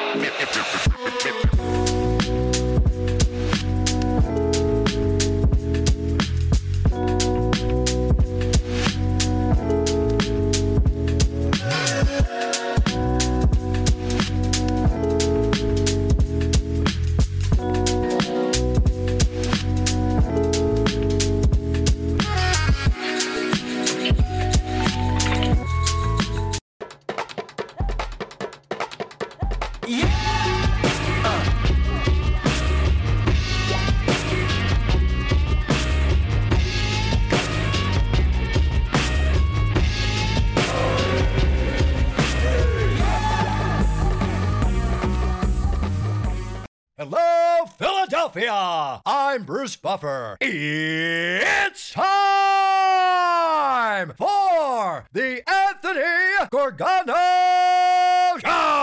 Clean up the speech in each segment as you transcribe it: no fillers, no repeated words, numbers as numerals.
Hello, Philadelphia! I'm Bruce Buffer. It's time for the Anthony Gorgano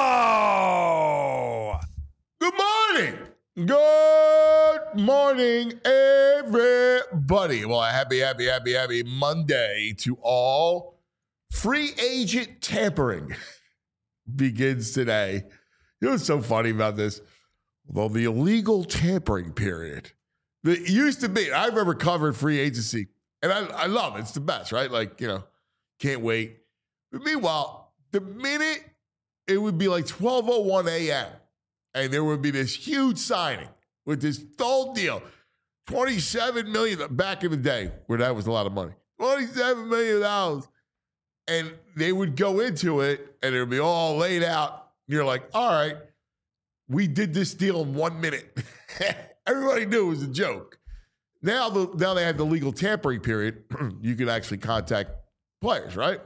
Show! Good morning! Good morning, everybody. Well, happy Monday to all. Free agent tampering begins today. You know what's so funny about this? Well, the illegal tampering period that used to be, I remember covering free agency, and I love it. It's the best, right? Like, can't wait. But meanwhile, the minute it would be like 12:01 a.m., and there would be this huge signing with this whole deal, $27 million back in the day, where that was a lot of money, $27 million. And they would go into it, and it would be all laid out. And you're like, all right. We did this deal in 1 minute. Everybody knew it was a joke. Now they have the legal tampering period. You can actually contact players, right?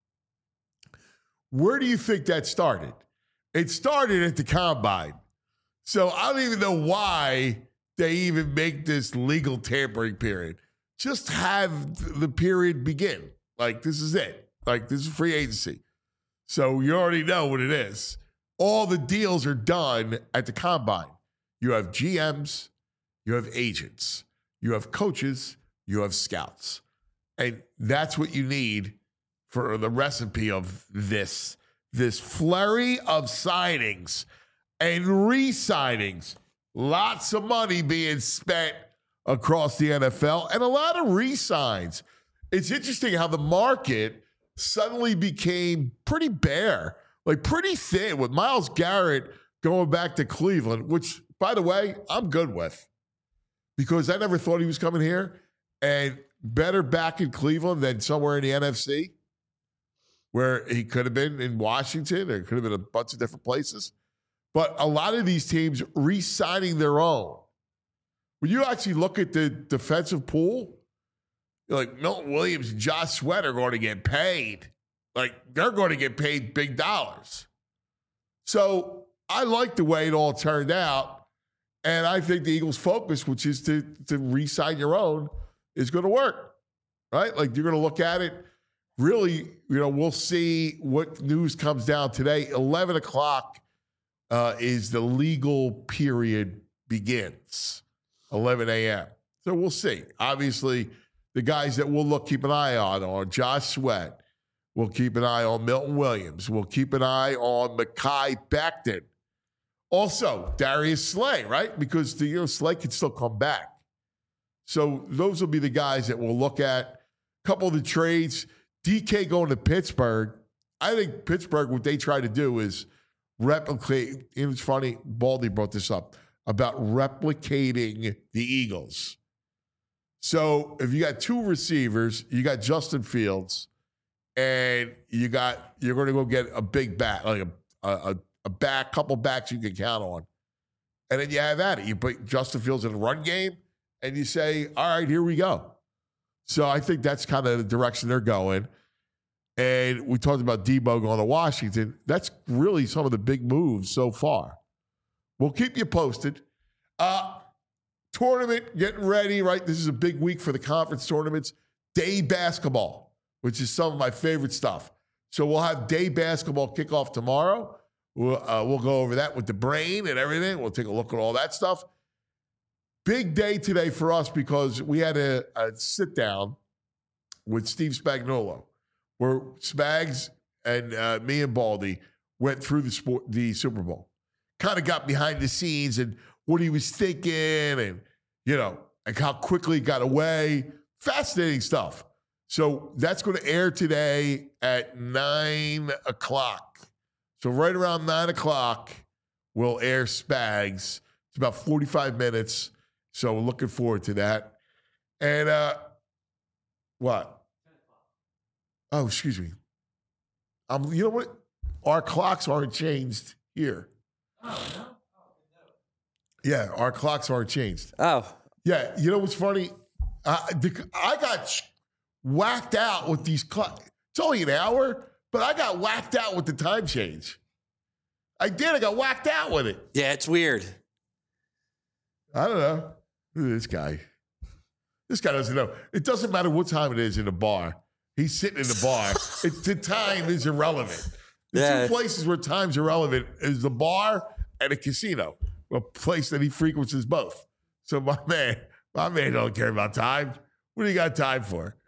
Where do you think that started? It started at the combine. So I don't even know why they even make this legal tampering period. Just have the period begin. Like, this is it. Like, this is free agency. So you already know what it is. All the deals are done at the combine. You have GMs, you have agents, you have coaches, you have scouts. And that's what you need for the recipe of this flurry of signings and re-signings. Lots of money being spent across the NFL and a lot of re-signs. It's interesting how the market suddenly became pretty bare. Like pretty thin with Myles Garrett going back to Cleveland, which, by the way, I'm good with because I never thought he was coming here, and better back in Cleveland than somewhere in the NFC where he could have been in Washington or could have been a bunch of different places. But a lot of these teams re-signing their own. When you actually look at the defensive pool, you're like Milton Williams and Josh Sweat are going to get paid. Like, they're going to get paid big dollars. So I like the way it all turned out. And I think the Eagles' focus, which is to re-sign your own, is going to work, right? Like, you're going to look at it. Really, we'll see what news comes down today. 11 o'clock is the legal period begins, 11 a.m. So we'll see. Obviously, the guys that we'll keep an eye on are Josh Sweat. We'll keep an eye on Milton Williams. We'll keep an eye on Mekhi Becton. Also, Darius Slay, right? Because Slay can still come back. So those will be the guys that we'll look at. A couple of the trades. DK going to Pittsburgh. I think Pittsburgh, what they try to do is replicate. It was funny, Baldy brought this up, about replicating the Eagles. So if you got two receivers, you got Justin Fields, and you're going to go get a big back, like a couple backs you can count on. And then you have at it. You put Justin Fields in a run game, and you say, all right, here we go. So I think that's kind of the direction they're going. And we talked about Debo going to Washington. That's really some of the big moves so far. We'll keep you posted. Tournament getting ready, right? This is a big week for the conference tournaments. Day basketball, which is some of my favorite stuff. So we'll have day basketball kickoff tomorrow. We'll go over that with the brain and everything. We'll take a look at all that stuff. Big day today for us because we had a sit down with Steve Spagnuolo, where Spags and me and Baldy went through the Super Bowl. kind of got behind the scenes and what he was thinking and, and how quickly he got away. Fascinating stuff. So that's going to air today at 9 o'clock. So right around 9 o'clock, we'll air Spags. It's about 45 minutes. So we're looking forward to that. And what? Oh, excuse me. You know what? Our clocks aren't changed here. Yeah, our clocks aren't changed. Oh. Yeah, you know what's funny? I got whacked out with these clocks. It's only an hour, but I got whacked out with the time change. I did. I got whacked out with it. Yeah, it's weird. I don't know. Look at this guy. This guy doesn't know. It doesn't matter what time it is in the bar. He's sitting in the bar. The time is irrelevant. The two places where time's irrelevant is the bar and a casino, a place that he frequents both. So my man don't care about time. What do you got time for?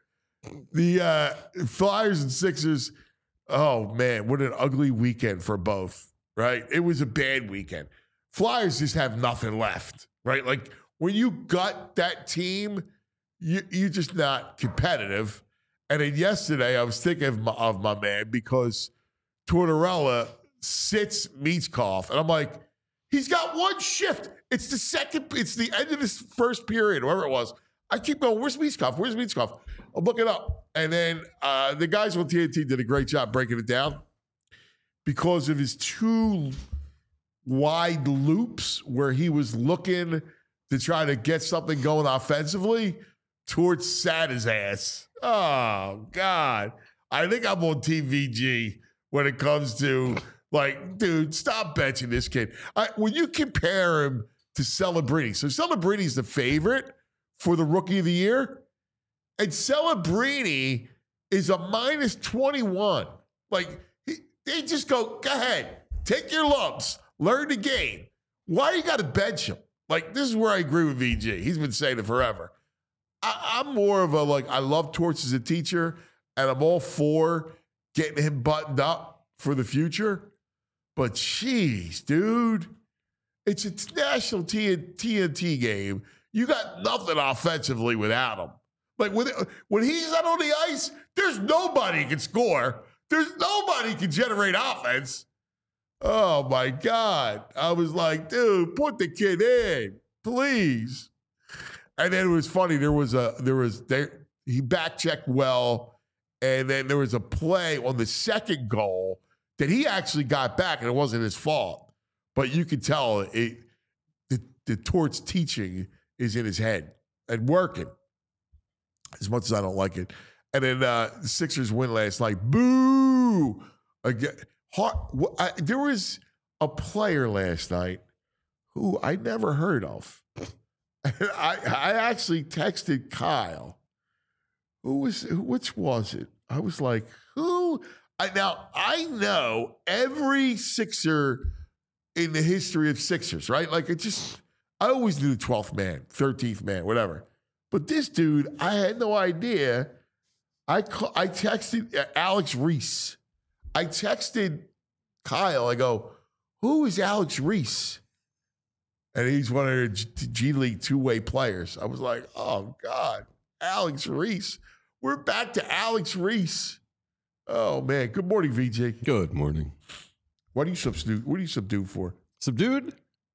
The Flyers and Sixers, oh man, what an ugly weekend for both, right? It was a bad weekend. Flyers just have nothing left, right? Like when you gut that team, you're just not competitive. And then yesterday, I was thinking of my man because Tortorella sits Michkov, and I'm like, he's got one shift. It's the end of this first period, whatever it was. I keep going, where's Michkov? Where's Michkov? I'll look it up. And then the guys on TNT did a great job breaking it down because of his two wide loops where he was looking to try to get something going offensively towards Sada's ass. Oh, God. I think I'm on TVG when it comes to, like, dude, stop benching this kid. When you compare him to Celebrini, so Celebrini's the favorite for the Rookie of the Year, and Celebrini is a minus 21. Like, they just go ahead, take your lumps, learn the game. Why you got to bench him? Like, this is where I agree with VG. He's been saying it forever. I'm more of I love Torts as a teacher, and I'm all for getting him buttoned up for the future. But jeez, dude, it's a national TNT game. You got nothing offensively without him. Like when he's out on the ice, there's nobody who can score. There's nobody who can generate offense. Oh my God. I was like, dude, put the kid in, please. And then it was funny. He back checked well, and then there was a play on the second goal that he actually got back, and it wasn't his fault. But you could tell the Torts teaching is in his head and working, as much as I don't like it. And then the Sixers win last night. Boo! Again, there was a player last night who I never heard of. I actually texted Kyle. Which was it? I was like, who? I know every Sixer in the history of Sixers, right? Like I always knew the 12th man, 13th man, whatever. But this dude, I had no idea. I texted Alex Reese. I texted Kyle. I go, who is Alex Reese? And he's one of the G League two-way players. I was like, oh, God, Alex Reese. We're back to Alex Reese. Oh, man. Good morning, VJ. Good morning. What are you subdued for? Subdued?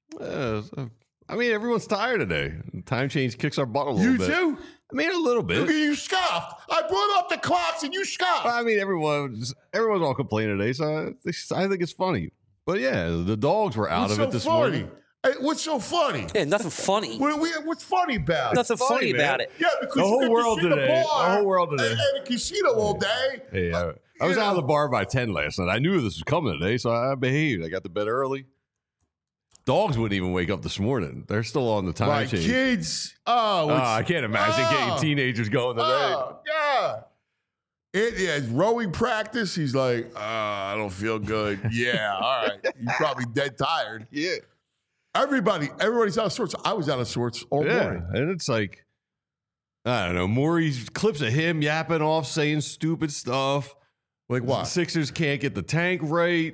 I mean, everyone's tired today. Time change kicks our butt a little bit. You too? I mean, a little bit. Look at you scoffed. I brought up the clocks and you scoffed. I mean, everyone's all complaining today, so I think it's funny. But yeah, the dogs were out of it this morning. Hey, what's so funny? Yeah, nothing funny. What's funny about it? Nothing funny about it. Yeah, because the whole world today. The whole world today. And a casino all day. Hey, I was out of the bar by 10 last night. I knew this was coming today, so I behaved. I got to bed early. Dogs wouldn't even wake up this morning. They're still on the time change. Kids. I can't imagine getting teenagers going today. Oh, God. It's rowing practice. He's like, feel good. Yeah, all right. You're probably dead tired. Yeah. Everybody's out of sorts. I was out of sorts all morning. And it's like, I don't know, Maury's clips of him yapping off, saying stupid stuff. Like what? Sixers can't get the tank right.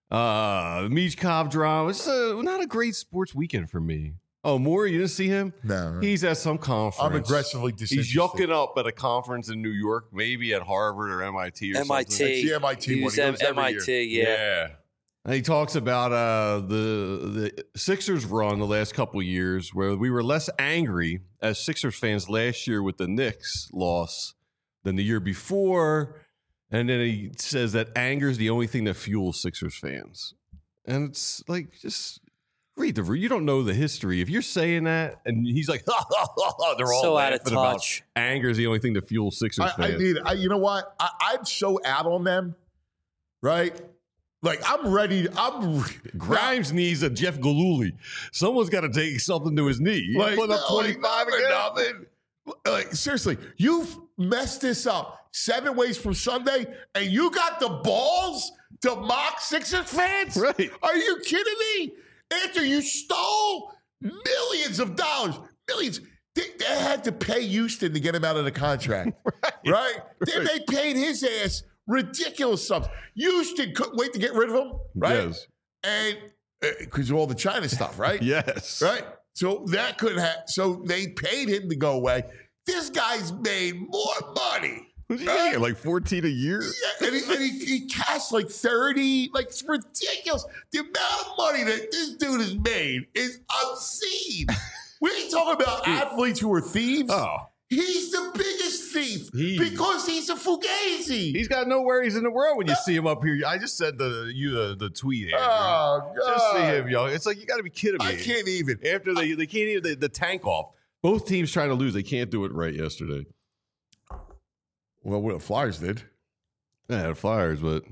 Michkov drama. It's not a great sports weekend for me. Oh, Moore, you didn't see him? No. He's at some conference. I'm aggressively disinterested. He's yucking up at a conference in New York, maybe at Harvard or MIT or something. It's the MIT He one. was He goes every MIT, year. yeah. And he talks about the Sixers run the last couple of years where we were less angry as Sixers fans last year with the Knicks loss than the year before. And then he says that anger is the only thing that fuels Sixers fans. And it's like, just read you don't know the history. If you're saying that, and he's like, they're all So out of laughing about touch. anger is the only thing that fuels Sixers fans. You know what? I'm so out on them, right? Like, I'm ready. Grimes needs a Jeff Galooly. Someone's got to take something to his knee. He's putting up 25 again. Nothing. Like, seriously, you've messed this up 7 ways from Sunday, and you got the balls to mock Sixers fans? Right. Are you kidding me? After you stole millions of dollars, millions. They had to pay Houston to get him out of the contract, right? They paid his ass ridiculous sums. Houston couldn't wait to get rid of him, right? Yes. And because of all the China stuff, right? Yes. Right? So that couldn't happen. So they paid him to go away. This guy's made more money. Yeah, like 14 a year. Yeah, and he cashed like 30. Like, it's ridiculous. The amount of money that this dude has made is obscene. We ain't talking about athletes who are thieves. Oh. He's the biggest thief because he's a fugazi. He's got no worries in the world when you see him up here. I just said the tweet, Andrew. Oh, God. Just see him, yo. It's like, you got to be kidding me. I can't even. After they can't even, the tank off. Both teams trying to lose. They can't do it right yesterday. Well, what the Flyers did. Yeah, the Flyers, but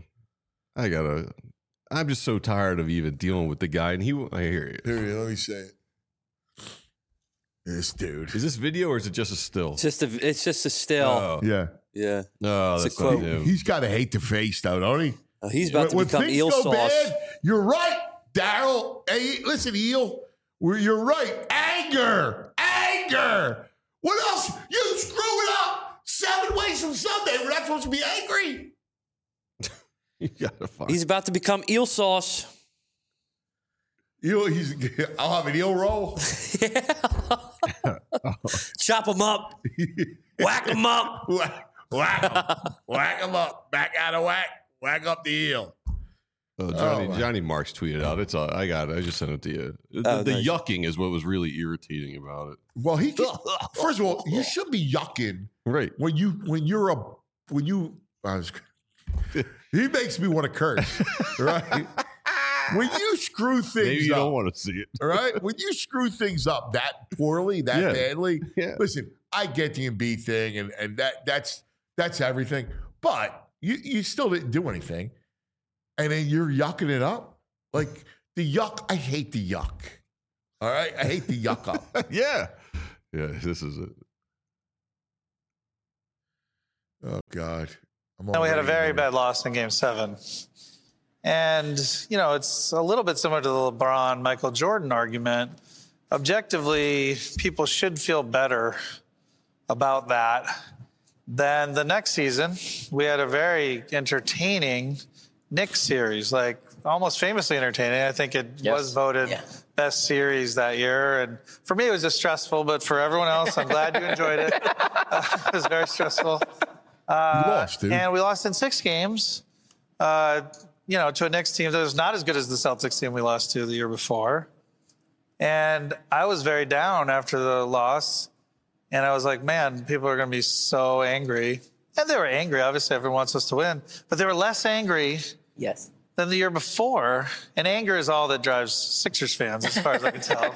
I'm just so tired of even dealing with the guy. And I hear you. Here, let me say it. This dude. Is this video or is it just a still? It's just a still. Oh. Yeah. Yeah. No, It's that's a not quote. him. He's got to hate the face, though, don't he? He's about to When become things eel go sauce. bad, you're right, Daryl. Hey, listen, Eel. You're right. Anger. What else? You screw it up 7 ways from Sunday. We're not supposed to be angry. You gotta find. He's about to become eel sauce. I'll have an eel roll. Chop him up. Whack him up. Whack him up. Back out of whack. Whack up the eel. Johnny Marks tweeted out. It's all, I got it. I just sent it to you. The Nice. yucking is what was really irritating about it. Well, first of all, you should be yucking Right. He makes me want to curse, right? When you screw things Maybe you up, don't want to see it. all right? When you screw things up that poorly, that badly, Yeah. listen, I get the Embiid thing, and that's everything. But you still didn't do anything, and then you're yucking it up. Like the yuck, I hate the yuck. All right, I hate the yuck up. Yeah. This is it. Oh God. And we had a very bad loss in Game 7. And, it's a little bit similar to the LeBron, Michael Jordan argument. Objectively, people should feel better about that than the next season. We had a very entertaining Knicks series, like almost famously entertaining. I think it was voted best series that year. And for me, it was just stressful, but for everyone else, I'm glad you enjoyed it. It was very stressful. You lost, dude. And we lost in 6 games, to a Knicks team that was not as good as the Celtics team we lost to the year before. And I was very down after the loss. And I was like, man, people are going to be so angry. And they were angry. Obviously, everyone wants us to win. But they were less angry than the year before. And anger is all that drives Sixers fans, as far as I can tell.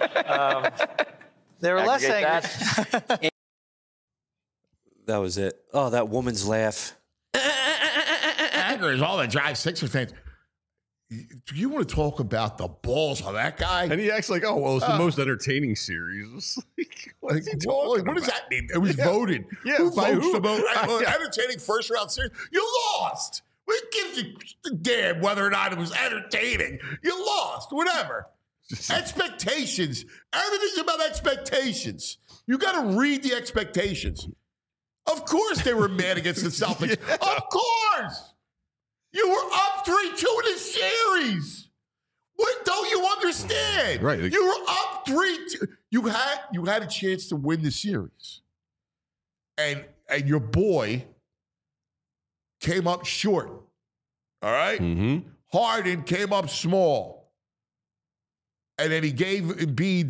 They were less angry. That was it. Oh, that woman's laugh. Anger is all that drives Sixers fans. Do you want to talk about the balls of that guy? And he acts like, oh, well, it's the most entertaining series. It's like, what is he talking what does about? that mean? It was voted. Yeah, Who by votes who? the most entertaining first round series? You lost. It gives you a damn whether or not it was entertaining. You lost. Whatever. Expectations. Everything's about expectations. You got to read the expectations. Of course they were mad against the Celtics. Of course. You were up 3-2 in the series. What don't you understand? Right. You were up 3-2. You had a chance to win the series. And your boy came up short. All right? Mm-hmm. Harden came up small. And then he gave Embiid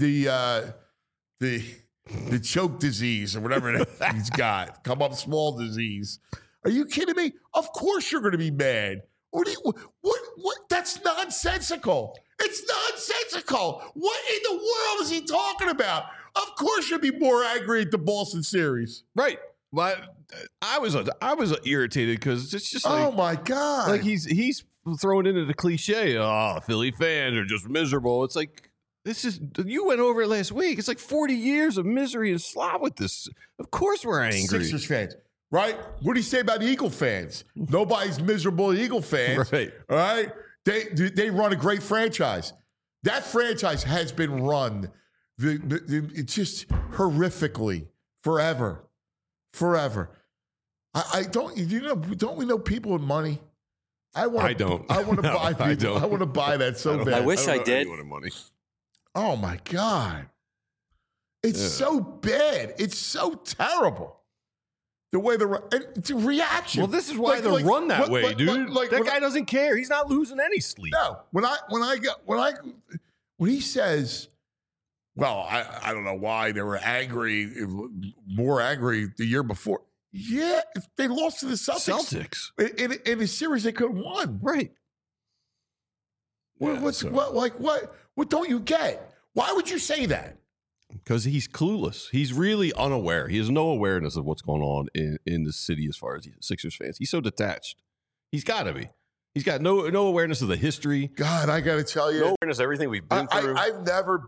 the choke disease or whatever he's got. Come up small disease. Are you kidding me? Of course you're going to be mad. What? That's nonsensical. It's nonsensical. What in the world is he talking about? Of course you'd be more angry at the Boston series. Right. But I was irritated because it's just like, Oh my God. like he's throwing into the cliche. Oh, Philly fans are just miserable. It's like you went over it last week. It's like 40 years of misery and slop with this. Of course we're angry. Sixers fans, right? What do you say about the Eagle fans? Nobody's miserable Eagle fans. Right. All right. They run a great franchise. That franchise has been run it's just horrifically forever. Don't we know people with money? I don't. I want to No, buy people. I don't. I want to buy that so bad. I wish I don't know did. anyone with money. Oh my God. It's so bad. It's so terrible. The way the reaction. Well, this is why they're run that way, dude. That guy doesn't care. He's not losing any sleep. No. When he says, well, I don't know why they were angry, more angry the year before. Yeah, they lost to the Celtics. In a series they could have won. Right. What don't you get? Why would you say that? Because he's clueless. He's really unaware. He has no awareness of what's going on in the city as far as Sixers fans. He's so detached. He's got to be. He's got no awareness of the history. God, I got to tell you. No awareness of everything we've been through. I've never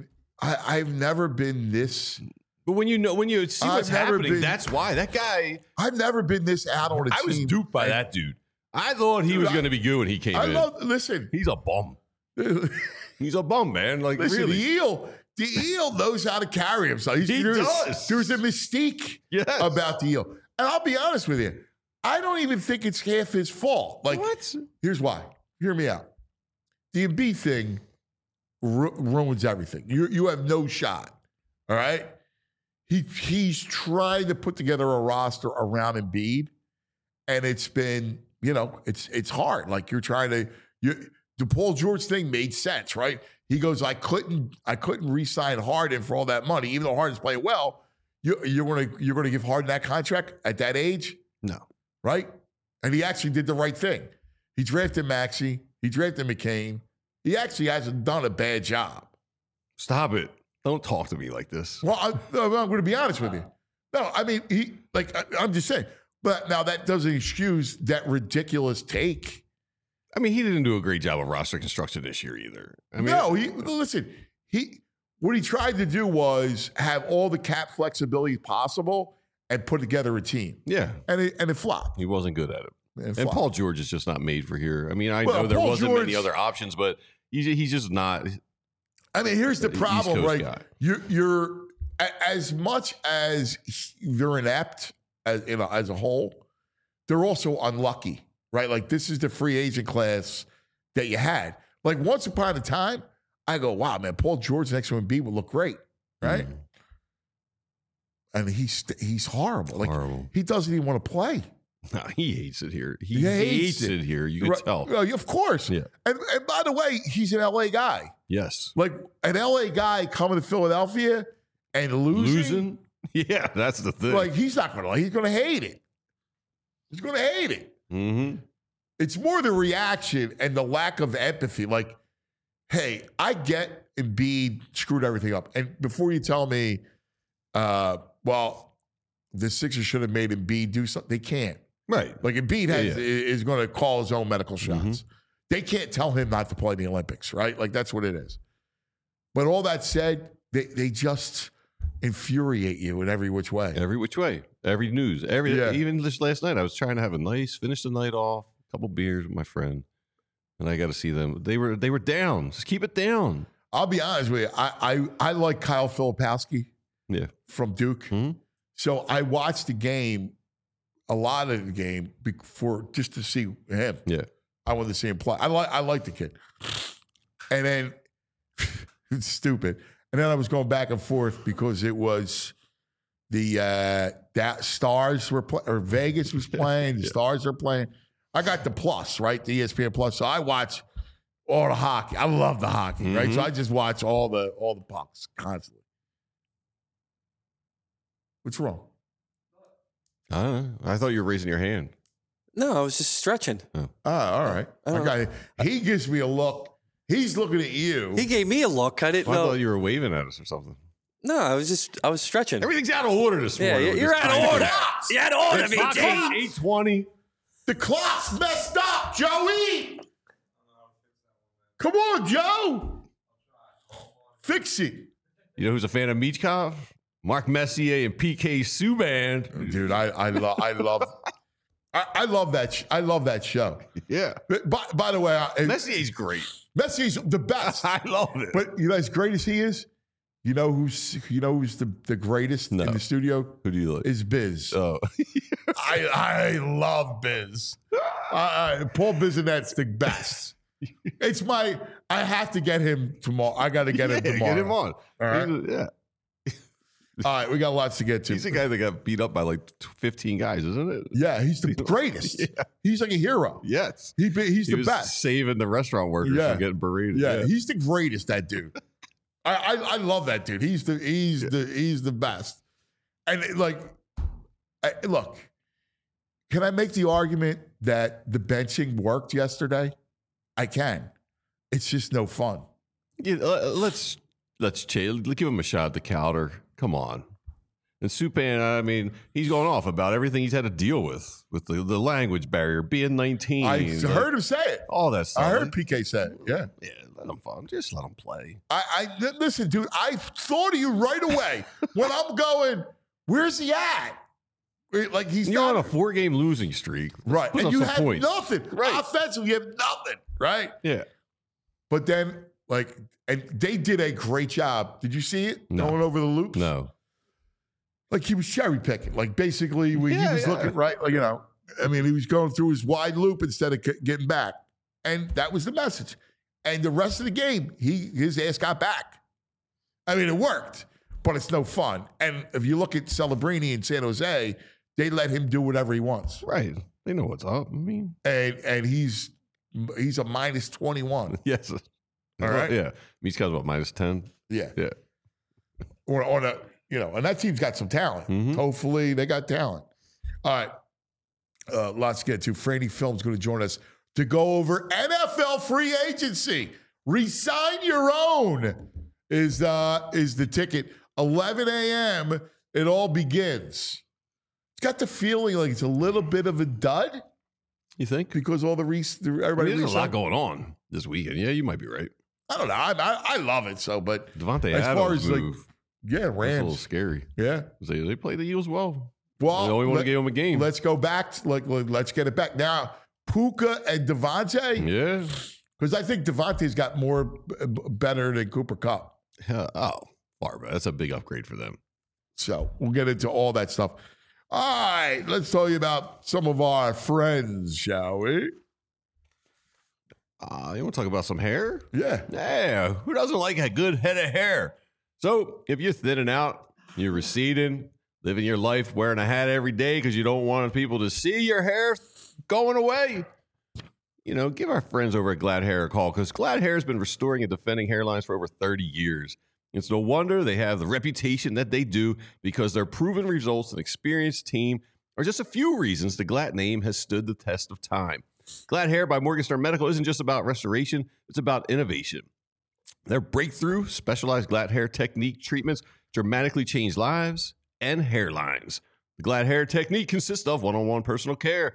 been this. But when you see what's happening, that's why. That guy. I've never been this out on a team. I was duped by that dude. I thought he was going to be good when he came in. Listen. He's a bum. He's a bum, man. Like, listen, really. The eel knows how to carry himself. He does. There's a mystique about the eel. And I'll be honest with you. I don't even think it's half his fault. Like, what? Here's why. Hear me out. The Embiid thing ruins everything. You have no shot. All right? He's trying to put together a roster around Embiid, and it's been, it's hard. Like you're trying to the Paul George thing made sense, right? He goes, I couldn't re-sign Harden for all that money, even though Harden's playing well. You're gonna give Harden that contract at that age? No. Right? And he actually did the right thing. He drafted Maxey. He drafted McCain. He actually hasn't done a bad job. Stop it. Don't talk to me like this. Well, I'm going to be honest with you. No, I mean, I'm just saying. But now that doesn't excuse that ridiculous take. I mean, he didn't do a great job of roster construction this year either. I mean, no, what he tried to do was have all the cap flexibility possible and put together a team. Yeah. And it flopped. He wasn't good at it. And Paul George is just not made for here. I mean, I know there wasn't many other options, but he's just not. I mean, here's the problem, right? Guy. You're as much as they're inept as a whole, they're also unlucky, right? Like this is the free agent class that you had. Like once upon a time, I go, wow, man, Paul George next to Embiid would look great, right? And he's horrible. Like he doesn't even want to play. No, he hates it here. He hates it here. You can tell. Of course. Yeah. And by the way, he's an LA guy. Yes. Like an LA guy coming to Philadelphia and losing. Yeah, that's the thing. Like he's not going to. He's going to hate it. He's going to hate it. Mm-hmm. It's more the reaction and the lack of empathy. Like, hey, I get Embiid screwed everything up. And before you tell me, well, the Sixers should have made Embiid do something, they can't. Right. Like Embiid is going to call his own medical shots. Mm-hmm. They can't tell him not to play in the Olympics, right? Like that's what it is. But all that said, they just infuriate you in every which way. Every which way. Every news. Even just last night, I was trying to have finish the night off, a couple beers with my friend, and I got to see them. They were down. Just keep it down. I'll be honest with you. I like Kyle Filipowski. Yeah. From Duke. Mm-hmm. So I watched the game, a lot of the game, just to see him. Yeah. I wanted to see him play. I like the kid. And then it's stupid. And then I was going back and forth because it was the Stars were playing, or Vegas was playing. The Stars are playing. I got the plus, right? The ESPN Plus. So I watch all the hockey. I love the hockey, right? So I just watch all the pucks constantly. What's wrong? I don't know. I thought you were raising your hand. No, I was just stretching. Oh, all right. He gives me a look. He's looking at you. He gave me a look. I didn't I know. thought you were waving at us or something. No, I was stretching. Everything's out of order this Yeah, morning. you're out of order. You're out of order, It's not VJ. 8:20. The clock's messed up, Joey. Come on, Joe. Fix it. You know who's a fan of Michkov? Mark Messier and PK Subban. Dude, I love that. I love that show. Yeah. But by the way, Messier's great. Messier's the best. I love it. But you know, as great as he is, you know who's the greatest in the studio? Who do you like? Is Biz. Oh. I love Biz. Paul Bissonette's the best. It's I have to get him tomorrow. I got to get him tomorrow. Get him on. All right. Yeah. All right, we got lots to get to. He's the guy that got beat up by like 15 guys, isn't it? Yeah, he's the greatest. Yeah. He's like a hero. Yes. He's He the was best. saving the restaurant workers from getting berated. Yeah, he's the greatest. That dude. I love that dude. He's the best. And look, can I make the argument that the benching worked yesterday? I can. It's just no fun. Yeah, let's chill. Give him a shot at the counter. Come on. And Subban, I mean, he's going off about everything he's had to deal with the language barrier, being 19. I heard him say it. All that stuff. I heard PK say it. Yeah. Yeah, let him fun. Just let him play. Listen, dude, I thought of you right away when I'm going, where's he at? Like You're on a 4-game losing streak. Right. Put And up you some had points. nothing. Right. Offensively, you have nothing. Right. Yeah. But then, and they did a great job. Did you see it? No. Going over the loops? No. Like he was cherry picking. Like basically, he was looking right. Like, I mean, he was going through his wide loop instead of getting back. And that was the message. And the rest of the game, his ass got back. I mean, it worked, but it's no fun. And if you look at Celebrini in San Jose, they let him do whatever he wants. Right. They know what's up. I mean, and he's a minus 21. yes. All right. Yeah. Michkov's about minus 10. Yeah. Yeah. On a, and that team's got some talent. Mhm. Hopefully they got talent. All right. Lots to get to. Franny Film's going to join us to go over NFL free agency. Resign your own is the ticket. 11 a.m. It all begins. It's got the feeling like it's a little bit of a dud You think? because all everybody. There's a lot going on this weekend. Yeah, you might be right. I don't know. I love it so, but Devontae as Adams far as move. yeah, That's a little Rams. scary. Yeah. They play the Eagles well. Well, They only want to give them a game. Let's go back. Let's get it back now. Puka and Devontae, Yeah. because I think Devontae's got more better than Cooper Kupp. Far better. That's a big upgrade for them. So we'll get into all that stuff. All right, let's tell you about some of our friends, shall we? You want to talk about some hair? Yeah. Yeah. Who doesn't like a good head of hair? So if you're thinning out, you're receding, living your life wearing a hat every day because you don't want people to see your hair going away, give our friends over at Glad Hair a call, because Glad Hair has been restoring and defending hairlines for over 30 years. It's no wonder they have the reputation that they do, because their proven results and experienced team are just a few reasons the Glad name has stood the test of time. Glad Hair by Morgan Medical isn't just about restoration, it's about innovation. Their breakthrough specialized Glad Hair technique treatments dramatically change lives and hairlines. The Glad Hair technique consists of one-on-one personal care,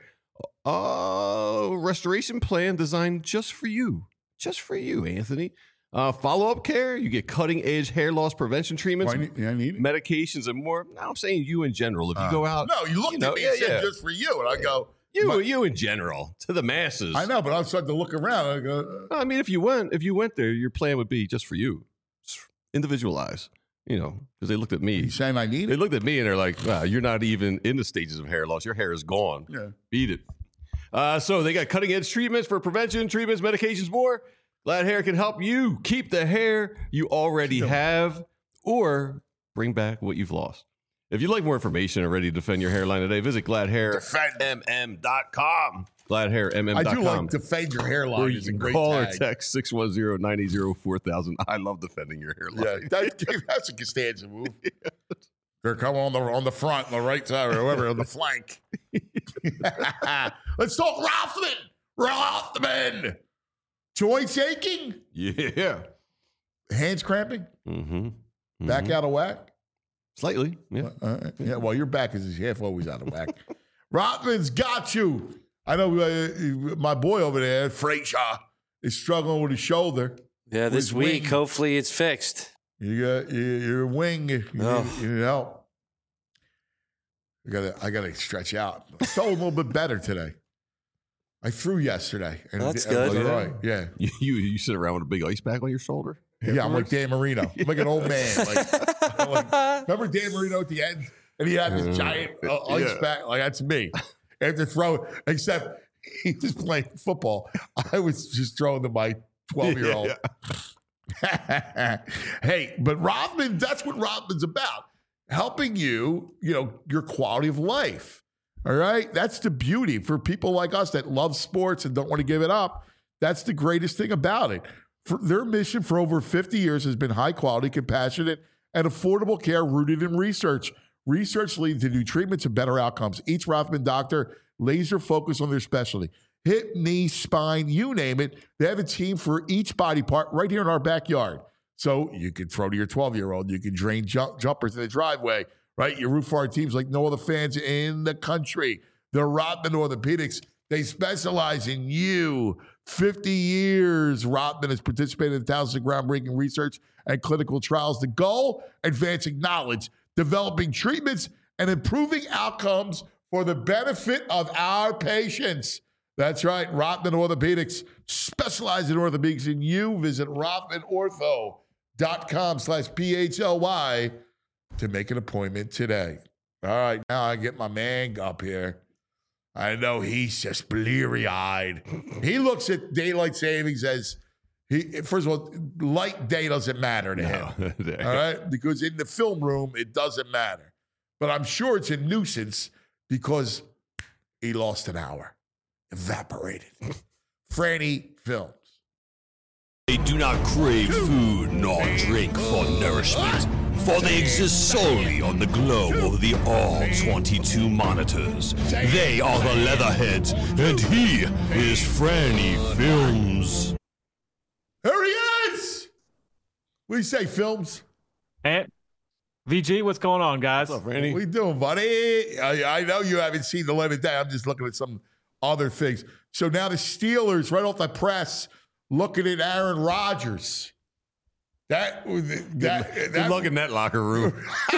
a restoration plan designed just for you, Anthony. Follow-up care, you get cutting-edge hair loss prevention treatments, I need it. medications, and more. Now, I'm saying you in general. If you go out, No, you looked at me and said just for you, and I go, you in general to the masses. I know, but I'm starting to look around. And I go, I mean, if you went there, your plan would be just for you, just individualized. Because they looked at me. you saying I need They it? looked at me and they're like, wow, you're not even in the stages of hair loss. Your hair is gone. Yeah. Beat it. So they got cutting edge treatments for prevention, treatments, medications, more. Glad Hair can help you keep the hair you already have or bring back what you've lost. If you'd like more information and ready to defend your hairline today, visit gladhairmm.com. Gladhairmm.com. I do like defend your hairline. Is a great call tag. or text 610-980-4000. I love defending your hairline. Yeah, that's a Costanza move. They're coming on the front, on the right side, or whatever, on the flank. Let's talk Rothman. Joints aching? Yeah. Hands cramping? Mm-hmm. Back out of whack? Slightly, yeah. Yeah, well, your back is half always out of whack. Rothman's got you. I know my boy over there, Frazier, is struggling with his shoulder. Yeah, this week, wing. hopefully it's fixed. You got your wing. You need help. I gotta stretch out. I felt a little bit better today. I threw yesterday. And That's and it was good. all right. Yeah. You sit around with a big ice pack on your shoulder? Yeah, I'm like Dan Marino. I'm like an old man. Remember Dan Marino at the end? And he had this giant ice pack. Like, that's me. After throwing, except he was playing football. I was just throwing to my 12-year-old. Hey, but Rothman, that's what Rothman's about. Helping you, your quality of life. All right? That's the beauty for people like us that love sports and don't want to give it up. That's the greatest thing about it. Their mission for over 50 years has been high quality, compassionate, and affordable care rooted in research. Research leads to new treatments and better outcomes. Each Rothman doctor laser focus on their specialty. Hip, knee, spine, you name it. They have a team for each body part right here in our backyard. So you can throw to your 12-year-old. You can drain jumpers in the driveway, right? You root for our teams like no other fans in the country. The Rothman Orthopedics, they specialize in you. 50 years, Rothman has participated in thousands of groundbreaking research and clinical trials. The goal, advancing knowledge, developing treatments, and improving outcomes for the benefit of our patients. That's right, Rothman Orthopedics, specialize in orthopedics in you. Visit rothmanortho.com/PHLY to make an appointment today. All right, now I get my man up here. I know he's just bleary-eyed. He looks at daylight savings as, first of all, light day doesn't matter to him. All right? Because in the film room, it doesn't matter. But I'm sure it's a nuisance because he lost an hour. Evaporated. Franny Films. They do not crave food nor drink for nourishment, for they exist solely on the glow of the all-22 monitors. They are the Leatherheads, and he is Franny Films. Here he is! What do you say, Films? And VG, what's going on, guys? What's up, Randy? What are you doing, buddy? I know you haven't seen the light of day. I'm just looking at some other things. So now the Steelers, right off the press, looking at Aaron Rodgers. Good luck in that locker room.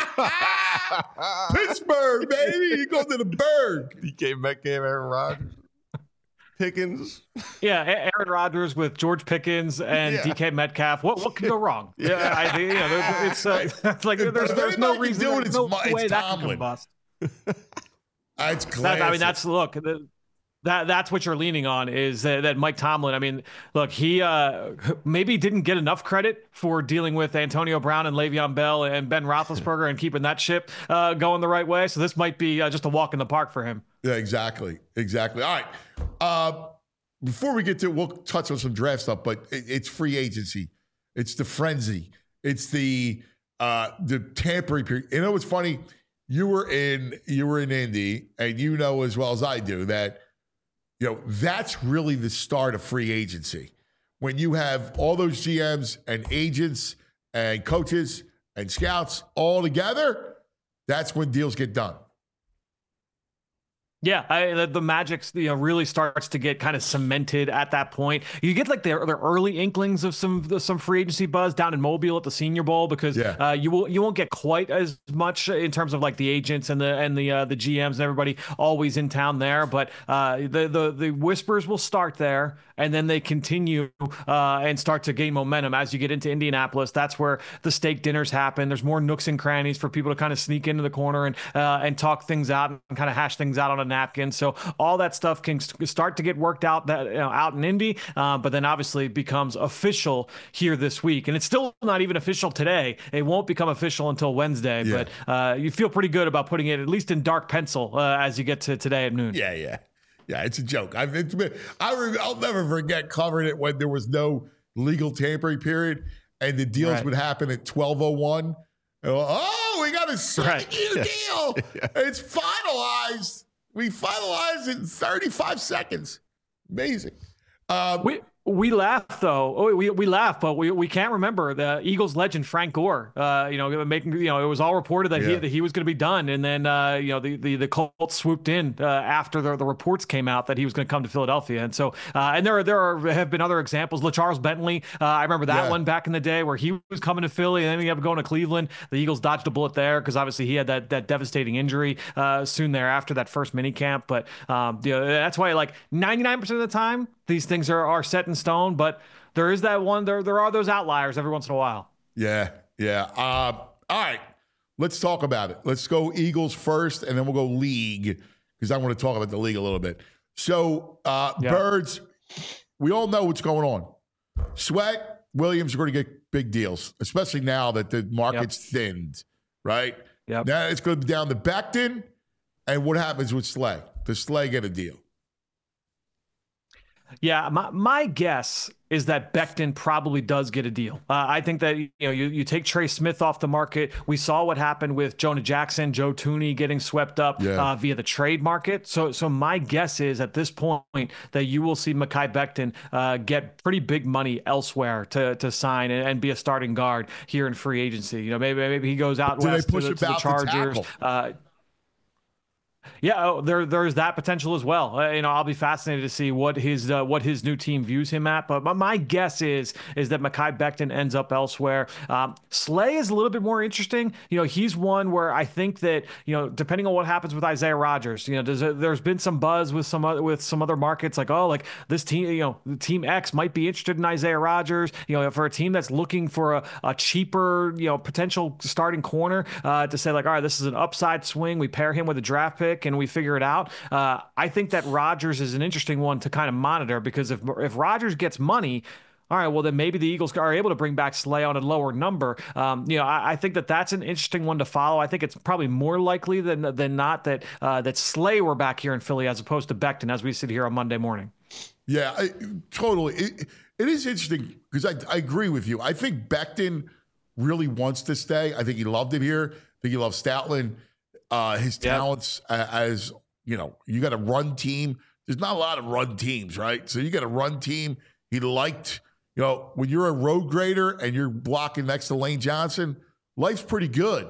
Pittsburgh, baby. You go to the Berg. DK Metcalf, Aaron Rodgers, Pickens. Yeah, Aaron Rodgers with George Pickens and DK Metcalf. What can go wrong? Yeah, I think it's like there's no reason. There's no way that can combust. It's classic. Look. That's what you're leaning on is that Mike Tomlin. I mean, look, he maybe didn't get enough credit for dealing with Antonio Brown and Le'Veon Bell and Ben Roethlisberger and keeping that ship going the right way. So this might be just a walk in the park for him. Yeah, exactly. All right. Before we get to, we'll touch on some draft stuff, but it's free agency. It's the frenzy. It's the tampering period. You know what's funny? You were in Indy, and you know as well as I do that. That's really the start of free agency. When you have all those GMs and agents and coaches and scouts all together, that's when deals get done. Yeah, the magic really starts to get kind of cemented at that point. You get like the early inklings of some free agency buzz down in Mobile at the Senior Bowl because you won't get quite as much in terms of like the agents and the GMs and everybody always in town there. But the whispers will start there, and then they continue and start to gain momentum as you get into Indianapolis. That's where the steak dinners happen. There's more nooks and crannies for people to kind of sneak into the corner and talk things out and kind of hash things out on a napkin. So all that stuff can start to get worked out out in Indy, but then obviously becomes official here this week. And it's still not even official today. It won't become official until Wednesday, but you feel pretty good about putting it at least in dark pencil as you get to today at noon. Yeah, it's a joke. I'll never forget covering it when there was no legal tampering period and the deals would happen at 12:01. Oh, we got a 7-year deal. It's finalized. We finalized it in 35 seconds. Amazing. We laugh though. Oh, we laugh, but we can't remember the Eagles legend Frank Gore. Making it was all reported that he was going to be done, and then the Colts swooped in after the reports came out that he was going to come to Philadelphia, and so and there have been other examples. LaCharles Bentley, I remember that one back in the day where he was coming to Philly and then he ended up going to Cleveland. The Eagles dodged a bullet there because obviously he had that devastating injury soon thereafter, that first mini camp. But that's why 99% of the time these things are set in stone, but there is that one. There are those outliers every once in a while. Yeah. All right, let's talk about it. Let's go Eagles first, and then we'll go league because I want to talk about the league a little bit. So, Birds, we all know what's going on. Sweat, Williams are going to get big deals, especially now that the market's thinned, right? Yep. Now it's going to be down to Becton, and what happens with Slay? Does Slay get a deal? Yeah, my guess is that Becton probably does get a deal. I think that you take Trey Smith off the market. We saw what happened with Jonah Jackson, Joe Thuney getting swept up via the trade market. So my guess is at this point that you will see Mekhi Becton get pretty big money elsewhere to sign and be a starting guard here in free agency. Maybe he goes out west to the Chargers. Yeah, there's that potential as well. I'll be fascinated to see what his new team views him at. But my guess is that Mekhi Becton ends up elsewhere. Slay is a little bit more interesting. He's one where I think that depending on what happens with Isaiah Rodgers, there's been some buzz with some other markets like this team, Team X might be interested in Isaiah Rodgers. For a team that's looking for a cheaper potential starting corner to say all right, this is an upside swing. We pair him with a draft pick and we figure it out. I think that Rodgers is an interesting one to kind of monitor because if Rodgers gets money, all right, well, then maybe the Eagles are able to bring back Slay on a lower number. I think that's an interesting one to follow. I think it's probably more likely than not that Slay were back here in Philly as opposed to Becton as we sit here on Monday morning. Yeah, totally. It is interesting because I agree with you. I think Becton really wants to stay. I think he loved it here. I think he loves Stoutland. His talents as, you got a run team. There's not a lot of run teams, right? So you got a run team. He liked, when you're a road grader and you're blocking next to Lane Johnson, life's pretty good,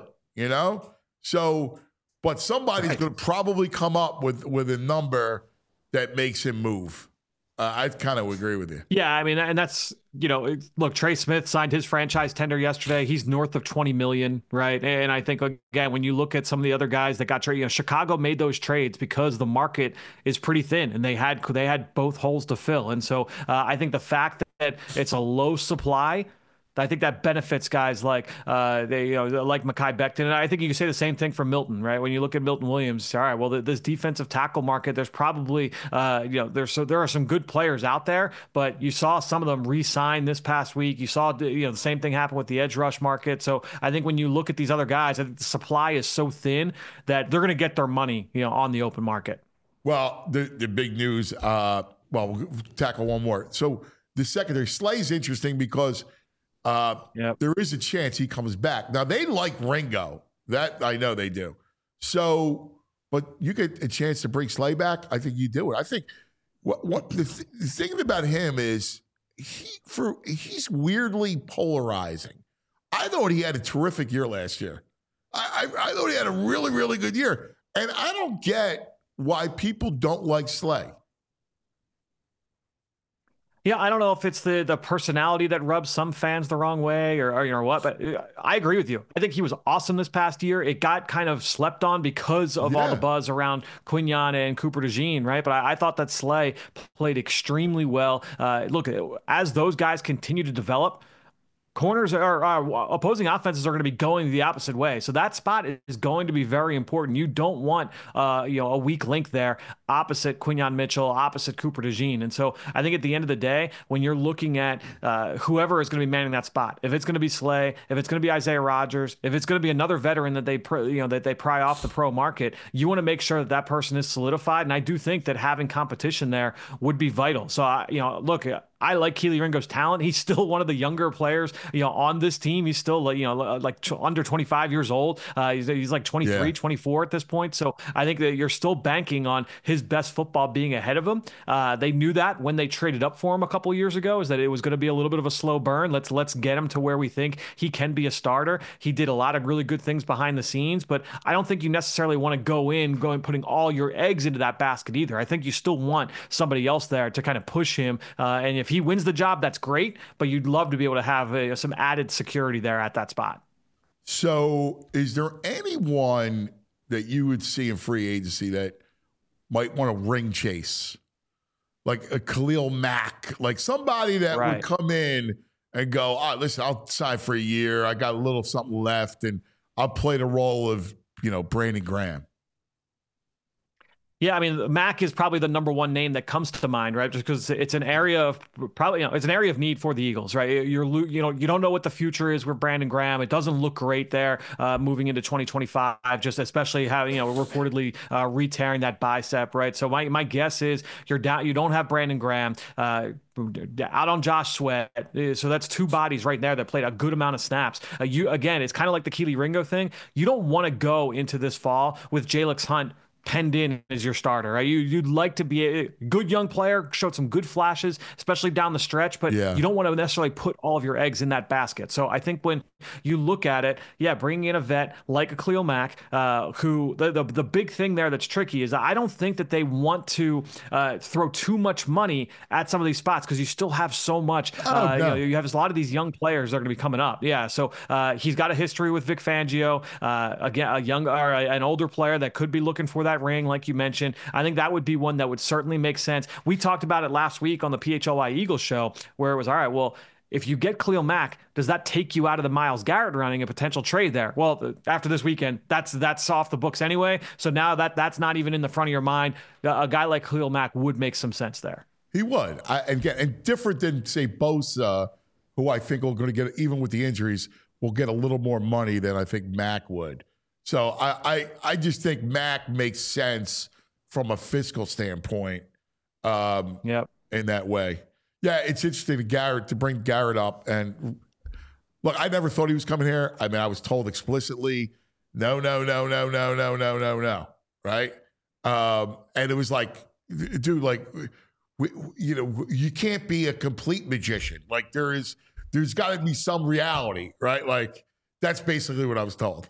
So, but somebody's going to probably come up with a number that makes him move. I kind of agree with you. Yeah, I mean, and that's, look, Trey Smith signed his franchise tender yesterday. He's north of $20 million, right? And I think, again, when you look at some of the other guys that got traded, Chicago made those trades because the market is pretty thin and they had both holes to fill. And so I think the fact that it's a low supply, I think that benefits guys like like Mekhi Becton. And I think you can say the same thing for Milton, right? When you look at Milton Williams, all right, well, this defensive tackle market, there's probably, there are some good players out there, but you saw some of them re-sign this past week. You saw, the same thing happen with the edge rush market. So I think when you look at these other guys, I think the supply is so thin that they're going to get their money, on the open market. Well, the big news, we'll tackle one more. So the secondary, Slay's interesting because there is a chance he comes back. Now, they like Ringo. That I know they do. So, but you get a chance to bring Slay back, I think you do it. I think what the thing about him is he's weirdly polarizing. I thought he had a terrific year last year. I thought he had a really, really good year. And I don't get why people don't like Slay. Yeah, I don't know if it's the personality that rubs some fans the wrong way or what, but I agree with you. I think he was awesome this past year. It got kind of slept on because of all the buzz around Quignon and Cooper DeJean, right? But I thought that Slay played extremely well. Look, as those guys continue to develop, corners are opposing offenses are going to be going the opposite way. So that spot is going to be very important. You don't want a weak link there opposite Quinyon Mitchell, opposite Cooper DeJean. And so I think at the end of the day, when you're looking at whoever is going to be manning that spot, if it's going to be Slay, if it's going to be Isaiah Rodgers, if it's going to be another veteran that they pry off the pro market, you want to make sure that that person is solidified. And I do think that having competition there would be vital. So look, I like Kelee Ringo's talent. He's still one of the younger players, on this team. He's still, under 25 years old. He's like 23, 24 at this point. So I think that you're still banking on his best football being ahead of him. They knew that when they traded up for him a couple of years ago, is that it was going to be a little bit of a slow burn. Let's get him to where we think he can be a starter. He did a lot of really good things behind the scenes, but I don't think you necessarily want to go and putting all your eggs into that basket either. I think you still want somebody else there to kind of push him. And if he wins the job, that's great, but you'd love to be able to have some added security there at that spot. So is there anyone that you would see in free agency that might want to ring chase? Like a Khalil Mack, like somebody that would come in and go, listen, I'll sign for a year. I got a little something left, and I'll play the role of, Brandon Graham. Yeah, I mean, Mack is probably the number one name that comes to mind, right? Just because it's an area of it's an area of need for the Eagles, right? You don't know what the future is with Brandon Graham. It doesn't look great there moving into 2025, just especially having reportedly re-tearing that bicep, right? So my guess is you're down. You don't have Brandon Graham. Out on Josh Sweat, so that's two bodies right there that played a good amount of snaps. It's kind of like the Kelee Ringo thing. You don't want to go into this fall with Jalix Hunt penned in as your starter, right? You'd like to be a good young player, showed some good flashes, especially down the stretch, but you don't want to necessarily put all of your eggs in that basket. So I think when you look at it, bringing in a vet like a Khalil Mack, who the big thing there that's tricky is I don't think that they want to throw too much money at some of these spots because you still have so much. You have a lot of these young players that are going to be coming up. Yeah, so he's got a history with Vic Fangio, again, an older player that could be looking for that ring, like you mentioned. I think that would be one that would certainly make sense. We talked about it last week on the PHLY Eagles show, where it was, all right, well, if you get Khalil Mack, does that take you out of the Myles Garrett running, a potential trade there? Well, after this weekend, that's off the books anyway. So now that's not even in the front of your mind. A guy like Khalil Mack would make some sense there. He would. And different than, say, Bosa, who I think are going to get, even with the injuries, will get a little more money than I think Mack would. So I just think Mack makes sense from a fiscal standpoint in that way. Yeah, it's interesting to bring Garrett up. And look, I never thought he was coming here. I mean, I was told explicitly, no, right? And it was like, dude, like, you can't be a complete magician. Like there's got to be some reality, right? Like that's basically what I was told.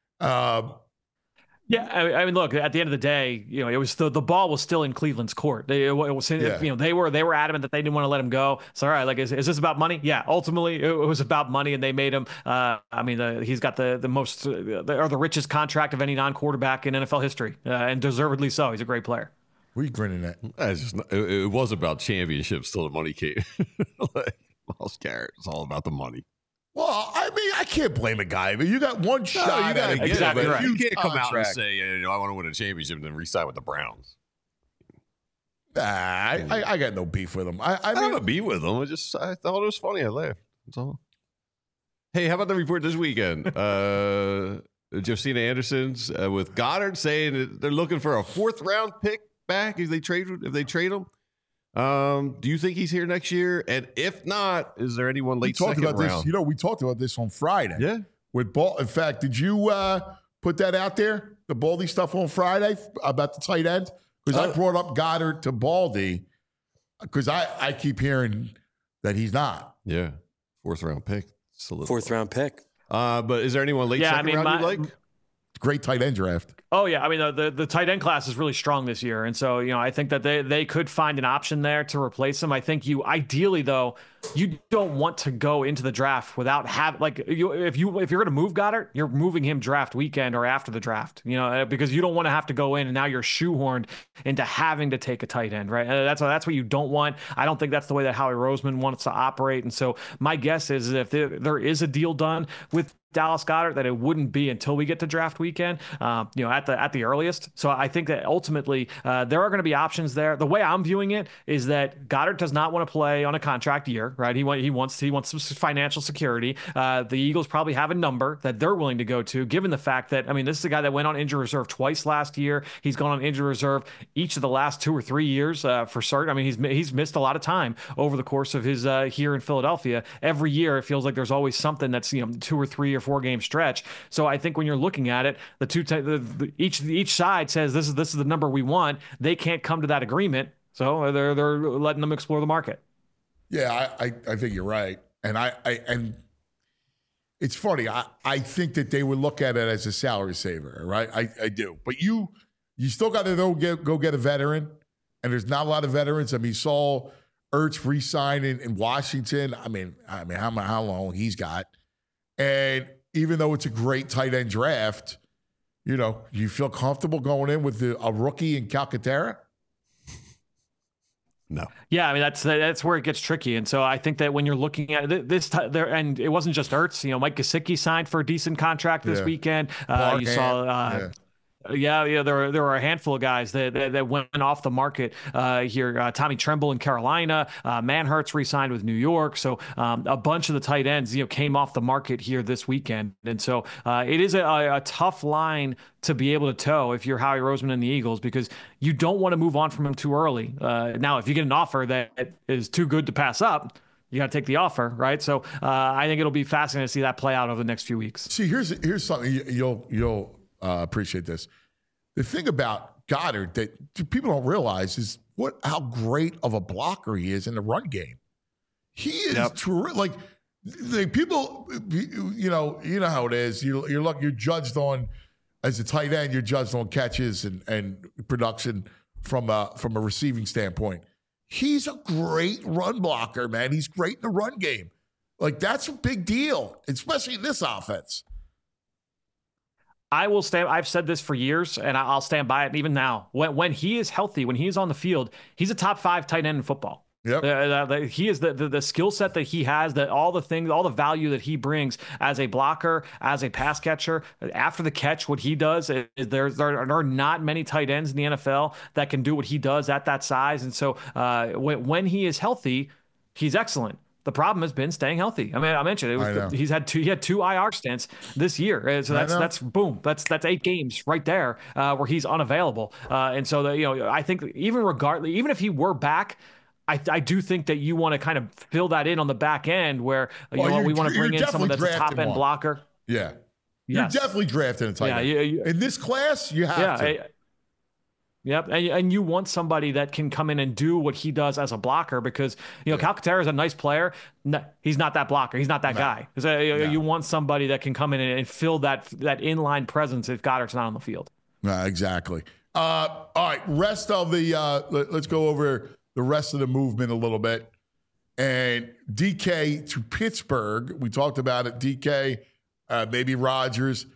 I mean, look. At the end of the day, it was the ball was still in Cleveland's court. They were adamant that they didn't want to let him go. So, all right, like, is this about money? Yeah, ultimately, it was about money, and they made him. He's got the most or the richest contract of any non-quarterback in NFL history, and deservedly so. He's a great player. What are you grinning at? It was about championships till the money came. Like, Myles Garrett, it's all about the money. Well, I mean, I can't blame a guy. But you got one shot. You got to get exactly it. Right. You can't come out and say, I want to win a championship and then re-sign with the Browns. Nah, I got no beef with him. I don't have a beef with him. I thought it was funny. I laughed. That's all. Hey, how about the report this weekend? Josina Anderson's with Goddard saying that they're looking for a 4th-round pick back if they trade him. Do you think he's here next year? And if not, is there anyone late second round? This, we talked about this on Friday. Yeah. With Ball. In fact, did you put that out there, the Baldy stuff on Friday about the tight end? Because I brought up Goddard to Baldy because I keep hearing that he's not. Yeah. 4th-round pick. 4th-round pick. But is there anyone late second round you like? Great tight end draft. Oh, yeah. I mean, the tight end class is really strong this year. And so, I think that they could find an option there to replace him. I think ideally, though, you don't want to go into the draft without if you're going to move Goddard, you're moving him draft weekend or after the draft, because you don't want to have to go in and now you're shoehorned into having to take a tight end, right? That's what you don't want. I don't think that's the way that Howie Roseman wants to operate. And so my guess is if there is a deal done with Dallas Goedert, that it wouldn't be until we get to draft weekend, at the earliest. So I think that ultimately there are going to be options there. The way I'm viewing it is that Goddard does not want to play on a contract year, right? He wants some financial security. The Eagles probably have a number that they're willing to go to, given the fact that, this is a guy that went on injury reserve twice last year. He's gone on injury reserve each of the last 2 or 3 years for certain. He's missed a lot of time over the course of his here in Philadelphia. Every year it feels like there's always something that's 2 or 3 or 4 game stretch. So I think when you're looking at it, each side says this is the number we want. They can't come to that agreement, so they're letting them explore the market. Yeah, I think you're right, and and it's funny. I think that they would look at it as a salary saver, right? I do, but you still got to go get a veteran, and there's not a lot of veterans. You saw Ertz re-sign in Washington. How long he's got. And even though it's a great tight end draft, you feel comfortable going in with a rookie in Calcaterra? No. Yeah, that's where it gets tricky. And so I think that when you're looking at this there, and it wasn't just Ertz, Mike Gesicki signed for a decent contract this weekend. You saw Yeah, there were a handful of guys that went off the market here. Tommy Tremble in Carolina, Manhurts re-signed with New York. So a bunch of the tight ends, came off the market here this weekend. And so it is a tough line to be able to toe if you're Howie Roseman and the Eagles, because you don't want to move on from him too early. Now, if you get an offer that is too good to pass up, you got to take the offer, right? So I think it'll be fascinating to see that play out over the next few weeks. See, here's something you'll appreciate this. The thing about Goddard that people don't realize is how great of a blocker he is in the run game. He is terrific. Like people, you know how it is. You're judged on, as a tight end, you're judged on catches and production from a receiving standpoint. He's a great run blocker, man. He's great in the run game. Like, that's a big deal, especially in this offense. I will stand. I've said this for years, and I'll stand by it even now. When he is healthy, when he is on the field, he's a top 5 tight end in football. Yep. He is the skill set that he has, that all the things, all the value that he brings as a blocker, as a pass catcher, after the catch, what he does is there are not many tight ends in the NFL that can do what he does at that size. And so when he is healthy, he's excellent. The problem has been staying healthy. I mentioned he had 2 IR stints this year. So that's boom. That's 8 games right there where he's unavailable. And so I think even if he were back, I do think that you want to kind of fill that in on the back end where we want to bring in someone that's a top end blocker. Yeah. You're definitely drafting a tight end. In this class, you have to. Yep, and you want somebody that can come in and do what he does as a blocker, because Calcaterra is a nice player. No, he's not that blocker. He's not that guy. So, you want somebody that can come in and fill that inline presence if Goddard's not on the field. Exactly. All right, rest of the let's go over the rest of the movement a little bit. And DK to Pittsburgh. We talked about it. DK, maybe Rodgers.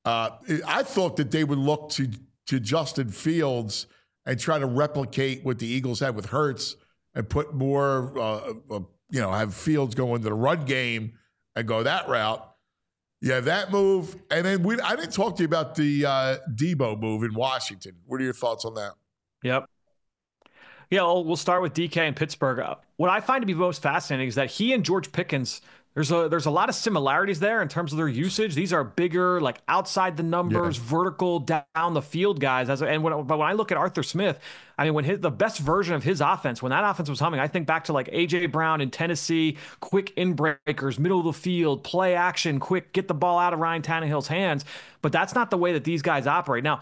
I thought that they would look to Justin Fields and try to replicate what the Eagles had with Hurts and put more, have Fields go into the run game and go that route. Yeah, that move. And then I didn't talk to you about the Debo move in Washington. What are your thoughts on that? Yep. Yeah, we'll start with DK in Pittsburgh. What I find to be most fascinating is that he and George Pickens, there's a lot of similarities there in terms of their usage. These are bigger, like outside the numbers, vertical down the field guys. But when I look at Arthur Smith, when the best version of his offense, when that offense was humming, I think back to like A.J. Brown in Tennessee, quick in-breakers, middle of the field, play action, quick, get the ball out of Ryan Tannehill's hands. But that's not the way that these guys operate. Now,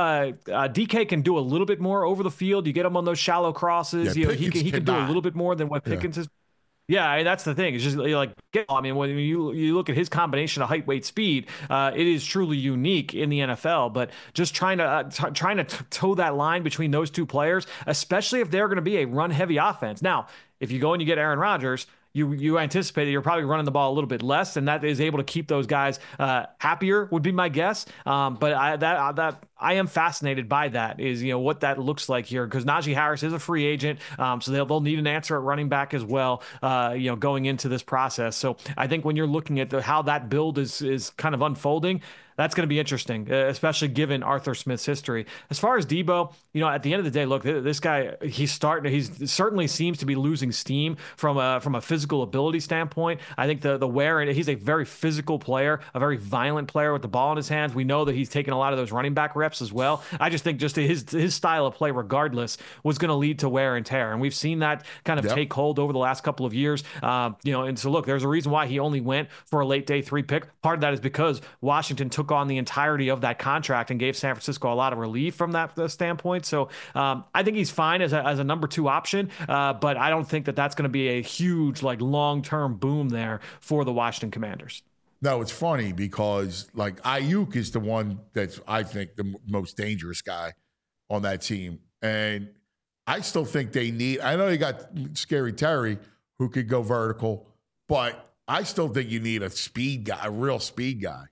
DK can do a little bit more over the field. You get him on those shallow crosses. He can do a little bit more than what Pickens is. Yeah, that's the thing. It's just when you look at his combination of height, weight, speed, it is truly unique in the NFL. But just trying to toe that line between those two players, especially if they're going to be a run-heavy offense. Now, if you go and you get Aaron Rodgers, you anticipated you're probably running the ball a little bit less, and that is able to keep those guys happier, would be my guess. But I am fascinated by that, is, what that looks like here, because Najee Harris is a free agent, so they'll need an answer at running back as well, going into this process. So I think when you're looking at how that build is kind of unfolding, that's going to be interesting, especially given Arthur Smith's history. As far as Debo, at the end of the day, look, this guy, he certainly seems to be losing steam from a physical ability standpoint. I think the wear, and he's a very physical player, a very violent player with the ball in his hands. We know that he's taken a lot of those running back reps as well. I just think just his style of play, regardless, was going to lead to wear and tear, and we've seen that kind of take hold over the last couple of years. And so look, there's a reason why he only went for a late day 3 pick. Part of that is because Washington took on the entirety of that contract and gave San Francisco a lot of relief from that standpoint. So I think he's fine as a number 2 option, but I don't think that's going to be a huge, long-term boom there for the Washington Commanders. No, it's funny because Ayuk is the one that's, I think, the most dangerous guy on that team. And I still think they need, I know you got Scary Terry who could go vertical, but I still think you need a speed guy, a real speed guy.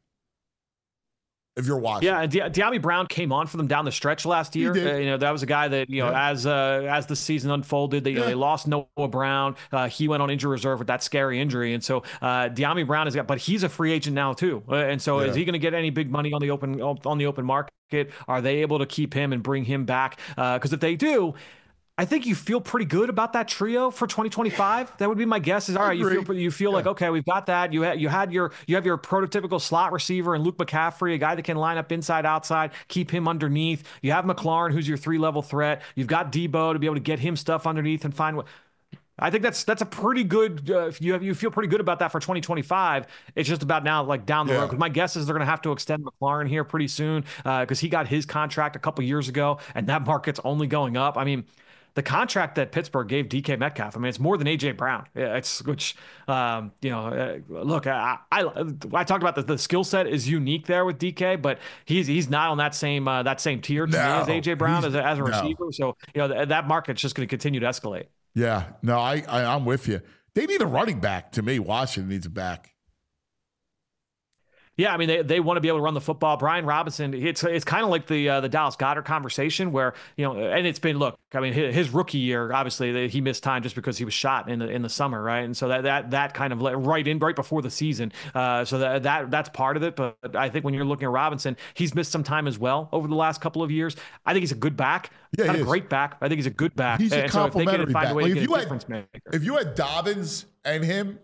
If you're watching. Yeah, and Dyami Brown came on for them down the stretch last year. That was a guy that, as the season unfolded, they lost Noah Brown. He went on injury reserve with that scary injury. And so Dyami Brown but he's a free agent now too. And so is he going to get any big money on the open market? Are they able to keep him and bring him back? Because if they do, I think you feel pretty good about that trio for 2025. That would be my guess. Is all right. You feel like, okay, we've got that. You have your prototypical slot receiver and Luke McCaffrey, a guy that can line up inside, outside, keep him underneath. You have McLaurin, who's your 3-level threat. You've got Debo to be able to get him stuff underneath and find what. I think that's a pretty good. You feel pretty good about that for 2025. It's just about now, down the road. Because my guess is they're going to have to extend McLaurin here pretty soon, because he got his contract a couple years ago, and that market's only going up. I mean, the contract that Pittsburgh gave DK Metcalf, it's more than AJ Brown. Look, I talked about the skill set is unique there with DK, but he's not on that same tier to me as AJ Brown as a receiver. So that market's just going to continue to escalate. Yeah, no, I'm with you. They need a running back. To me, Washington needs a back. Yeah, I mean, they want to be able to run the football. Brian Robinson, it's kind of like the Dallas Goedert conversation where, and it's been, look, I mean, his rookie year, obviously he missed time just because he was shot in the summer, right? And so that kind of right before the season. So that's part of it. But I think when you're looking at Robinson, he's missed some time as well over the last couple of years. I think he's a good back. Yeah, not a great back. I think he's a good back. He's a complimentary back. If you had maker. Dobbins and him,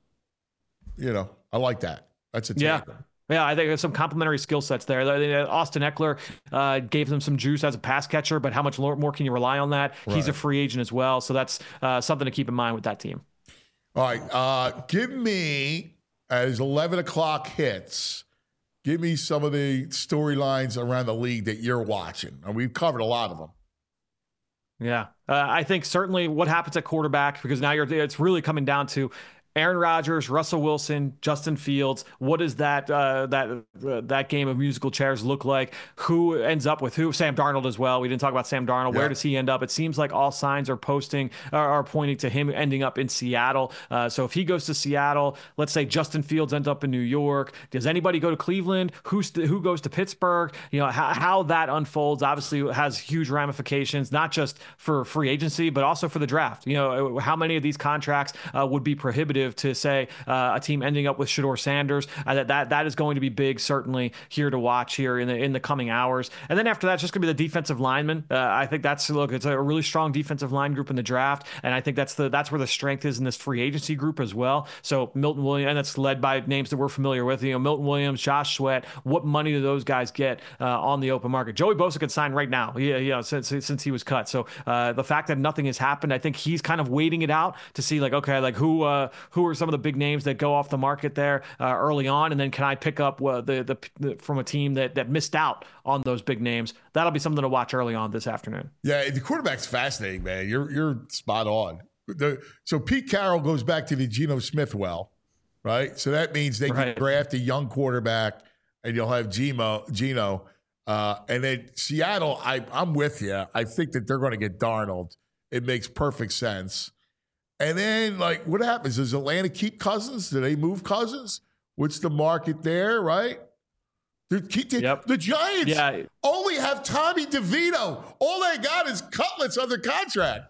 I like that. That's a take. Yeah, I think there's some complementary skill sets there. Austin Eckler gave them some juice as a pass catcher, but how much more can you rely on that? Right. He's a free agent as well, so that's something to keep in mind with that team. All right, give me, as 11 o'clock hits, give me some of the storylines around the league that you're watching. And we've covered a lot of them. Yeah, I think certainly what happens at quarterback, because now it's really coming down to Aaron Rodgers, Russell Wilson, Justin Fields. What does that game of musical chairs look like? Who ends up with who? Sam Darnold as well. We didn't talk about Sam Darnold. Yeah. Where does he end up? It seems like all signs are pointing to him ending up in Seattle. So if he goes to Seattle, let's say Justin Fields ends up in New York. Does anybody go to Cleveland? Who goes to Pittsburgh? How that unfolds obviously has huge ramifications, not just for free agency, but also for the draft. How many of these contracts would be prohibitive to say a team ending up with Shedeur Sanders? That is going to be big, certainly here to watch here in the coming hours. And then after that, it's just going to be the defensive linemen. I think it's a really strong defensive line group in the draft, and I think that's where the strength is in this free agency group as well. So Milton Williams, and that's led by names that we're familiar with. Milton Williams, Josh Sweat. What money do those guys get on the open market? Joey Bosa could sign right now. Since he was cut. So the fact that nothing has happened, I think he's kind of waiting it out to see who are some of the big names that go off the market there early on, and then can I pick up from a team that missed out on those big names? That'll be something to watch early on this afternoon. Yeah, the quarterback's fascinating, man. You're spot on. So Pete Carroll goes back to the Geno Smith well, right? So that means they can draft a young quarterback, and you'll have Geno. And then Seattle, I'm with you. I think that they're going to get Darnold. It makes perfect sense. And then, like, what happens? Does Atlanta keep Cousins? Do they move Cousins? What's the market there, right? The Giants only have Tommy DeVito. All they got is Cutlets under contract.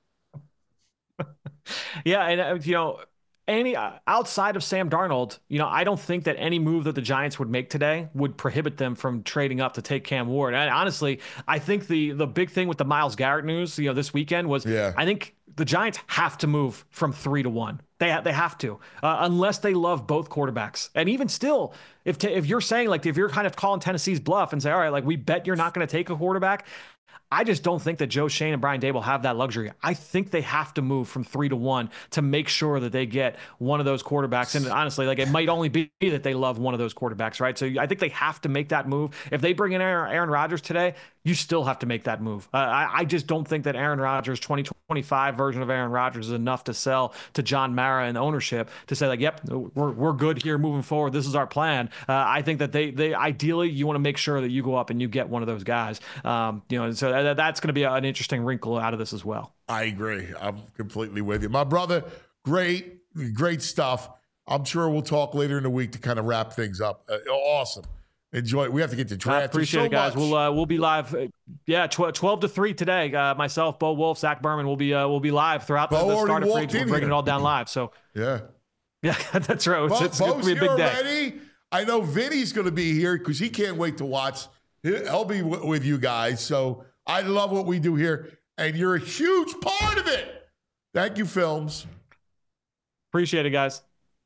Yeah, and any outside of Sam Darnold, I don't think that any move that the Giants would make today would prohibit them from trading up to take Cam Ward. And honestly, I think the big thing with the Myles Garrett news, this weekend was, I think the Giants have to move from 3 to 1. They have to, unless they love both quarterbacks. And even still, if you're saying, like, if you're kind of calling Tennessee's bluff and say, all right, like, we bet you're not going to take a quarterback, I just don't think that Joe Schoen and Brian Daboll have that luxury. I think they have to move from 3 to 1 to make sure that they get one of those quarterbacks. And honestly, like, it might only be that they love one of those quarterbacks, right? So I think they have to make that move. If they bring in Aaron Rodgers today, you still have to make that move. I just don't think that Aaron Rodgers, 2025 version of Aaron Rodgers, is enough to sell to John Mara and ownership to say, like, yep, we're good here moving forward. This is our plan. I think that they ideally, you want to make sure that you go up and you get one of those guys. So that's going to be an interesting wrinkle out of this as well. I agree. I'm completely with you. My brother, great stuff. I'm sure we'll talk later in the week to kind of wrap things up. Awesome. Enjoy it. We have to get to draft. I appreciate it, guys. We'll be live. 12 to 3 today. Myself, Bo Wolf, Zach Berman will be live throughout the start of free agency. We're breaking it all down live. So yeah, that's right. It's going to be a big day. Already? I know Vinny's going to be here because he can't wait to watch. He'll be with you guys. So I love what we do here, and you're a huge part of it. Thank you, Films. Appreciate it, guys.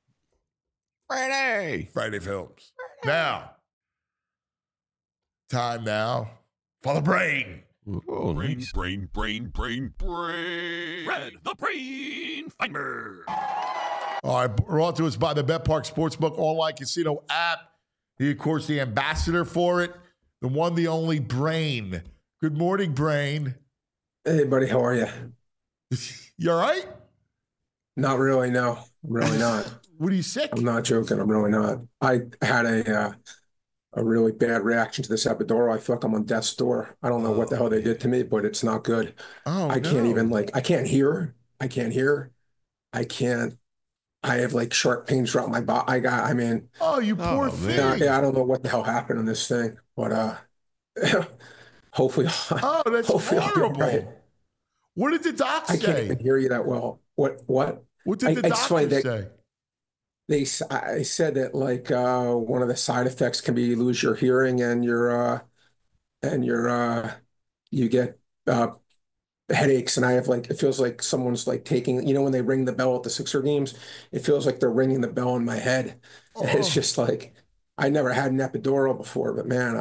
Friday Films. Now. Time now for the brain. Oh, nice. Brain. Red, the Brain Finder. All right, brought to us by the BetPark Sportsbook online casino app. He, of course, the ambassador for it, the one, the only Brain. Good morning, Brain. Hey, buddy, how are you? You all right? Not really, no. I'm really not. What are you sick? I'm not joking. I'm really not. I had a really bad reaction to this epidural. I feel like I'm on death's door. I don't know what the hell they did to me, but it's not good. I can't even, I can't hear. I have like sharp pains throughout my body. Oh, you poor thing. I don't know what the hell happened in this thing, but hopefully. Oh, that's horrible. Right. What did the doc say? I can't even hear you that well. What? What did the doctor say? I said that like one of the side effects can be you lose your hearing and you get headaches, and I have like, it feels like someone's like taking, when they ring the bell at the Sixer games, it feels like they're ringing the bell in my head. And it's just like, I never had an epidural before, but man,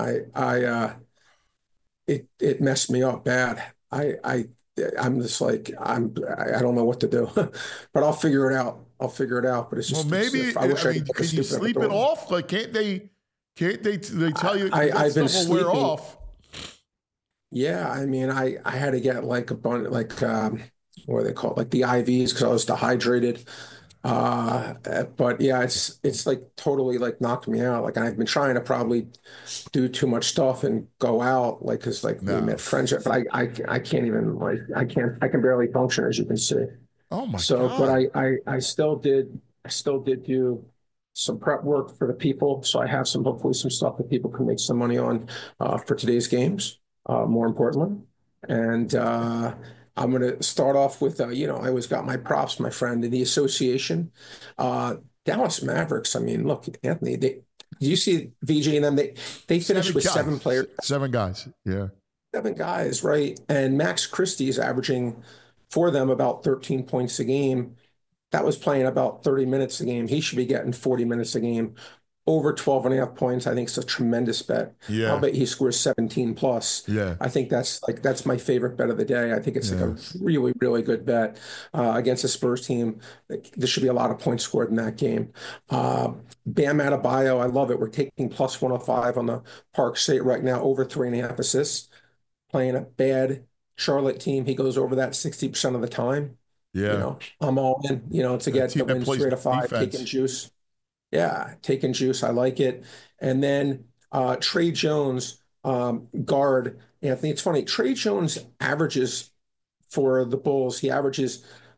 it messed me up bad. I'm just like, I don't know what to do, but I'll figure it out. But it's just, maybe, can you sleep it off? Like, can't they tell you I've been stuff will wear off? Yeah. I mean, I had to get like a bunch, like, what do they call it? Like the IVs, because I was dehydrated. But yeah, it's like totally like knocked me out. Like I've been trying to probably do too much stuff and go out, like, cause like we met friendship, but I can't even I can barely function, as you can see. Oh my God. But I still did do some prep work for the people. So I have hopefully some stuff that people can make some money on, for today's games, more importantly. And, I'm going to start off with, I always got my props, my friend, in the association. Dallas Mavericks, I mean, look, Anthony, do you see VJ and them? They finished with 7 players. 7 guys, yeah. 7 guys, right? And Max Christie is averaging for them about 13 points a game. That was playing about 30 minutes a game. He should be getting 40 minutes a game. Over 12.5 points, I think it's a tremendous bet. Yeah. I'll bet he scores 17 plus. Yeah. I think that's my favorite bet of the day. I think it's like a really, really good bet against a Spurs team. There should be a lot of points scored in that game. Bam Adebayo, I love it. We're taking plus 105 on the Park State right now, over 3.5 assists. Playing a bad Charlotte team, he goes over that 60% of the time. Yeah. I'm all in, to get the win 3 to 5, taking juice. Yeah, taking juice. I like it. And then Trey Jones, guard. Anthony, it's funny. Trey Jones averages for the Bulls. He averages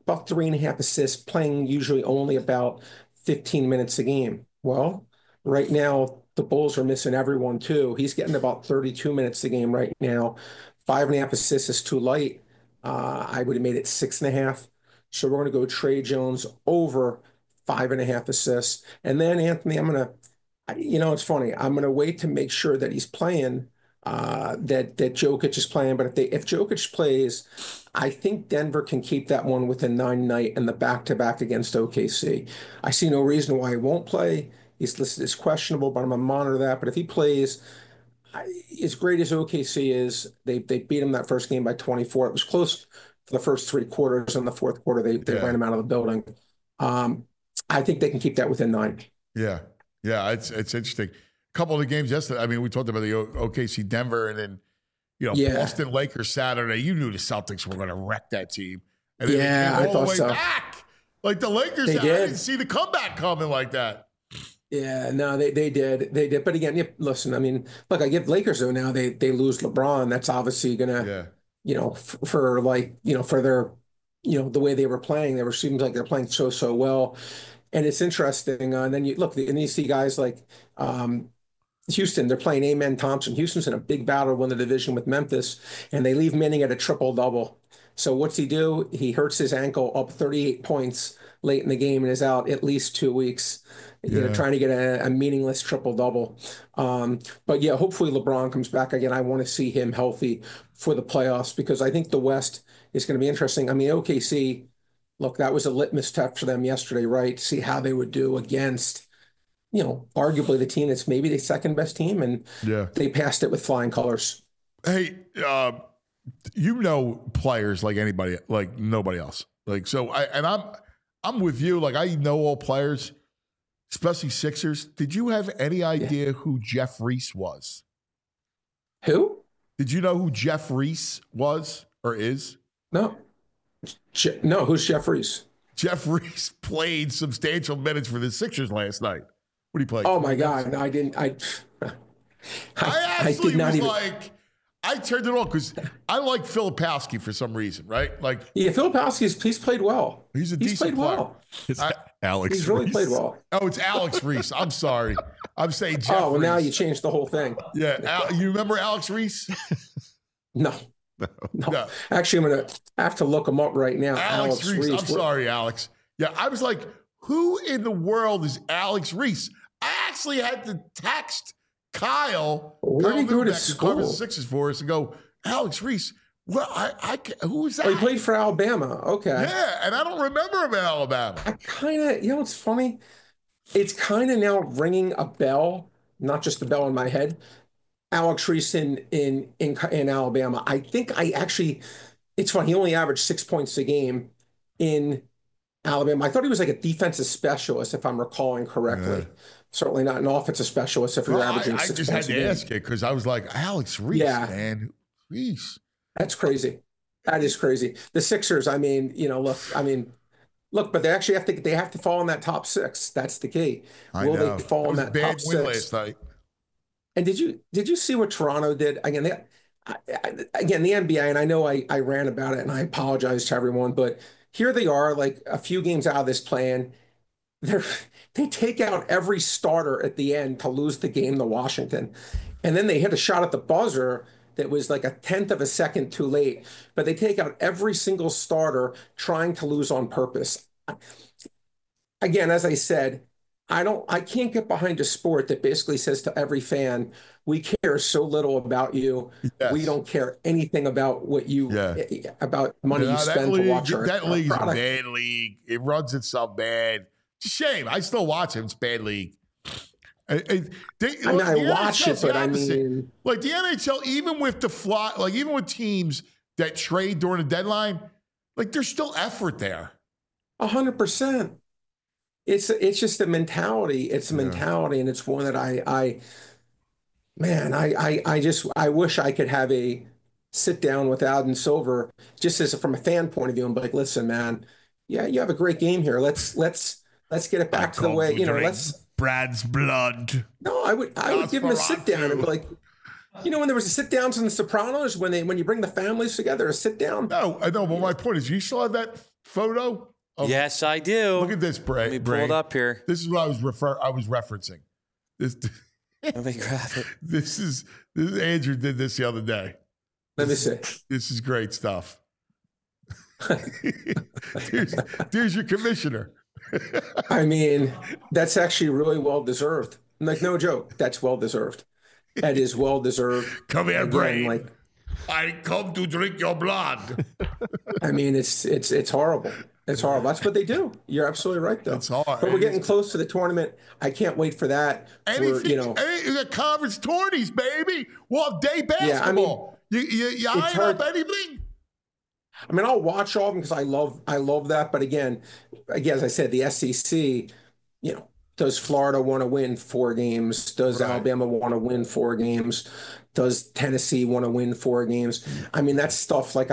about 3.5 assists, playing usually only about 15 minutes a game. Well, right now, the Bulls are missing everyone too. He's getting about 32 minutes a game right now. 5.5 assists is too light. I would have made it 6.5. So we're going to go Trey Jones over 5.5 assists. And then, Anthony, it's funny. I'm going to wait to make sure that he's playing, that Jokic is playing. But if Jokic plays, I think Denver can keep that one within 9 night and the back-to-back against OKC. I see no reason why he won't play. He's listed as questionable, but I'm going to monitor that. But if he plays, as great as OKC is, they beat him that first game by 24. It was close for the first 3 quarters. In the fourth quarter, they ran him out of the building. I think they can keep that within 9. Yeah. Yeah, it's interesting. A couple of the games yesterday, I mean, we talked about the OKC Denver and then, Boston Lakers Saturday. You knew the Celtics were going to wreck that team. And then I thought so. Back. Like the Lakers, I didn't see the comeback coming like that. Yeah, no, they did. They did. But again, listen, I mean, look, I give Lakers though now they lose LeBron. That's obviously gonna, for their, the way they were playing, seems like they're playing so well. And it's interesting. And then you see guys like Houston, they're playing Amen Thompson. Houston's in a big battle to win the division with Memphis, and they leave Manning at a triple-double. So what's he do? He hurts his ankle, up 38 points late in the game, and is out at least 2 weeks, trying to get a meaningless triple-double. But yeah, hopefully LeBron comes back again. I want to see him healthy for the playoffs because I think the West is going to be interesting. I mean, OKC, look, that was a litmus test for them yesterday, right? See how they would do against, arguably the team that's maybe the second best team, and they passed it with flying colors. Hey, players like anybody, like nobody else. Like so, I'm with you. Like I know all players, especially Sixers. Did you have any idea who Jeff Reese was? Who? Did you know who Jeff Reese was or is? No. No, who's Jeff Reese? Jeff Reese played substantial minutes for the Sixers last night. What did he play? Oh my God! No, I didn't. I actually did not was even... like, I turned it off because I like Filipowski for some reason, right? Like, yeah, Filipowski's played well. He's decent player. Well. It's Alex. He's really played well. Oh, it's Alex Reese. I'm sorry. I'm saying Jeff. Oh, well, Reese. now you changed the whole thing. Yeah, you remember Alex Reese? No. Actually, I'm going to have to look him up right now. Alex Reese. I'm sorry, Alex. Yeah, I was like, who in the world is Alex Reese? I actually had to text Kyle. Where did he go to school? Covers the Sixers for us and go, Alex Reese. Well, who is that? Oh, he played for Alabama. Okay. Yeah, and I don't remember him in Alabama. I kind of, it's funny. It's kind of now ringing a bell, not just the bell in my head. Alex Reese in Alabama. I think it's funny. He only averaged 6 points a game in Alabama. I thought he was like a defensive specialist, if I'm recalling correctly. Yeah. Certainly not an offensive specialist if you're averaging 6 points a game. I just had to ask it because I was like, Alex Reese, man. Reese. That's crazy. That is crazy. The Sixers, I mean, look, but they actually have to fall in that top 6. That's the key. Will they fall in that top 6? Last night. And did you see what Toronto did? Again, the NBA, and I know I ran about it and I apologize to everyone, but here they are, like a few games out of this plan. They take out every starter at the end to lose the game to Washington. And then they hit a shot at the buzzer that was like a 1/10 of a second too late. But they take out every single starter trying to lose on purpose. Again, as I said, I can't get behind a sport that basically says to every fan, we care so little about you. Yes. We don't care anything about what about money you spend to watch our That league's product. A bad league. It runs itself bad. It's a shame. I still watch it. It's a bad league. I watch it, but I mean, like the NHL, even with even with teams that trade during the deadline, like there's still effort there. 100%. It's just a mentality. It's a mentality, and it's one that I wish I could have a sit down with Adam Silver, just as from a fan point of view, and be like, listen, man, you have a great game here. Let's get it back to the way, let's Brad's blood. No, I would give him a sit down and be like, when there was a sit downs in The Sopranos, when you bring the families together, a sit down. No, I know, but my point is, you still have that photo? Yes, I do. Look at this, Bray. Let me pull it up here. This is what I was referencing. Let me grab it. This is Andrew did this the other day. Let me see. This is great stuff. There's your commissioner. I mean, that's actually really well deserved. Like, no joke. That's well deserved. That is well deserved. Come here, Again, Bray. like, I come to drink your blood. I mean, it's horrible. It's horrible. That's what they do. You're absolutely right, though. It's hard. But we're getting close to the tournament. I can't wait for that. The conference tourneys, baby. Well, day basketball. Yeah, I mean, you eyeing up anything? I mean, I'll watch all of them because I love that. But again, as I said, the SEC, does Florida want to win 4 games? Does Alabama want to win 4 games? Does Tennessee want to win 4 games? I mean, that's stuff like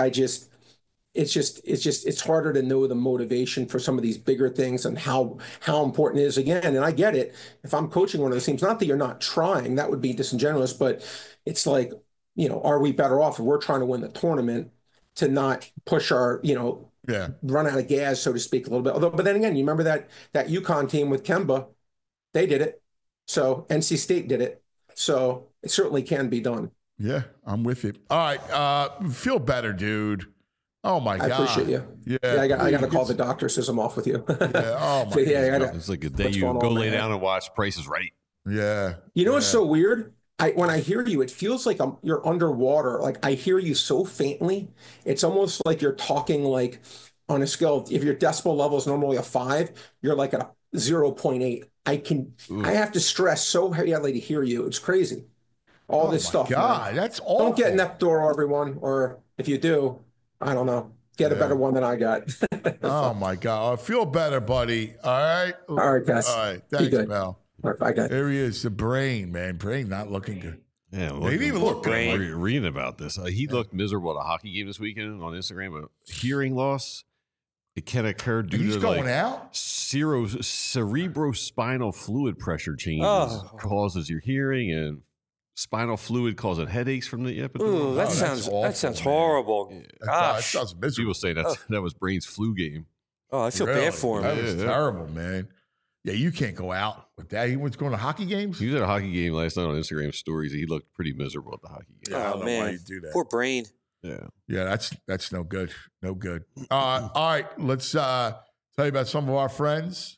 it's harder to know the motivation for some of these bigger things and how important it is again. And I get it. If I'm coaching one of those teams, not that you're not trying, that would be disingenuous, but it's like, are we better off if we're trying to win the tournament to not push our, run out of gas, so to speak, a little bit. Although, but then again, you remember that UConn team with Kemba, they did it. So NC State did it. So it certainly can be done. Yeah, I'm with you. All right. Feel better, dude. Oh my God. I appreciate you. Yeah. I got to call the doctor, says I'm off with you. Yeah. Oh my God. It's like a day you go lay down and watch Price is Right. Yeah. What's so weird? When I hear you, it feels like you're underwater. Like I hear you so faintly. It's almost like you're talking like on a scale. If your decibel level is normally a 5, you're like at a 0.8. I have to stress so heavily to hear you. It's crazy. All this stuff. God, man. that's awful. Don't get an Epidor, everyone. Or if you do, I don't know. Get a better one than I got. Oh my God. I feel better, buddy. All right. All right, guys. All right. Thanks, Mel. All right, bye, guys. There he is, the brain, man. Brain not looking good. Yeah, he didn't even look good. Reading about this, he looked miserable at a hockey game this weekend on Instagram. But hearing loss, it can occur due to going out. Cerebrospinal fluid pressure changes causes your hearing, and spinal fluid causing headaches from the epidural. Ooh, that sounds horrible. Yeah. Gosh, that sounds miserable. People say that was Brain's flu game. Oh, I feel bad for him. That was terrible, man. Yeah, you can't go out with that. He was going to hockey games? He was at a hockey game last night on Instagram stories. He looked pretty miserable at the hockey game. Yeah, I don't know why you do that. Poor Brain. Yeah. Yeah, that's no good. No good. All right, let's tell you about some of our friends.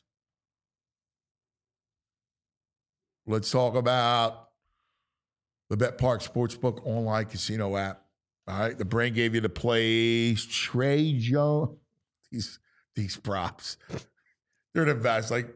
Let's talk about the BetPark Sportsbook online casino app. All right, the Brain gave you the plays. Trey Jones. These props. They're the best. Like,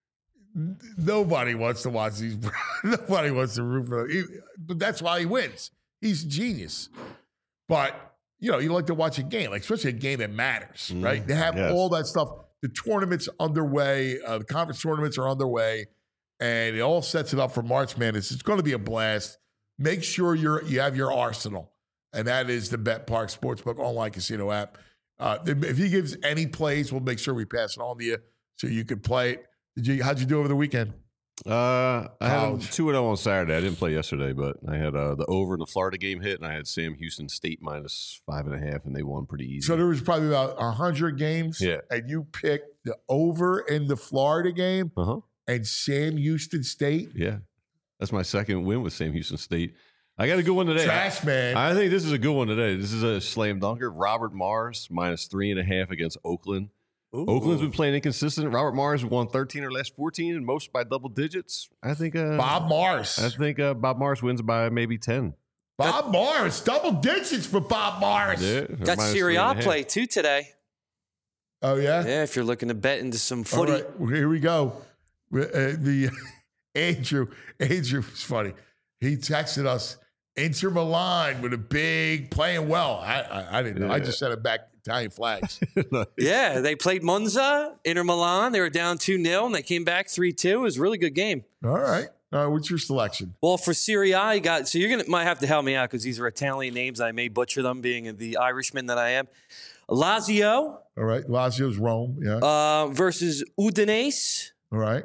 nobody wants to watch these. Nobody wants to root for them. But that's why he wins. He's a genius. But, you like to watch a game, like especially a game that matters, right? They have all that stuff. The tournament's underway. The conference tournaments are underway. And it all sets it up for March Madness. It's going to be a blast. Make sure you have your arsenal. And that is the BetPark Sportsbook online casino app. If he gives any plays, we'll make sure we pass it on to you so you can play it. How'd you do over the weekend? I had 2-0 on Saturday. I didn't play yesterday, but I had the over in the Florida game hit, and I had Sam Houston State minus 5.5, and they won pretty easy. So there was probably about 100 games, and you picked the over in the Florida game and Sam Houston State? Yeah. That's my second win with Sam Houston State. I got a good one today. Trash, man. I think this is a good one today. This is a slam dunker. Robert Morris minus 3.5 against Oakland. Ooh. Oakland's been playing inconsistent. Robert Morris won 13 or last 14, and most by double digits. I think Bob Morris. I think Bob Morris wins by maybe 10. Bob Morris, double digits for Bob Morris. Yeah, got Serie A play too today. Oh yeah, yeah. If you're looking to bet into some footy, all right, here we go. The Andrew was funny. He texted us Inter Milan with a big playing well. I didn't know. Yeah. I just sent it back Italian flags. Yeah, they played Monza, Inter Milan. They were down 2-0, and they came back 3-2. It was a really good game. All right. What's your selection? Well, for Serie A, you got, so you're might have to help me out because these are Italian names. I may butcher them, being the Irishman that I am. Lazio. All right. Lazio's Rome. Yeah. Versus Udinese. All right.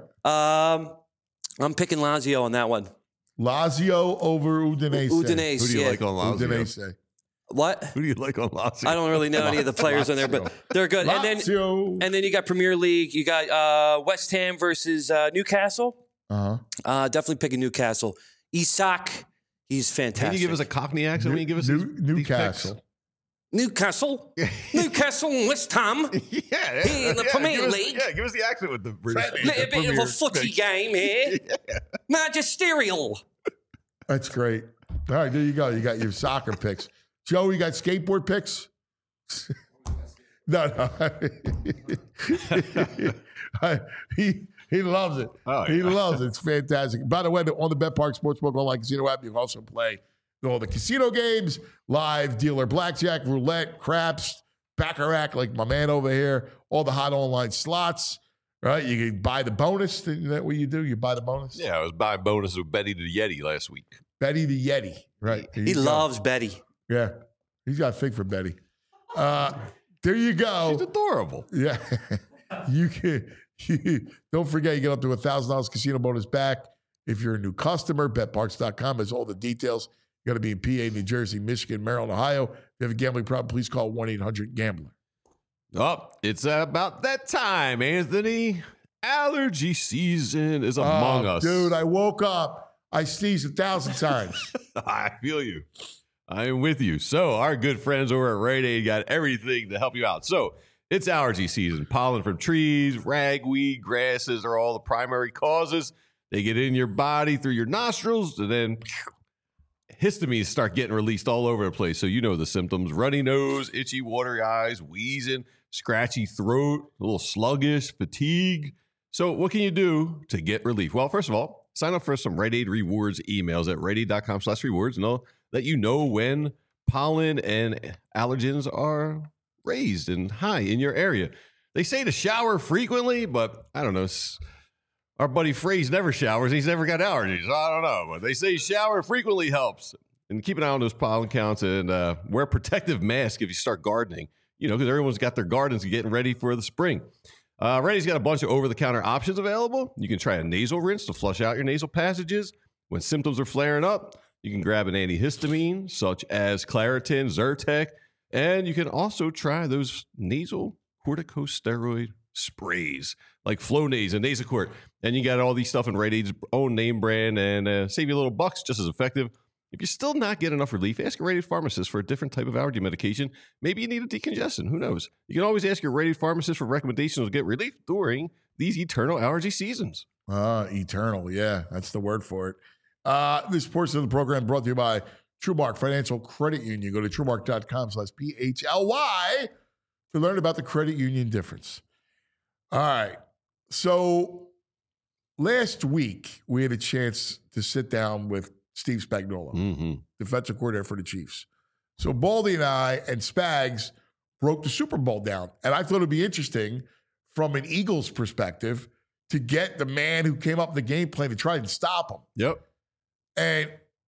I'm picking Lazio on that one. Lazio over Udinese. Udinese. Who do you like on Lazio? Udinese. What? Who do you like on Lazio? I don't really know any of the players on there, but they're good. Lazio. And then you got Premier League. You got West Ham versus Newcastle. Definitely picking Newcastle. Isak, he's fantastic. Can you give us a Cockney accent when you give us Newcastle? Newcastle, and West Ham. Yeah, in the Premier League. Give us the accent with the British. Little bit of a footy game here. Magisterial. That's great. All right, there you go. You got your soccer picks. Joe, you got skateboard picks? No. He loves it. Oh, he loves it. It's fantastic. By the way, on the BetPark Sportsbook Online Casino app, you can also play all the casino games, live dealer blackjack, roulette, craps, baccarat, like my man over here, all the hot online slots, right? You can buy the bonus. Is that what you do? You buy the bonus? Yeah, I was buying bonuses with Betty the Yeti last week. Betty the Yeti, right? He loves Betty. Yeah. He's got a fig for Betty. There you go. She's adorable. Yeah. Don't forget, you get up to $1,000 casino bonus back if you're a new customer. BetParks.com has all the details. You got to be in PA, New Jersey, Michigan, Maryland, Ohio. If you have a gambling problem, please call 1-800-GAMBLER. Oh, it's about that time, Anthony. Allergy season is among us. Dude, I woke up. I sneezed 1,000 times. I feel you. I am with you. So our good friends over at Rite Aid got everything to help you out. So it's allergy season. Pollen from trees, ragweed, grasses are all the primary causes. They get in your body through your nostrils, and then histamines start getting released all over the place. So you know the symptoms: runny nose, itchy, watery eyes, wheezing, scratchy throat, a little sluggish, fatigue. So what can you do to get relief? Well, first of all, sign up for some Rite Aid Rewards emails at riteaid.com/rewards, and they'll let you know when pollen and allergens are raised and high in your area. They say to shower frequently, but I don't know. Our buddy Phrase never showers. He's never got allergies. I don't know, but they say shower frequently helps. And keep an eye on those pollen counts, and wear a protective mask if you start gardening, because everyone's got their gardens getting ready for the spring. Rite Aid's got a bunch of over-the-counter options available. You can try a nasal rinse to flush out your nasal passages. When symptoms are flaring up, you can grab an antihistamine, such as Claritin, Zyrtec, and you can also try those nasal corticosteroid sprays like Flonase and Nasacort. And you got all these stuff in Rite Aid's own name brand, and save you a little bucks, just as effective. If you're still not getting enough relief, ask a Rite Aid pharmacist for a different type of allergy medication. Maybe you need a decongestant. Who knows? You can always ask your Rite Aid pharmacist for recommendations to get relief during these eternal allergy seasons. Eternal. Yeah, that's the word for it. This portion of the program brought to you by TrueMark Financial Credit Union. Go to TrueMark.com/PHLY to learn about the credit union difference. All right. So last week, we had a chance to sit down with Steve Spagnuolo, defensive coordinator for the Chiefs. So Baldy and I and Spags broke the Super Bowl down. And I thought it'd be interesting from an Eagles perspective to get the man who came up with the game plan to try and stop him. Yep. And,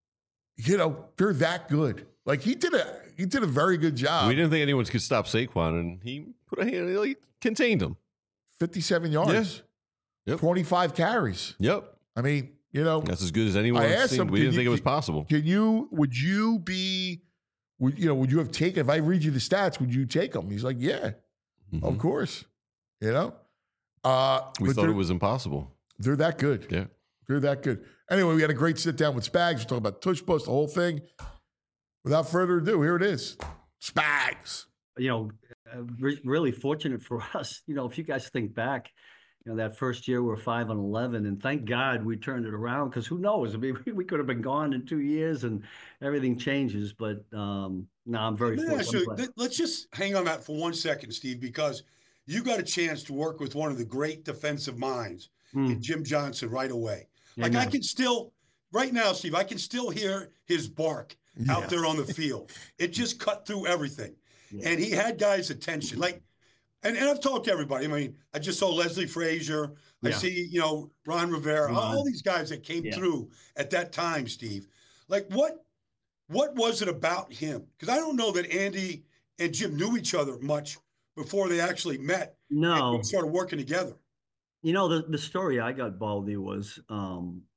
they're that good. Like he did a very good job. We didn't think anyone could stop Saquon, and he contained him. 57 yards. Yeah. Yep. 25 carries. Yep. I mean, that's as good as anyone has seen. We didn't think it was possible. Would you have taken, if I read you the stats, would you take him? He's like, yeah, of course. We thought it was impossible. They're that good. Yeah. They're that good. Anyway, we had a great sit down with Spags. We're talking about tush push, the whole thing. Without further ado, here it is. Spags. Really fortunate for us. If you guys think back, that first year we're 5-11, and thank God we turned it around, because who knows? I mean, we could have been gone in 2 years and everything changes. But no, I'm very fortunate. Let's just hang on that for 1 second, Steve, because you got a chance to work with one of the great defensive minds in Jim Johnson right away. Like I can still, right now, Steve, I can still hear his bark out there on the field. It just cut through everything. Yeah. And he had guys' attention. And I've talked to everybody. I mean, I just saw Leslie Frazier. I see, Ron Rivera, all these guys that came through at that time, Steve. Like, what was it about him? Because I don't know that Andy and Jim knew each other much before they actually met. No. And started working together. The story I got, Baldy, was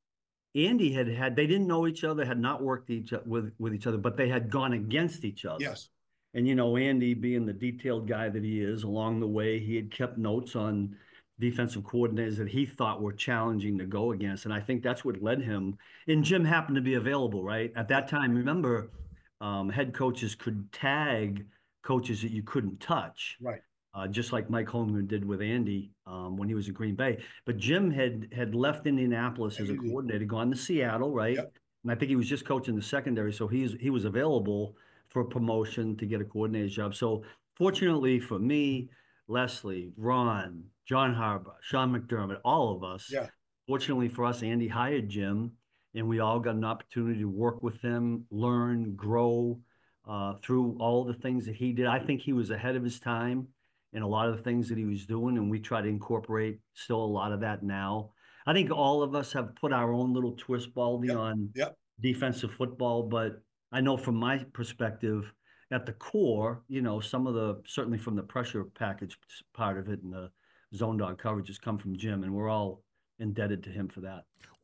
Andy they didn't know each other, had not worked with each other, but they had gone against each other. Yes. And, Andy, being the detailed guy that he is, along the way, he had kept notes on defensive coordinators that he thought were challenging to go against. And I think that's what led him. And Jim happened to be available, right? At that time, remember, head coaches could tag coaches that you couldn't touch. Right. Just like Mike Holmgren did with Andy when he was in Green Bay. But Jim had left Indianapolis as a coordinator, gone to Seattle, right? Yep. And I think he was just coaching the secondary, so he was available for a promotion to get a coordinator's job. So fortunately for me, Leslie, Ron, John Harbaugh, Sean McDermott, all of us, fortunately for us, Andy hired Jim, and we all got an opportunity to work with him, learn, grow through all the things that he did. I think he was ahead of his time in a lot of the things that he was doing, and we try to incorporate still a lot of that now. I think all of us have put our own little twist, Baldy, on defensive football, but I know from my perspective, at the core, some of certainly from the pressure package part of it and the zone dog coverages come from Jim, and we're all indebted to him for that.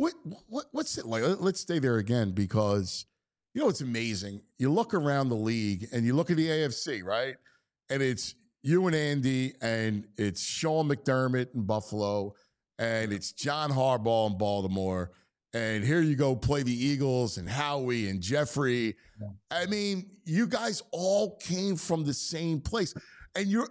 What's it like? Let's stay there again, because, it's amazing. You look around the league and you look at the AFC, right? And it's you and Andy, and it's Sean McDermott in Buffalo, and it's John Harbaugh in Baltimore, and here you go play the Eagles and Howie and Jeffrey. Yeah. I mean, you guys all came from the same place, and you're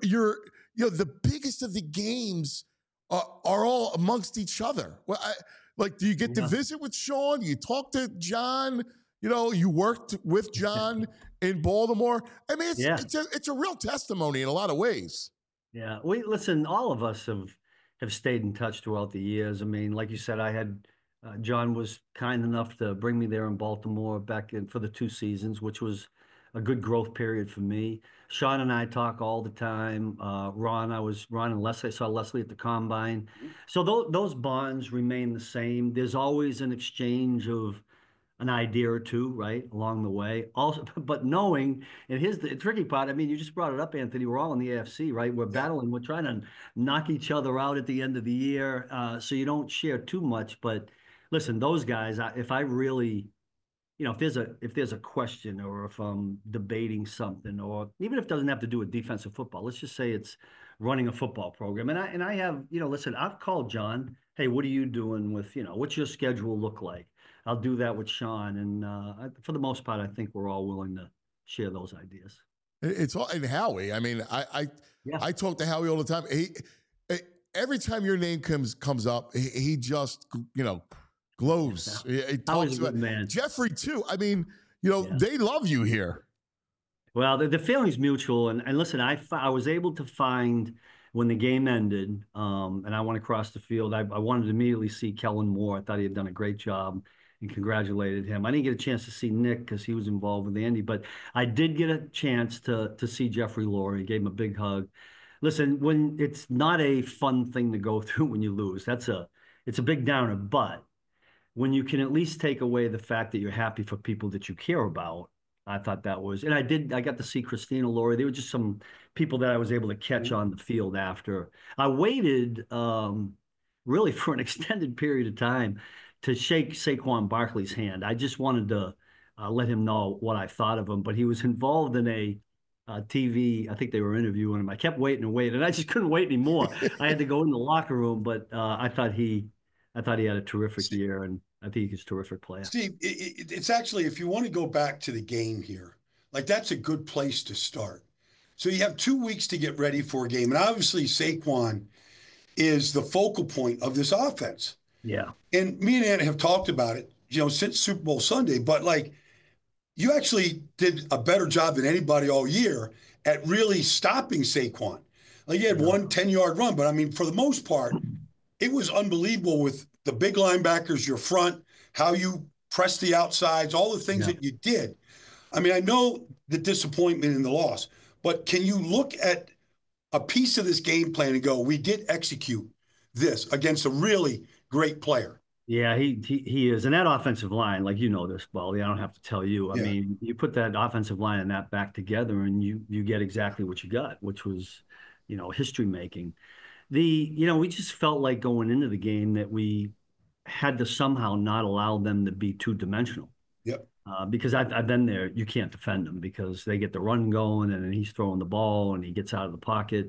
the biggest of the games are all amongst each other. Well, do you get to visit with Sean? You talk to John? You worked with John in Baltimore. I mean, it's a real testimony in a lot of ways. Yeah, listen. All of us have stayed in touch throughout the years. I mean, like you said, I had John was kind enough to bring me there in Baltimore back for the 2 seasons, which was a good growth period for me. Sean and I talk all the time. Ron and Leslie. I saw Leslie at the Combine. So those bonds remain the same. There's always an exchange of an idea or two, right, along the way. Also, but knowing, and here's the tricky part. I mean, you just brought it up, Anthony. We're all in the AFC, right? We're battling. We're trying to knock each other out at the end of the year, so you don't share too much. But listen, those guys, if I really, if there's a question, or if I'm debating something, or even if it doesn't have to do with defensive football, let's just say it's running a football program, and I have, listen, I've called John. Hey, what are you doing with, what's your schedule look like? I'll do that with Sean, and for the most part, I think we're all willing to share those ideas. It's all, and Howie. I mean, I talk to Howie all the time. Every time your name comes up, he just glows. He talks about man. Jeffrey too. I mean, they love you here. Well, the feeling's mutual, and listen, I was able to find when the game ended, and I went across the field. I wanted to immediately see Kellen Moore. I thought he had done a great job, and congratulated him. I didn't get a chance to see Nick because he was involved with Andy, but I did get a chance to see Jeffrey Lurie. Gave him a big hug. Listen, when it's not a fun thing to go through when you lose, it's a big downer. But when you can at least take away the fact that you're happy for people that you care about, I thought that was, and I got to see Christina Lurie. There were just some people that I was able to catch on the field after. I waited really for an extended period of time to shake Saquon Barkley's hand. I just wanted to let him know what I thought of him, but he was involved in a TV, I think they were interviewing him. I kept waiting, and I just couldn't wait anymore. I had to go in the locker room, but I thought he had a terrific year, and I think he's a terrific player. Steve, it's actually, if you want to go back to the game here, that's a good place to start. So you have 2 weeks to get ready for a game. And obviously Saquon is the focal point of this offense. Yeah. And me and Anna have talked about it, since Super Bowl Sunday, but you actually did a better job than anybody all year at really stopping Saquon. You had one 10-yard run, but I mean, for the most part, it was unbelievable with the big linebackers, your front, how you pressed the outsides, all the things that you did. I mean, I know the disappointment in the loss, but can you look at a piece of this game plan and go, we did execute this against a really great player? Yeah, he is. And that offensive line, this, Baldy, I don't have to tell you. I mean, you put that offensive line and that back together, and you get exactly what you got, which was, history making. We just felt like going into the game that we had to somehow not allow them to be two-dimensional. Yep. Because I've been there. You can't defend them because they get the run going, and then he's throwing the ball, and he gets out of the pocket.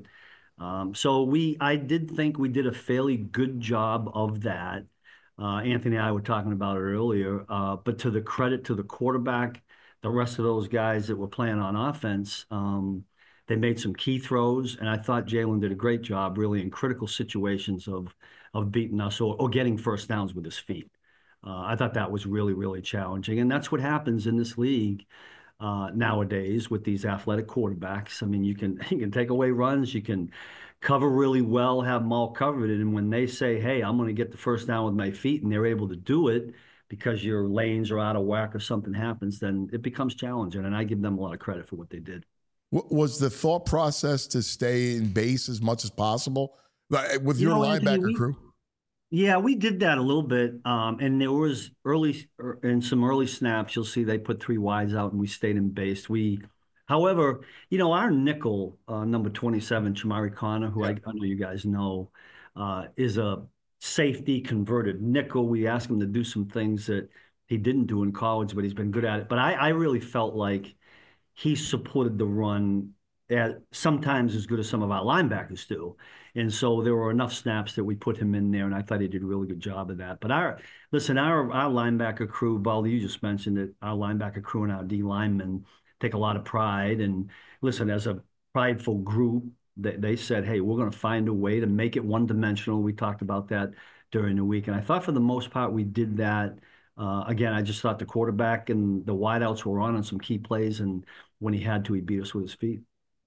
So I did think we did a fairly good job of that. Anthony and I were talking about it earlier, but to the credit to the quarterback, the rest of those guys that were playing on offense, they made some key throws, and I thought Jalen did a great job really in critical situations of beating us or getting first downs with his feet. I thought that was really, really challenging, and that's what happens in this league nowadays with these athletic quarterbacks. I mean, you can take away runs, you can cover really well, have them all covered, and when they say, "Hey, I'm going to get the first down with my feet," and they're able to do it because your lanes are out of whack or something happens, then it becomes challenging, and I give them a lot of credit for what they did. Was the thought process to stay in base as much as possible with your linebacker crew? Yeah, we did that a little bit. And there was some early snaps, you'll see they put 3 wides out and we stayed in base. However, our nickel, number 27, Chamari Connor, who I know you guys know, is a safety converted nickel. We asked him to do some things that he didn't do in college, but he's been good at it. But I really felt like he supported the run sometimes as good as some of our linebackers do. And so there were enough snaps that we put him in there, and I thought he did a really good job of that. But our linebacker crew, Baldy, you just mentioned it, our linebacker crew and our D linemen take a lot of pride. And listen, as a prideful group, they said, "Hey, we're going to find a way to make it one-dimensional." We talked about that during the week. And I thought for the most part we did that. Again, I just thought the quarterback and the wideouts were on some key plays, and when he had to, he beat us with his feet.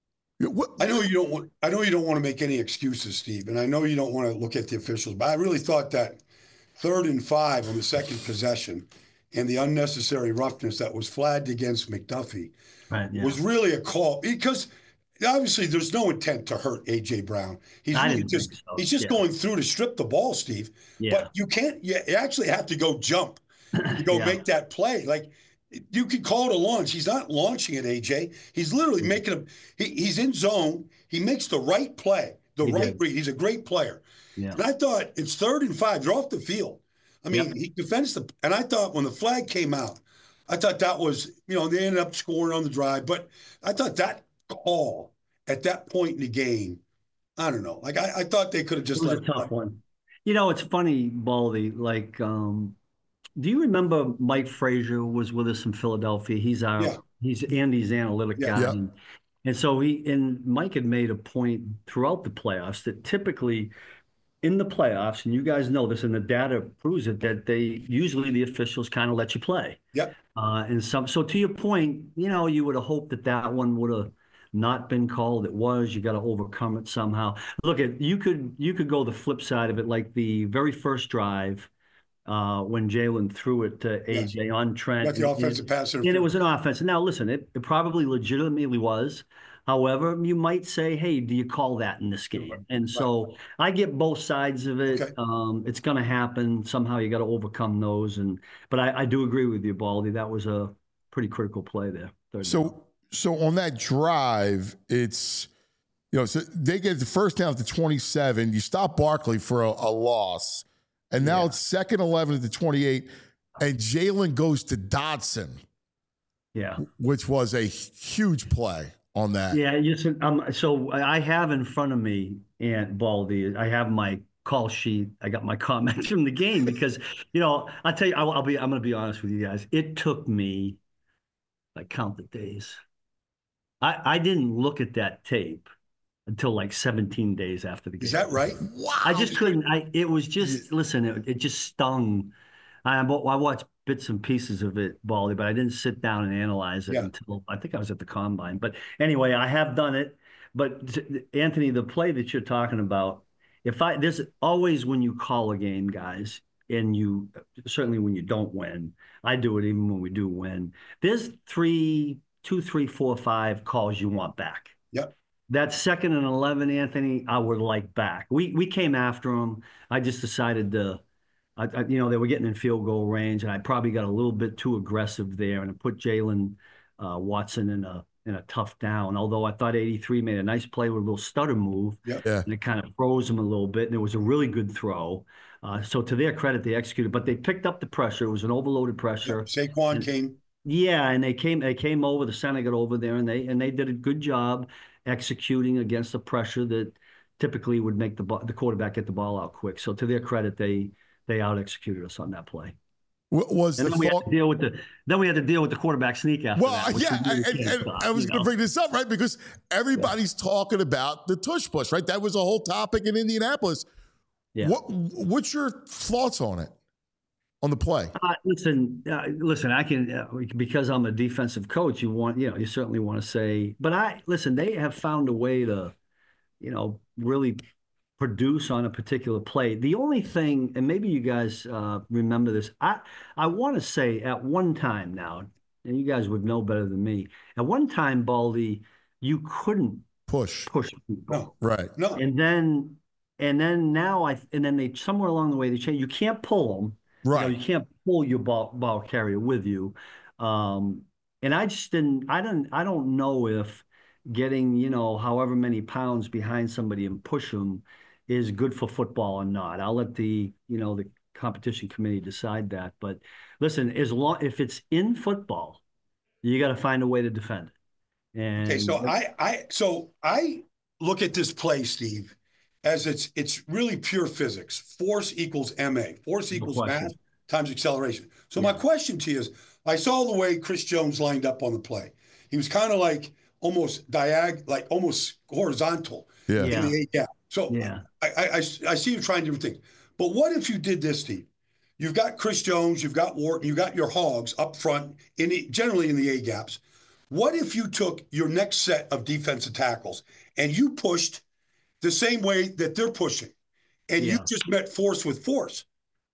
I know you don't want to make any excuses, Steve, and I know you don't want to look at the officials, but I really thought that 3rd and 5 on the second possession and the unnecessary roughness that was flagged against McDuffie was really a call, because obviously there's no intent to hurt A.J. Brown. He's just going through to strip the ball, Steve. Yeah. But you actually have to go jump to go make that play. Like, you could call it a launch. He's not launching at AJ. He's literally making he's in zone. He makes the right play, read. He's a great player. Yeah. And I thought it's 3rd and 5. They're off the field. I mean, he defends and I thought when the flag came out, I thought that was, they ended up scoring on the drive. But I thought that call at that point in the game, I don't know. Like, I thought they could have just let it. It was a tough one. It's funny, Baldy, like, do you remember Mike Frazier was with us in Philadelphia? He's Andy's analytic guy. Yeah. And so Mike had made a point throughout the playoffs that typically in the playoffs, and you guys know this, and the data proves it, that usually the officials kind of let you play. Yep. So to your point, you would have hoped that one would have not been called. It was. You got to overcome it somehow. Look, you could go the flip side of it, like the very first drive. When Jalen threw it to AJ on Trent. That's the offensive pass. And it was an offense. Now, listen, it probably legitimately was. However, you might say, "Hey, do you call that in this game?" And so I get both sides of it. Okay. It's going to happen. Somehow you got to overcome those. But I do agree with you, Baldy. That was a pretty critical play there. So on that drive, it's, so they get the first down to 27. You stop Barkley for a loss. And now it's 2nd 11 at the 28, and Jalen goes to Dodson. Yeah. Which was a huge play on that. Yeah. So I have in front of me, and Baldy, I have my call sheet. I got my comments from the game because, I'll tell you, I'm going to be honest with you guys. It took me, I count the days. I didn't look at that tape until like 17 days after the game. Is that right? Wow. I just couldn't. It was just, listen, it just stung. I watched bits and pieces of it, Baldy, but I didn't sit down and analyze it until I think I was at the combine. But anyway, I have done it. But Anthony, the play that you're talking about, there's always when you call a game, guys, and certainly when you don't win, I do it even when we do win. There's 2, 3, 4, 5 calls you want back. Yep. That 2nd and 11, Anthony, I would like back. We came after them. I just decided they were getting in field goal range, and I probably got a little bit too aggressive there, and it put Jalen Watson in a in a tough down. Although I thought 83 made a nice play with a little stutter move, yeah. and it kind of froze him a little bit. And it was a really good throw. So to their credit, they executed, but they picked up the pressure. It was an overloaded pressure. Saquon came. Yeah, and they came over. The center got over there, and they did a good job executing against the pressure that typically would make the quarterback get the ball out quick. So to their credit, they out executed us on that play. Then we had to deal with the quarterback sneak after that. And I was going to bring this up, right? Because everybody's talking about the tush push, right? That was a whole topic in Indianapolis. Yeah. What's your thoughts on it, on the play? Listen, I can, because I'm a defensive coach, you certainly want to say, but they have found a way to, really produce on a particular play. The only thing, and maybe you guys remember this, I want to say at one time now, and you guys would know better than me, at one time, Baldy, you couldn't push people. No, right. No. And then they somewhere along the way they changed. You can't pull them. Right. You can't pull your ball carrier with you. And I just didn't. I don't know if getting however many pounds behind somebody and push them is good for football or not. I'll let the competition committee decide that. But listen, if it's in football, you got to find a way to defend it. And okay, so I look at this play, Steve, as it's really pure physics. Force equals MA. Force equals mass times acceleration. So my question to you is, I saw the way Chris Jones lined up on the play. He was kind of like almost almost horizontal in the A gap. So I see you trying different things. But what if you did this, Steve? You've got Chris Jones, you've got Wharton, you've got your hogs up front, generally in the A gaps. What if you took your next set of defensive tackles and you pushed the same way that they're pushing, and you just met force with force?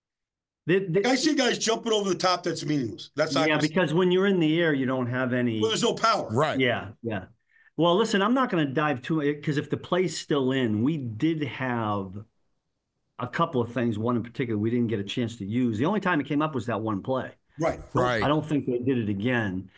I see guys jumping over the top. That's meaningless. That's not because when you're in the air, you don't have any. Well, there's no power. Right. Yeah. Well, listen, I'm not going to dive too much because if the play's still in, we did have a couple of things. One in particular, we didn't get a chance to use. The only time it came up was that one play. Right. I don't think they did it again.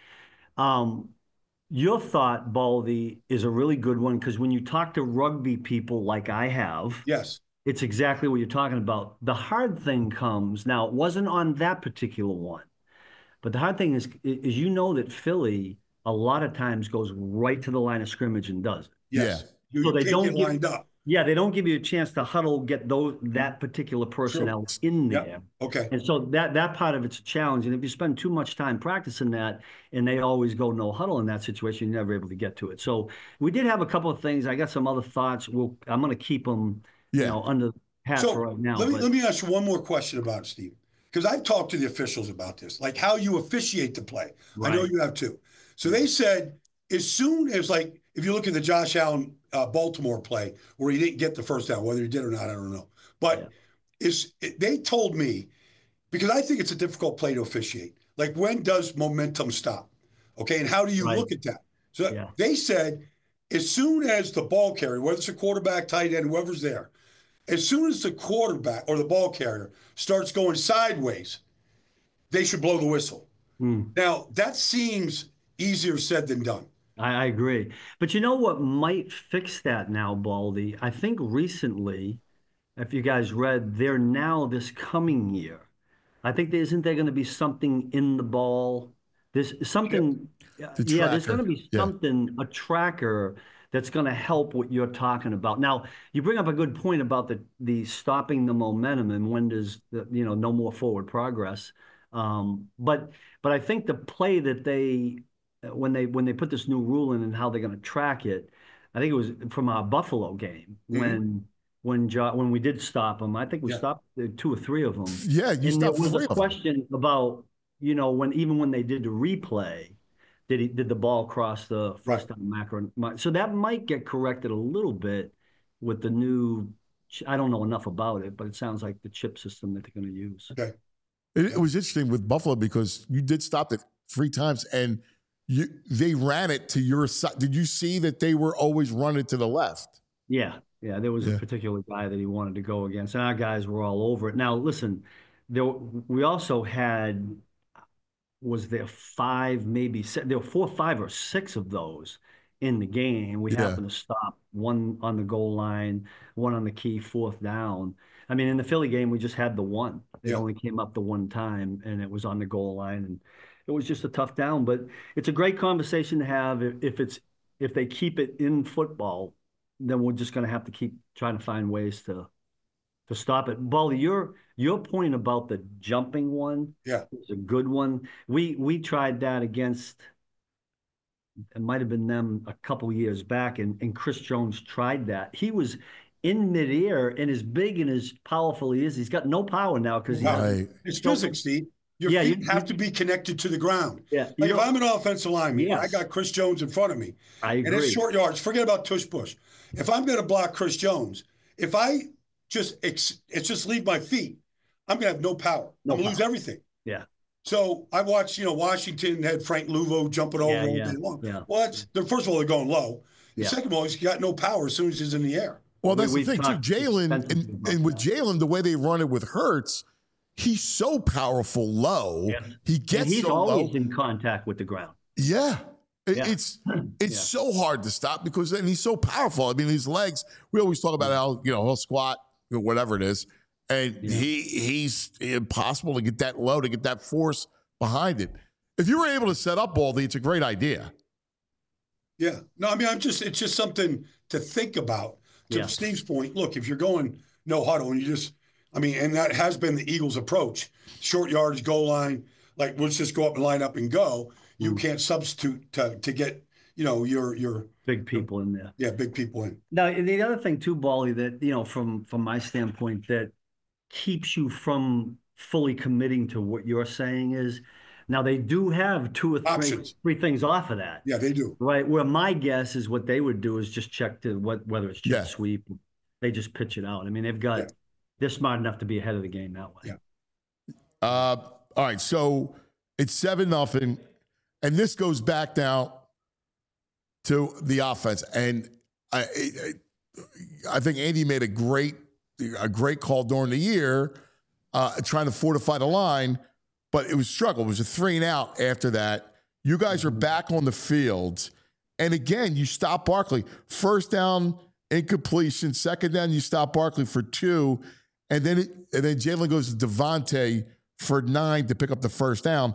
Your thought, Baldy, is a really good one because when you talk to rugby people like I have, yes, it's exactly what you're talking about. The hard thing comes now. It wasn't on that particular one, but the hard thing is that Philly a lot of times goes right to the line of scrimmage and does it. Yes. Yeah. So they don't get lined up. Yeah, they don't give you a chance to huddle, get that particular personnel in there. Yep. Okay. And so that part of it's a challenge. And if you spend too much time practicing that and they always go no huddle in that situation, you're never able to get to it. So we did have a couple of things. I got some other thoughts. I'm going to keep them under the hat for right now. Let me ask you one more question about it, Steve, because I've talked to the officials about this, like how you officiate the play. Right. I know you have too. So they said as soon as, like, if you look at the Josh Allen Baltimore play where he didn't get the first down, whether he did or not, I don't know. But they told me, because I think it's a difficult play to officiate, like when does momentum stop? Okay, and how do you look at that? So they said as soon as the ball carrier, whether it's a quarterback, tight end, whoever's there, as soon as the quarterback or the ball carrier starts going sideways, they should blow the whistle. Now, that seems easier said than done. I agree. But you know what might fix that now, Baldy? I think recently, if you guys read, they're now this coming year. I think isn't there going to be something in the ball? There's something. There's going to be something, a tracker that's going to help what you're talking about. Now, you bring up a good point about the stopping the momentum and when does no more forward progress. But I think the play that when they put this new rule in and how they're going to track it, I think it was from our Buffalo game when we did stop them. I think we stopped 2 or 3 of them. Yeah, you stopped 3 of them. There was a question about when they did the replay, did the ball cross the first down macro? So that might get corrected a little bit with the new. I don't know enough about it, but it sounds like the chip system that they're going to use. Okay. It was interesting with Buffalo because you did stop it 3 times and they ran it to your side. Did you see that they were always running to the left? Yeah. There was a particular guy that he wanted to go against, and our guys were all over it. Now, listen, we also had was there 5, maybe 6, there were 4, 5, or 6 of those in the game. We happened to stop one on the goal line, one on the key 4th down. I mean, in the Philly game, we just had the one. It only came up the one time, and it was on the goal line, and it was just a tough down. But it's a great conversation to have. If they keep it in football, then we're just going to have to keep trying to find ways to stop it. Baldy, your point about the jumping one is a good one. We tried that against, it might have been them a couple years back, and Chris Jones tried that. He was in midair, and as big and as powerful he is, he's got no power now because it's physics, Steve. Your feet have to be connected to the ground. Yeah, like if I'm an offensive lineman, I got Chris Jones in front of me, and it's short yards. Forget about tush push. If I'm going to block Chris Jones, if I just leave my feet, I'm going to have no power. I'm going to lose everything. Yeah. So I watched, Washington had Frank Luvo jumping over all day long. Yeah. Well, first of all, they're going low. Second of all, he's got no power as soon as he's in the air. Well, that's the thing, too. Jalen, and with Jalen, the way they run it with Hurts, he's so powerful low. Yeah. He gets and he's so always low. In contact with the ground. Yeah. It's so hard to stop because then he's so powerful. I mean, his legs, we always talk about how, he'll squat, whatever it is, and he's impossible to get that low, to get that force behind it. If you were able to set up Baldy, it's a great idea. Yeah. No, I mean, it's just something to think about. To Steve's point, look, if you're going no huddle and and that has been the Eagles' approach, short yardage, goal line, like let's just go up and line up and go. You can't substitute to get, your big people in there. Yeah, big people in. Now, the other thing too, Baldy, that, from my standpoint, that keeps you from fully committing to what you're saying is, now they do have 2 or 3 things off of that. Yeah, they do. Right. Where my guess is what they would do is just check to whether it's jet sweep. They just pitch it out. I mean, they're smart enough to be ahead of the game that way. Yeah. All right. So it's 7-0. And this goes back now to the offense. And I think Andy made a great call during the year, trying to fortify the line. But it was a struggle. It was a 3-and-out after that. You guys are back on the field. And again, you stop Barkley. First down, incompletion. Second down, you stop Barkley for 2. And then Jalen goes to Devontae for 9 to pick up the first down.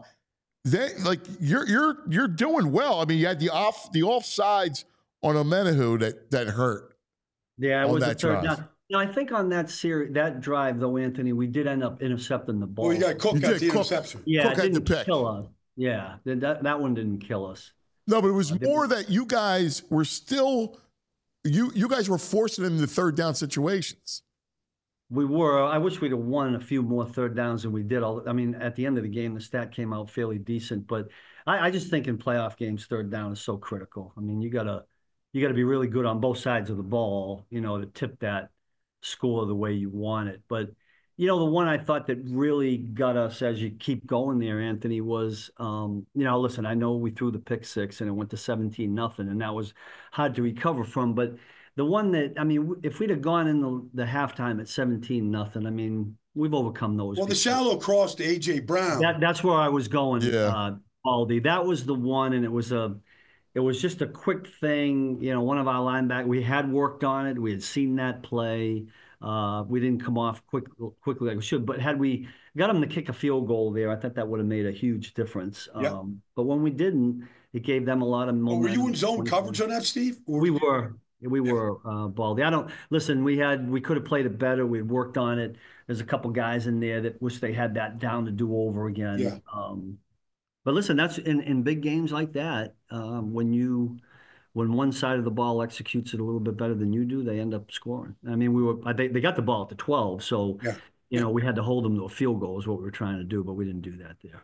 You're doing well. I mean, you had the offsides on Omenahu that hurt. Yeah, it was a third down. I think on that drive, though, Anthony, we did end up intercepting the ball. Well, you got Cook at the interception. Yeah, Cook it didn't kill us. Yeah, that one didn't kill us. No, but it was more that you guys were still you guys were forcing them into third down situations. We were. I wish we'd have won a few more third downs than we did. I mean, at the end of the game, the stat came out fairly decent. But I just think in playoff games, third down is so critical. I mean, you gotta be really good on both sides of the ball, to tip that score the way you want it. But the one I thought that really got us as you keep going there, Anthony, was listen, I know we threw the pick 6 and it went to 17-0, and that was hard to recover from. But the one that, if we'd have gone in the halftime at 17-0, I mean, we've overcome those. Well, the shallow cross to A.J. Brown. That's where I was going, Baldy. That was the one, and it was just a quick thing. One of our linebackers, we had worked on it. We had seen that play. We didn't come off quickly like we should. But had we got him to kick a field goal there, I thought that would have made a huge difference. But when we didn't, it gave them a lot of momentum. Were you in zone coverage on that, Steve? We were. We were, Baldy. We could have played it better. We had worked on it. There's a couple guys in there that wish they had that down to do over again. Yeah. But listen, that's in big games like that, when one side of the ball executes it a little bit better than you do, they end up scoring. I mean, they got the ball at the 12, so we had to hold them to a field goal is what we were trying to do, but we didn't do that there.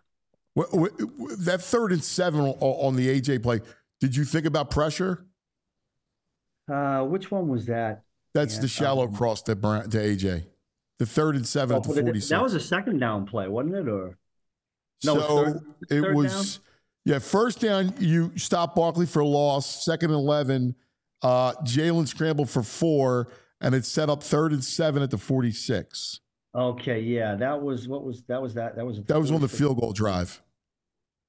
That 3rd and 7 on the AJ play, did you think about pressure? Which one was that? That's the shallow cross to AJ. The 3rd and 7 at the 46. That was a second down play, wasn't it? Or no? So it was. Down? Yeah, first down, you stop Barkley for a loss. 2nd and 11, Jalen scrambled for 4, and it set up 3rd and 7 at the 46. Okay, yeah, that was on the field goal drive.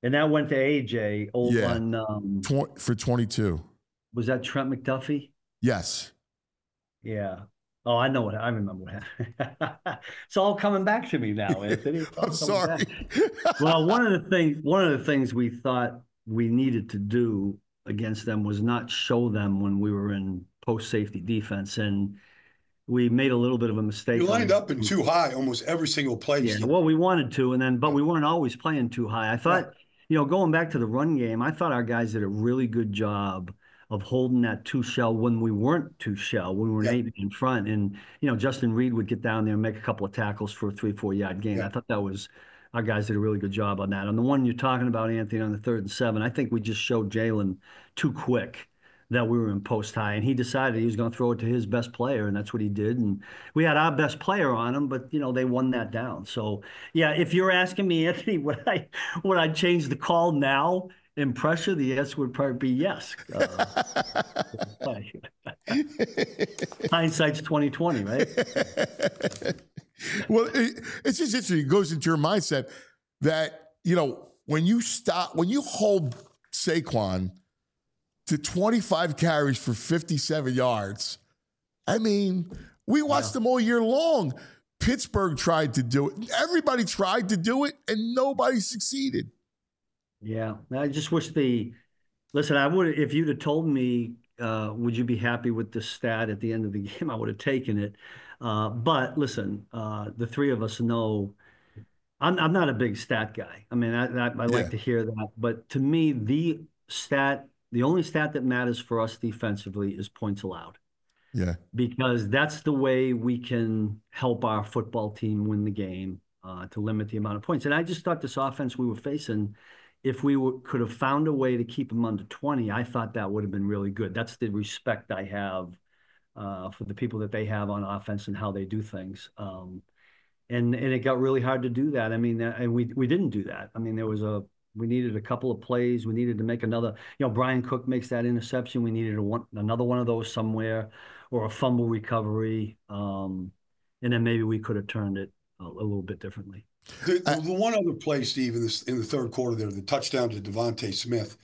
And that went to AJ on for 22. Was that Trent McDuffie? Yes. Yeah. Oh, I remember what happened. It's all coming back to me now, Anthony. I'm sorry. Well, one of the things we thought we needed to do against them was not show them when we were in post safety defense, and we made a little bit of a mistake. You lined up in too high almost every single play. Yeah, well, we wanted to, but we weren't always playing too high. I thought, going back to the run game, I thought our guys did a really good job of holding that 2-shell when we weren't 2-shell, when we were an 8 in front. And, Justin Reed would get down there and make a couple of tackles for a 3-4 yard gain. I thought our guys did a really good job on that. On the one you're talking about, Anthony, on the 3rd and 7, I think we just showed Jalen too quick that we were in post high, and he decided he was going to throw it to his best player, and that's what he did. And we had our best player on him, but they won that down. So yeah, if you're asking me, Anthony, would I change the call now in pressure? The answer would probably be yes. Hindsight's 20/20, right? Well, it's just interesting. It goes into your mindset that when you hold Saquon to 25 carries for 57 yards. I mean, we watched them all year long. Pittsburgh tried to do it. Everybody tried to do it, and nobody succeeded. Yeah, I just wish listen, I would, if you'd have told me, would you be happy with the stat at the end of the game, I would have taken it. But listen, the three of us know I'm not a big stat guy. I mean, I like to hear that. But to me, the only stat that matters for us defensively is points allowed. Yeah. Because that's the way we can help our football team win the game, to limit the amount of points. And I just thought this offense we were facing, if we could have found a way to keep them under 20, I thought that would have been really good. That's the respect I have for the people that they have on offense and how they do things. And it got really hard to do that. I mean, and we didn't do that. I mean, we needed a couple of plays. We needed to make another, Brian Cook makes that interception. We needed another one of those somewhere, or a fumble recovery. And then maybe we could have turned it a little bit differently. The one other play, Steve, in the third quarter there, the touchdown to Devontae Smith,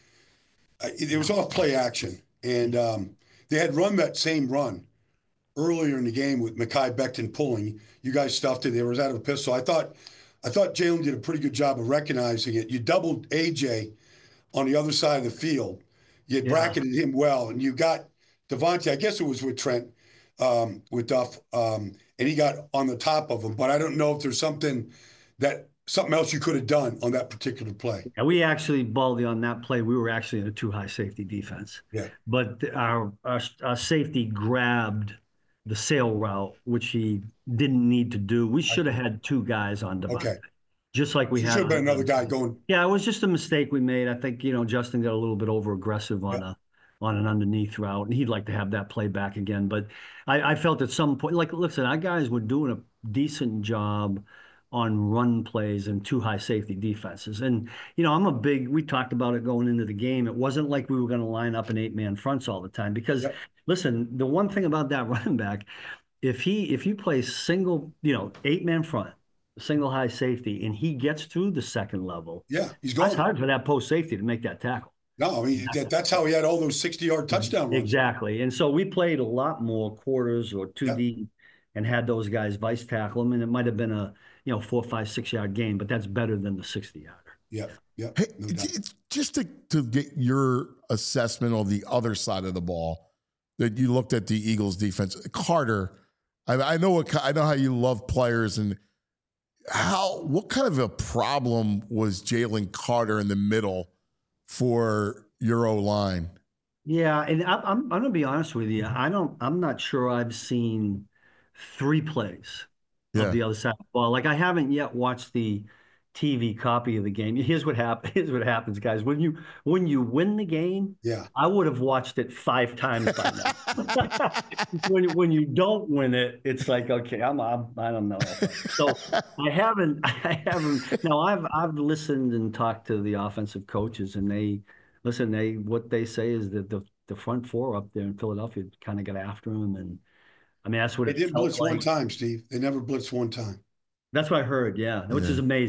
it was off play action. And they had run that same run earlier in the game with Mekhi Becton pulling. You guys stuffed it. They was out of a pistol. I thought Jalen did a pretty good job of recognizing it. You doubled AJ on the other side of the field. You had bracketed him well, and you got Devontae, I guess it was with Trent, with Duff, and he got on the top of him. But I don't know if there's something else you could have done on that particular play. Yeah, we actually, Baldy, on that play, we were actually in a too high safety defense. Yeah. But our safety grabbed the sail route, which he didn't need to do. We should have had two guys on Devontae. Okay. Just like we had. Should have been another guy going. Yeah, it was just a mistake we made. I think, Justin got a little bit over aggressive on an underneath route, and he'd like to have that play back again. But I felt at some point, listen, our guys were doing a decent job on run plays and too high safety defenses. And, we talked about it going into the game. It wasn't like we were going to line up in 8-man fronts all the time because, listen, the one thing about that running back, if you play single, 8-man front, single high safety, and he gets through the second level, he's going. It's hard for that post safety to make that tackle. No, I mean, that's how he had all those 60-yard touchdown runs. Exactly. And so we played a lot more quarters or 2D and had those guys vice tackle him, and it might have been a 4, 5, 6 yard gain, but that's better than the 60-yarder. Yeah. Hey, just to get your assessment on the other side of the ball, that you looked at the Eagles defense, Carter. I know how you love players, and what kind of a problem was Jalen Carter in the middle for your O-line? Yeah, and I'm going to be honest with you. I'm not sure I've seen 3 plays of the other side of the ball. Like, I haven't yet watched the TV copy of the game. Here's what happens, guys. When you win the game, I would have watched it 5 times by now. when you don't win it, it's like, okay, I don't know. So I haven't. Now I've listened and talked to the offensive coaches, and what they say is that the front four up there in Philadelphia kind of got after him, and I mean, that's what they didn't blitz one time, Steve. They never blitzed one time. That's what I heard, which is amazing.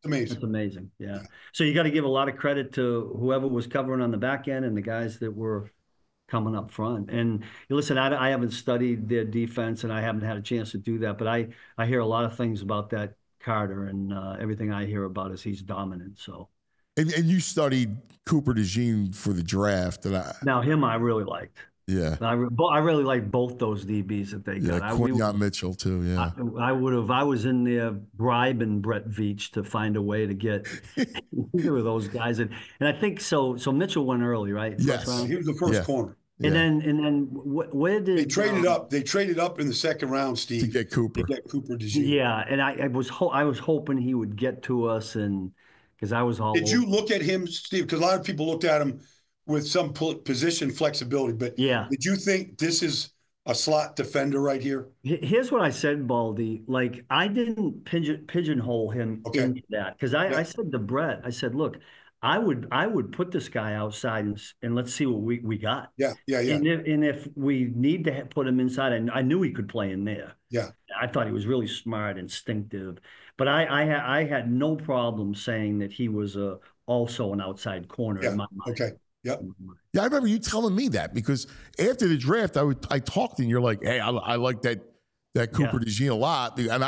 amazing. It's amazing. Yeah. So you got to give a lot of credit to whoever was covering on the back end and the guys that were coming up front. And listen, I haven't studied their defense and I haven't had a chance to do that, but I hear a lot of things about that Carter, and everything I hear about is he's dominant. So. And you studied Cooper DeJean for the draft. Now him I really liked. Yeah. I really like both those DBs that they got. Yeah, Quinyon Mitchell too, yeah. I would have, I was in there bribing Brett Veach to find a way to get either of those guys. And I think so Mitchell went early, right? Yes. He was the first corner. And then where did they traded up? They traded up in the second round, Steve, to get Cooper. DeJean. Yeah, and I was hoping he would get to us, and because I was all. Did you look at him, Steve? Because a lot of people looked at him with some position flexibility, but did you think this is a slot defender right here? Here's what I said, Baldy. Like, I didn't pigeonhole him into that, because I said to Brett, I said, look, I would put this guy outside and let's see what we got. Yeah. And if we need to put him inside, and I knew he could play in there. Yeah. I thought he was really smart, instinctive, but I had no problem saying that he was also an outside corner in my mind. Okay. Yep. Yeah, I remember you telling me that, because after the draft, I talked and you're like, hey, I like that Cooper DeJean a lot, and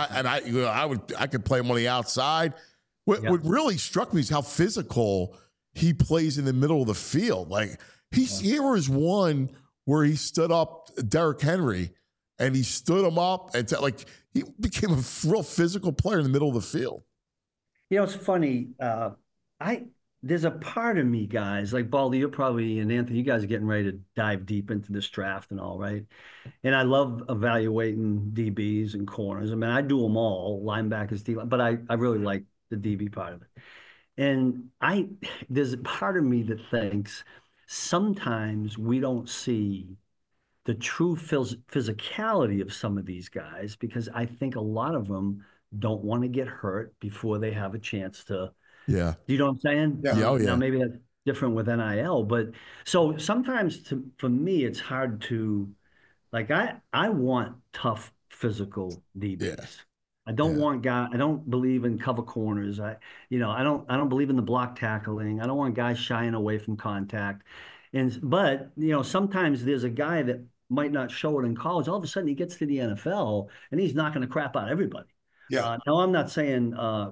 I could play him on the outside. What really struck me is how physical he plays in the middle of the field. Like here was one where he stood up Derrick Henry, and he stood him up, and he became a real physical player in the middle of the field. You know, it's funny. There's a part of me, guys, like Baldy, you're probably, and Anthony, you guys are getting ready to dive deep into this draft and all, right? And I love evaluating DBs and corners. I mean, I do them all, linebackers, but I really like the DB part of it. And there's a part of me that thinks sometimes we don't see the true physicality of some of these guys, because I think a lot of them don't want to get hurt before they have a chance to. Yeah. You know what I'm saying? Yeah. Now, maybe that's different with NIL, but so sometimes for me, it's hard to, like, I want tough physical DBs. Yeah. I don't want guys. I don't believe in cover corners. I don't believe in the block tackling. I don't want guys shying away from contact. But sometimes there's a guy that might not show it in college. All of a sudden, he gets to the NFL and he's knocking the crap out of everybody. Yeah. Now, I'm not saying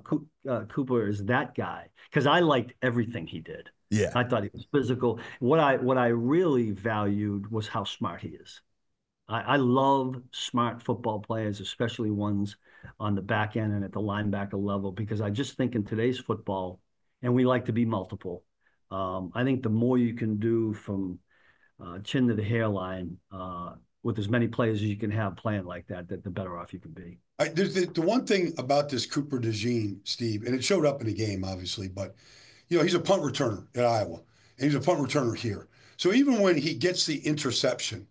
Cooper is that guy, because I liked everything he did. Yeah. I thought he was physical. What I really valued was how smart he is. I love smart football players, especially ones on the back end and at the linebacker level, because I just think in today's football, and we like to be multiple, I think the more you can do from chin to the hairline with as many players as you can have playing like that, the better off you can be. There's the one thing about this Cooper DeJean, Steve, and it showed up in the game, obviously, but he's a punt returner at Iowa, and he's a punt returner here. So even when he gets the interception,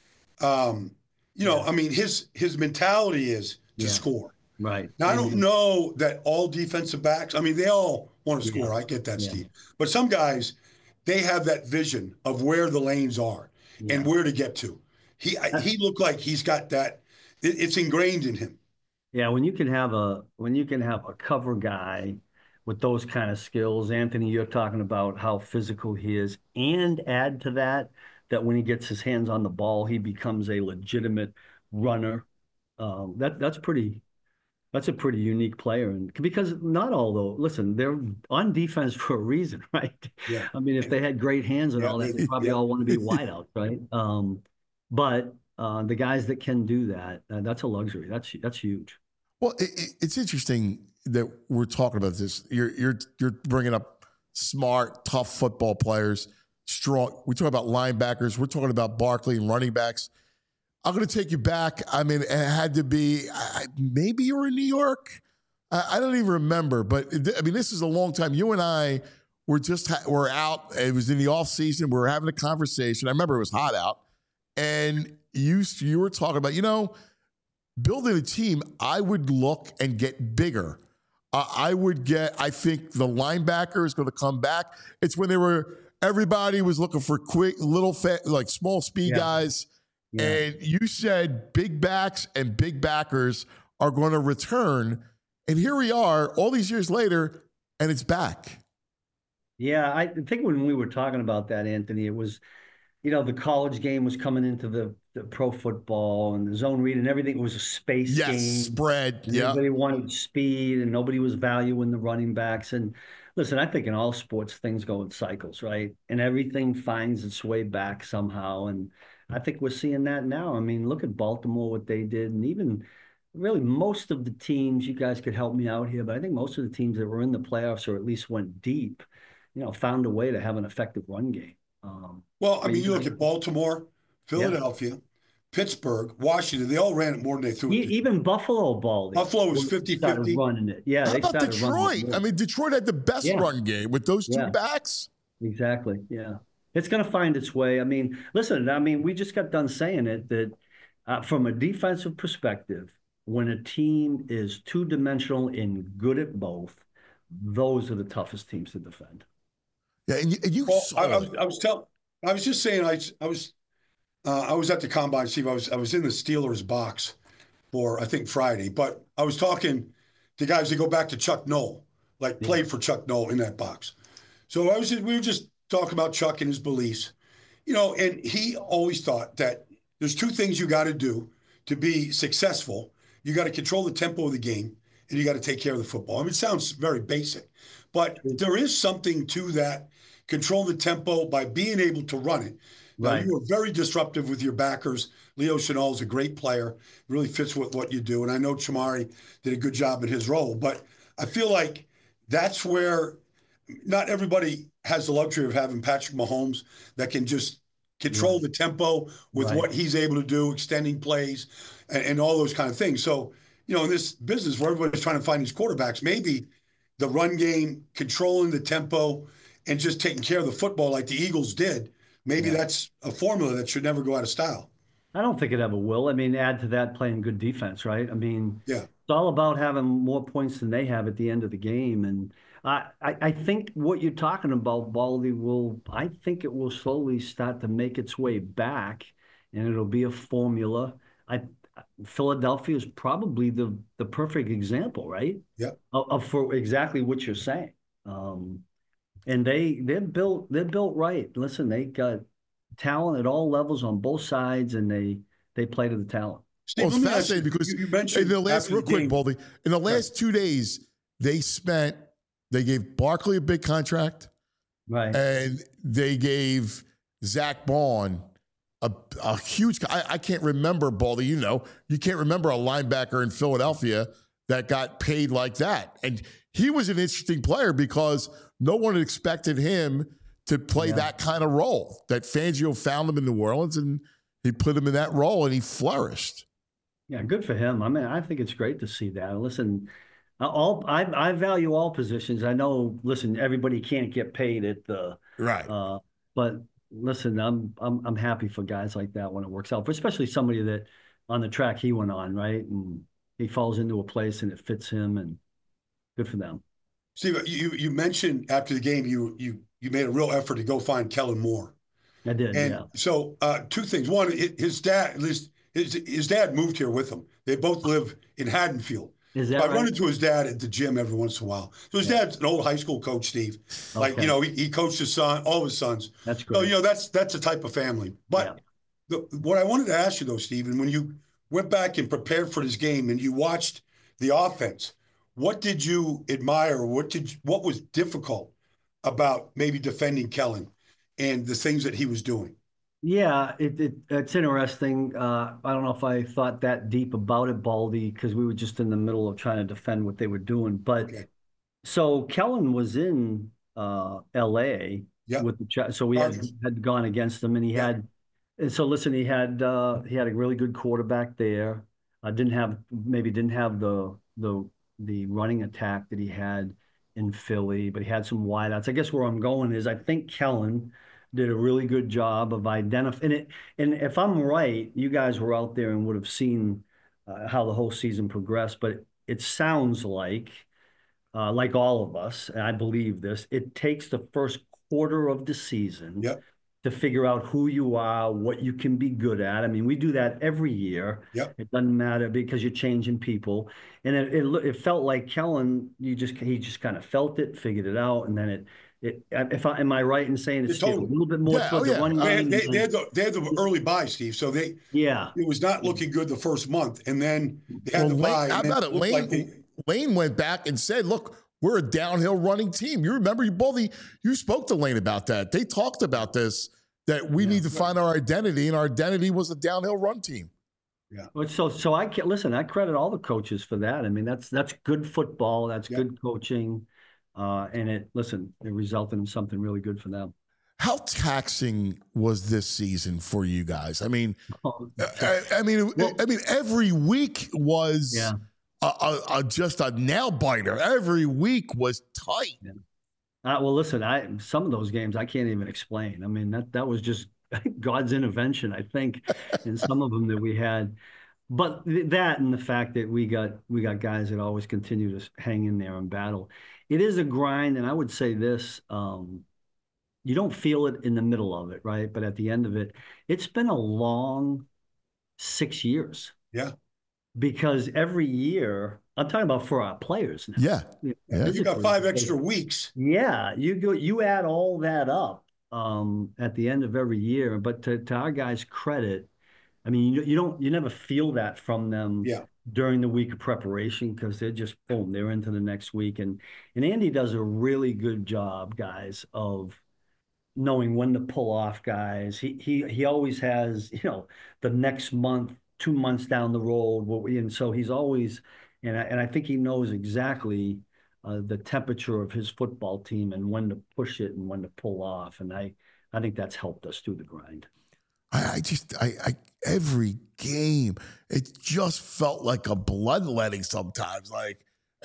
I mean, his mentality is to score. Right. Now, I don't know that all defensive backs, I mean, they all want to score. I get that, Steve. But some guys, they have that vision of where the lanes are and where to get to. He looked like he's got that. It's ingrained in him. Yeah, when you can have a cover guy with those kind of skills, Anthony, you're talking about how physical he is, and add to that when he gets his hands on the ball, he becomes a legitimate runner. That's a pretty unique player, and because not all though. Listen, they're on defense for a reason, right? Yeah. I mean, if they had great hands and all that, they probably all want to be wideouts, right? But the guys that can do that, that's a luxury. That's huge. Well, it's interesting that we're talking about this. You're bringing up smart, tough football players, strong. We're talking about linebackers. We're talking about Barkley and running backs. I'm going to take you back. I mean, it had to be maybe you were in New York. I don't even remember, but I mean, this is a long time. You and I were out. It was in the off season. We were having a conversation. I remember it was hot out, and you were talking about, building a team. I would look and get bigger. I think the linebacker is going to come back. It's when everybody was looking for quick, little, like small speed guys. Yeah. And you said big backs and big backers are going to return. And here we are all these years later, and it's back. Yeah, I think when we were talking about that, Anthony, it was, the college game was coming into the pro football and the zone read and everything. It was a space game. Spread. Yeah. Everybody wanted speed and nobody was valuing the running backs. And listen, I think in all sports, things go in cycles, right? And everything finds its way back somehow. And I think we're seeing that now. I mean, look at Baltimore, what they did. And even really most of the teams, you guys could help me out here, but I think most of the teams that were in the playoffs or at least went deep, found a way to have an effective run game. Well, I mean, you look at Baltimore, Philadelphia, Pittsburgh, Washington, they all ran it more than they threw it. Even Buffalo, Baldy. Buffalo was 50-50. Running it. Yeah. How about Detroit? I mean, Detroit had the best run game with those two backs. Exactly. Yeah. It's going to find its way. I mean, listen, we just got done saying it that from a defensive perspective, when a team is two-dimensional and good at both, those are the toughest teams to defend. Yeah, and you saw I was just saying I was at the combine, Steve. I was in the Steelers box for I think Friday, but I was talking to guys that go back to Chuck Noll, played for Chuck Noll in that box. So we were just talking about Chuck and his beliefs, and he always thought that there's two things you got to do to be successful. You got to control the tempo of the game, and you got to take care of the football. I mean, it sounds very basic, but there is something to that. Control the tempo by being able to run it. Now, you were very disruptive with your backers. Leo Chenal is a great player, really fits with what you do. And I know Chamari did a good job in his role, but I feel like that's where not everybody has the luxury of having Patrick Mahomes that can just control the tempo with what he's able to do, extending plays and all those kind of things. So, in this business where everybody's trying to find these quarterbacks, maybe the run game, controlling the tempo, and just taking care of the football like the Eagles did, maybe that's a formula that should never go out of style. I don't think it ever will. I mean, add to that playing good defense, right? I mean, it's all about having more points than they have at the end of the game. And I think what you're talking about, Baldy, I think it will slowly start to make its way back, and it'll be a formula. Philadelphia is probably the perfect example, right? Yeah. For exactly what you're saying. And they're built right. Listen, they got talent at all levels on both sides, and they play to the talent. Steve, it's fascinating because you mentioned in the last, real quick, Baldy, in the last 2 days, they gave Barkley a big contract, right? And they gave Zach Bond a huge. I can't remember, Baldy. You can't remember a linebacker in Philadelphia that got paid like that, and he was an interesting player because no one had expected him to play that kind of role. That Fangio found him in New Orleans, and he put him in that role, and he flourished. Yeah, good for him. I mean, I think it's great to see that. Listen, I value all positions. I know. Listen, everybody can't get paid at the right, but listen, I'm happy for guys like that when it works out, especially somebody that on the track he went on, right, and he falls into a place and it fits him, and good for them. Steve, you mentioned after the game you made a real effort to go find Kellen Moore. I did, and so two things. One, his dad, at least his dad moved here with him. They both live in Haddonfield. Is that I run into his dad at the gym every once in a while. So his dad's an old high school coach, Steve. Like, he coached his son, all of his sons. That's great. So, that's the type of family. But what I wanted to ask you, though, Steve, and when you went back and prepared for this game and you watched the offense, what did you admire? What was difficult about maybe defending Kellen and the things that he was doing? Yeah, it's interesting. I don't know if I thought that deep about it, Baldy, because we were just in the middle of trying to defend what they were doing. But so Kellen was in L.A. with the so we had gone against him, and he had. And so listen, he had a really good quarterback there. Didn't have the running attack that he had in Philly, but he had some wideouts. I guess where I'm going is I think Kellen did a really good job of identifying it. And if I'm right, you guys were out there and would have seen how the whole season progressed, but it sounds like all of us, and I believe this, it takes the first quarter of the season to to figure out who you are, what you can be good at. I mean, we do that every year. Yep. It doesn't matter because you're changing people. And it felt like Kellen, he just kind of felt it, figured it out, and then am I right in saying it's a little bit more towards the one game? They had the early buy, Steve. So it was not looking good the first month, and then they had the buy. How about it? Lane went back and said, "Look, we're a downhill running team." You remember you spoke to Lane about that. They talked about this, that we need to find our identity, and our identity was a downhill run team. Yeah. So I credit all the coaches for that. I mean, that's good football. That's good coaching. And it resulted in something really good for them. How taxing was this season for you guys? I mean, every week was just a nail biter. Every week was tight. Yeah. Well, listen, some of those games I can't even explain. I mean, that was just God's intervention, I think, in some of them that we had. But that and the fact that we got guys that always continue to hang in there and battle. It is a grind, and I would say this, you don't feel it in the middle of it, right? But at the end of it, it's been a long 6 years. Yeah. Because every year, I'm talking about for our players now. Yeah. You got 5 extra weeks. Yeah. You add all that up at the end of every year. But to our guys' credit, I mean, you never feel that from them during the week of preparation, because they're just boom, they're into the next week. And Andy does a really good job, guys, of knowing when to pull off guys. He always has, the next month, 2 months down the road, and so he's always, and I think he knows exactly the temperature of his football team and when to push it and when to pull off. And I think that's helped us through the grind. I every game, it just felt like a bloodletting sometimes. Like,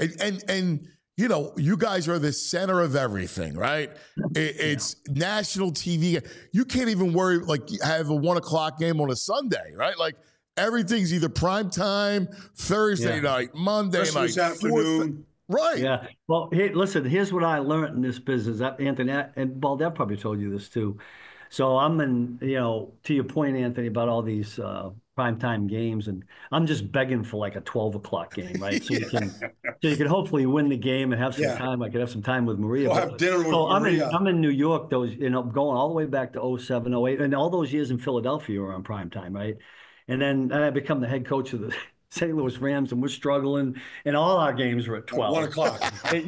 and you guys are the center of everything, right? It's national TV. You can't even worry, like, have a 1 o'clock game on a Sunday, right? Like, everything's either prime time, Thursday night, Monday Christmas night, afternoon. Right. Yeah. Well, here's what I learned in this business. Anthony, and Baldair probably told you this too. So I'm in, to your point, Anthony, about all these primetime games, and I'm just begging for like a 12 o'clock game, right? So you can hopefully win the game and have some time. I could have some time with Maria. We'll have dinner with Maria. I'm in New York, those, going all the way back to 07, 08, and all those years in Philadelphia were on primetime, right? And then I become the head coach of the St. Louis Rams, and we're struggling, and all our games were at 12. 1 o'clock.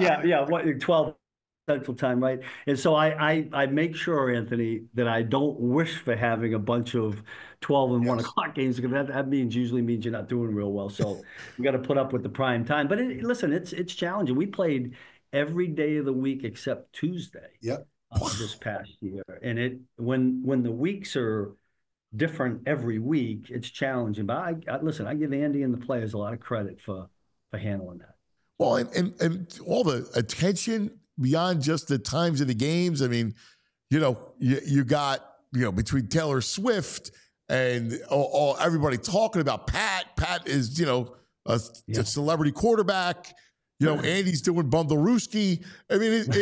12 Central Time, right? And so I make sure, Anthony, that I don't wish for having a bunch of 12 and 1 o'clock games, because that usually means you're not doing real well. So we got to put up with the prime time. But it's challenging. We played every day of the week except Tuesday. Yep. This past year, and when the weeks are different every week, it's challenging. But I give Andy and the players a lot of credit for handling that. Well, and all the attention beyond just the times of the games. I mean, you got, between Taylor Swift and all everybody talking about Pat. Pat is, a celebrity quarterback. Andy's doing Bundlerooski. I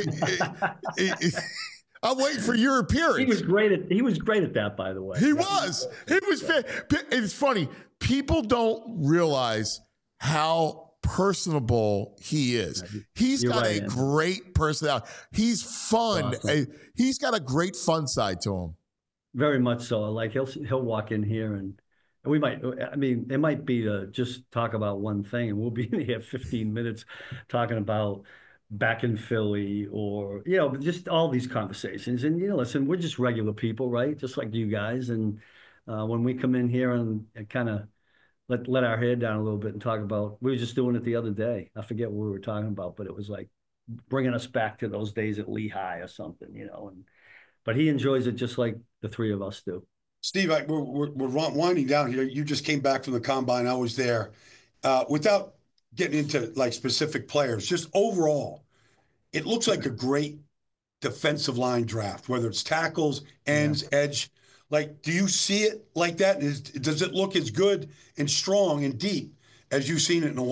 mean, I'm waiting for your appearance. He was great at that, by the way. He was. It's funny. People don't realize how personable he is. He's got a great personality. He's fun. Awesome. He's got a great fun side to him. Very much so. Like he'll walk in here and we might, it might be to just talk about one thing, and we'll be in here 15 minutes talking about back in Philly or, just all these conversations. And, listen, we're just regular people, right? Just like you guys. And when we come in here and kind of let our head down a little bit and talk about, we were just doing it the other day. I forget what we were talking about, but it was like bringing us back to those days at Lehigh or something, but he enjoys it just like the three of us do. Steve, we're winding down here. You just came back from the combine. I was there. Without getting into like specific players, just overall, it looks like a great defensive line draft, whether it's tackles, ends, edge. Like, do you see it like that? Does it look as good and strong and deep as you've seen it in a while?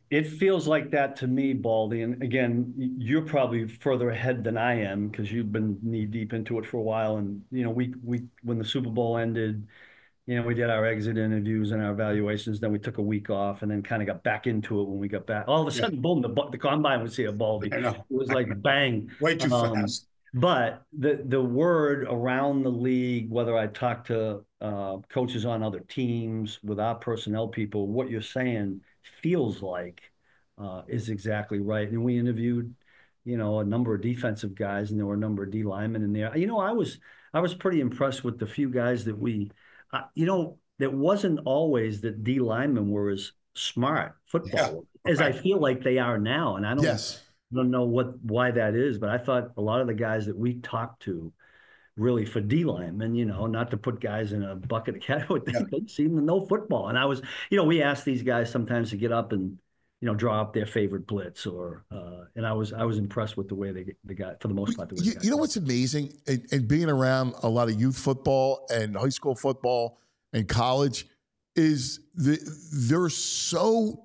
It feels like that to me, Baldy. And again, you're probably further ahead than I am because you've been knee deep into it for a while. And we when the Super Bowl ended, we did our exit interviews and our evaluations. Then we took a week off and then kind of got back into it when we got back. All of a sudden, boom, the combine was here, Baldy. It was like bang. Way too fast. But the word around the league, whether I talk to coaches on other teams, with our personnel people, what you're saying feels like is exactly right. And we interviewed, a number of defensive guys, and there were a number of D linemen in there. I was pretty impressed with the few guys that we, it wasn't always that D linemen were as smart football as I feel like they are now. And I don't know why that is, but I thought a lot of the guys that we talked to really for D linemen, not to put guys in a bucket of cat, they seem to know football. And I was, we asked these guys sometimes to get up and, draw up their favorite blitz and I was impressed with the way they got, for the most part. You know what's amazing? And being around a lot of youth football and high school football and college is they're so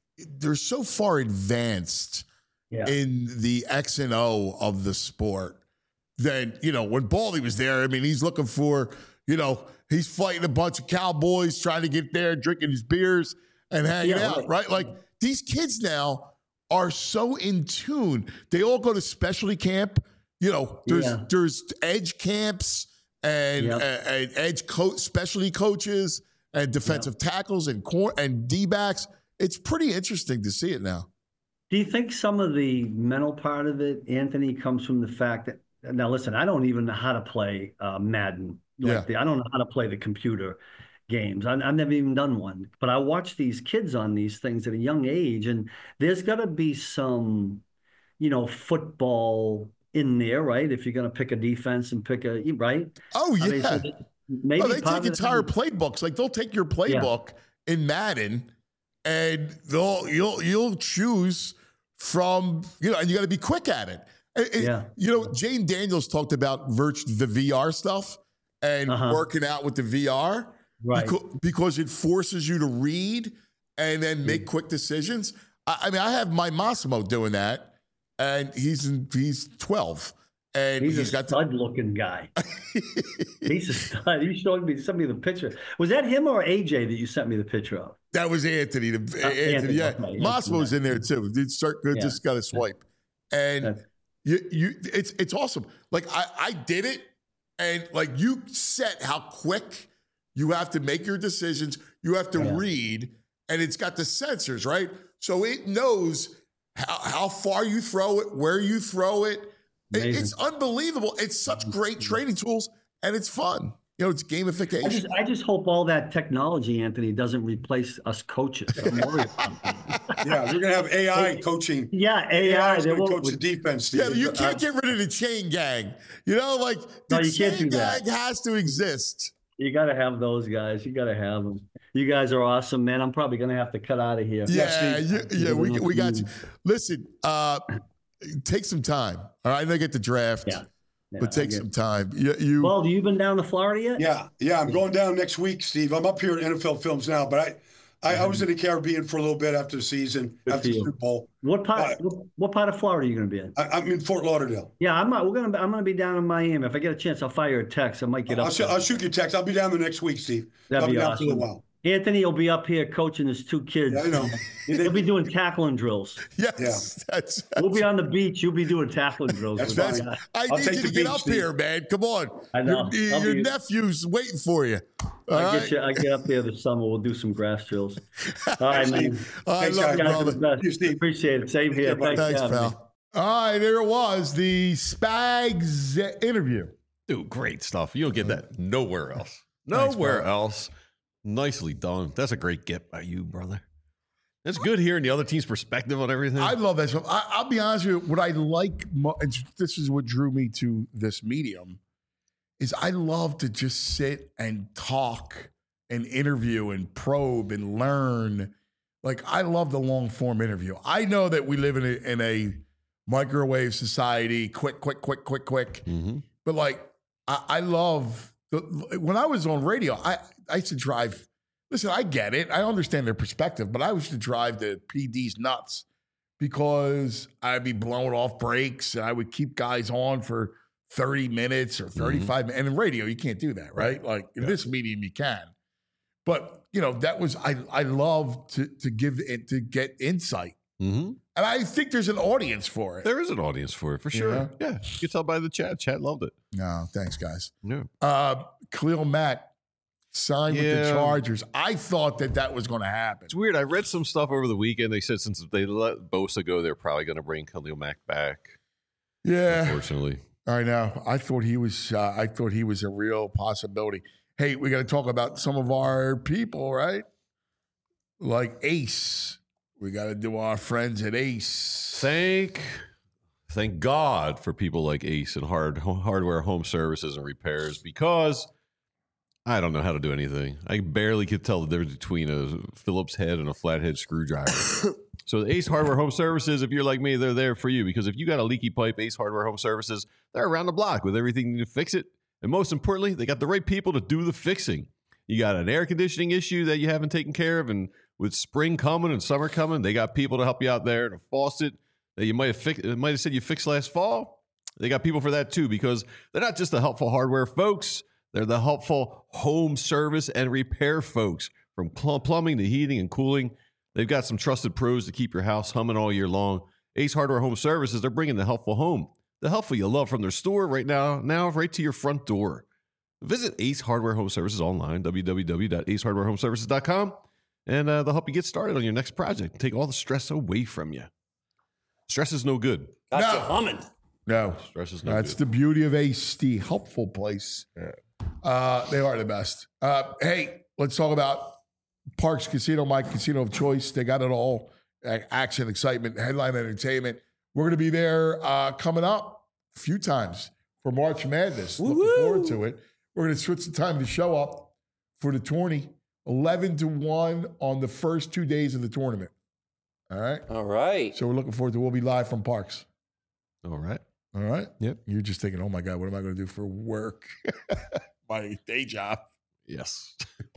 far advanced in the X and O of the sport. Then, when Baldy was there, he's looking for, he's fighting a bunch of cowboys, trying to get there, drinking his beers and hanging out, right? Like, these kids now are so in tune. They all go to specialty camp. There's edge camps and edge specialty coaches and defensive tackles and D-backs. It's pretty interesting to see it now. Do you think some of the mental part of it, Anthony, comes from the fact that, now listen, I don't even know how to play Madden. I don't know how to play the computer games. I've never even done one. But I watch these kids on these things at a young age, and there's got to be some, football in there, right? If you're going to pick a defense and right? Oh, yeah. Maybe they take entire playbooks. Like, they'll take your playbook in Madden, and you'll choose from, and you got to be quick at it. Jane Daniels talked about the VR stuff and working out with the VR, right? Because it forces you to read and then make quick decisions. I have my Massimo doing that, and he's 12. And he's got stud-looking guy. He's a stud. You showed me the picture. Was that him or AJ that you sent me the picture of? That was Anthony. Anthony, yeah. Okay. Massimo's in there too. Just got a swipe, and it's awesome. Like I did it, and like you set how quick you have to make your decisions. You have to read, and it's got the sensors, right? So it knows how far you throw it, where you throw it. It's unbelievable. It's such great training tools, and it's fun. It's gamification. I just hope all that technology, Anthony, doesn't replace us coaches. I'm worried about that. Yeah, we're going to have AI coaching. Yeah, AI is going to coach the defense. Steve. Yeah, you can't get rid of the chain gang. The chain gang has to exist. You got to have those guys. You got to have them. You guys are awesome, man. I'm probably going to have to cut out of here. Yeah, we got you. Listen, take some time. All right, I know you get the draft. Yeah, but take some time. Well, have you been down to Florida yet? Yeah. I'm going down next week, Steve. I'm up here at NFL Films now, but I was in the Caribbean for a little bit after the season, after the Super Bowl. What part of Florida are you going to be in? I'm in Fort Lauderdale. Yeah, I'm going to be down in Miami. If I get a chance, I'll fire you a text. I might get up. I'll shoot you a text. I'll be down there next week, Steve. That'd be awesome. I'll be down for a while. Anthony will be up here coaching his two kids. Yeah, I know. He'll be doing tackling drills. Yes. We'll be on the beach. You'll be doing tackling drills. I need you to get up here, man. Come on. I know. Your nephew's waiting for you. I get up there this summer. We'll do some grass drills. All right, man. I love you, brother. Appreciate it. Same here. Thanks, pal. All right, there it was. The Spags interview. Dude, great stuff. You don't get that nowhere else. Nowhere else. Nicely done. That's a great get by you, brother. That's good hearing the other team's perspective on everything. I love that stuff. I'll be honest with you. What I like, and this is what drew me to this medium, is I love to just sit and talk and interview and probe and learn. Like, I love the long form interview. I know that we live in a microwave society, quick. Mm-hmm. But like, I love when I was on radio, I used to drive listen, I get it. I understand their perspective, but I used to drive the PDs nuts because I'd be blowing off brakes and I would keep guys on for 30 minutes or 35 minutes. And in radio, you can't do that, right? Like in this medium, you can. But, that was, I love to get insight. Mm-hmm. And I think there's an audience for it. There is an audience for it, for sure. Yeah. You can tell by the chat. Chat loved it. No, thanks, guys. No. Khalil Mack signed with the Chargers. I thought that was going to happen. It's weird. I read some stuff over the weekend. They said since they let Bosa go, they're probably going to bring Khalil Mack back. Yeah. Unfortunately. I know. I thought he was a real possibility. Hey, we got to talk about some of our people, right? Like Ace. We got to do our friends at Ace. Thank God for people like Ace and hardware, home services, and repairs, because I don't know how to do anything. I barely could tell the difference between a Phillips head and a flathead screwdriver. So the Ace Hardware Home Services, if you're like me, they're there for you, because if you got a leaky pipe, Ace Hardware Home Services, they're around the block with everything to fix it. And most importantly, they got the right people to do the fixing. You got an air conditioning issue that you haven't taken care of, and with spring coming and summer coming, they got people to help you out there. And a faucet that you might have said you fixed last fall, they got people for that too, because they're not just the helpful hardware folks. They're the helpful home service and repair folks. From plumbing to heating and cooling, they've got some trusted pros to keep your house humming all year long. Ace Hardware Home Services, they're bringing the helpful home, the helpful you love, from their store right now right to your front door. Visit Ace Hardware Home Services online, www.acehardwarehomeservices.com, and they'll help you get started on your next project and take all the stress away from you. Stress is no good. Got you humming. No. Stress is no That's good. the beauty of Ace, the helpful place. They are the best. Hey, let's talk about Parks Casino, my casino of choice. They got it all. Action, excitement, headline entertainment. We're going to be there coming up a few times for March Madness. Woo-hoo! Looking forward to it. We're going to switch the time to show up for the tourney. 11-1 on the first 2 days of the tournament. All right? All right. So we're looking forward to, we'll be live from Parks. All right. All right? Yep. You're just thinking, oh my God, what am I going to do for work? My day job. Yes.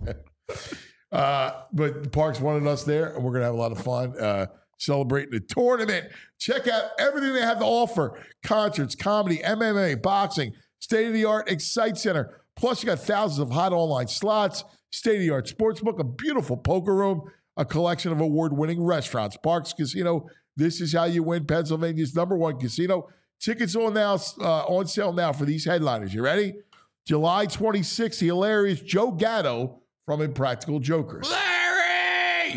But Parks wanted us there, and we're going to have a lot of fun celebrating the tournament. Check out everything they have to offer. Concerts, comedy, MMA, boxing, state-of-the-art Excite Center. Plus, you got thousands of hot online slots, state-of-the-art sportsbook, a beautiful poker room, a collection of award-winning restaurants. Parks Casino, this is how you win Pennsylvania's #1 casino. Tickets on sale now for these headliners. You ready? July 26th, the hilarious Joe Gatto from Impractical Jokers. Larry!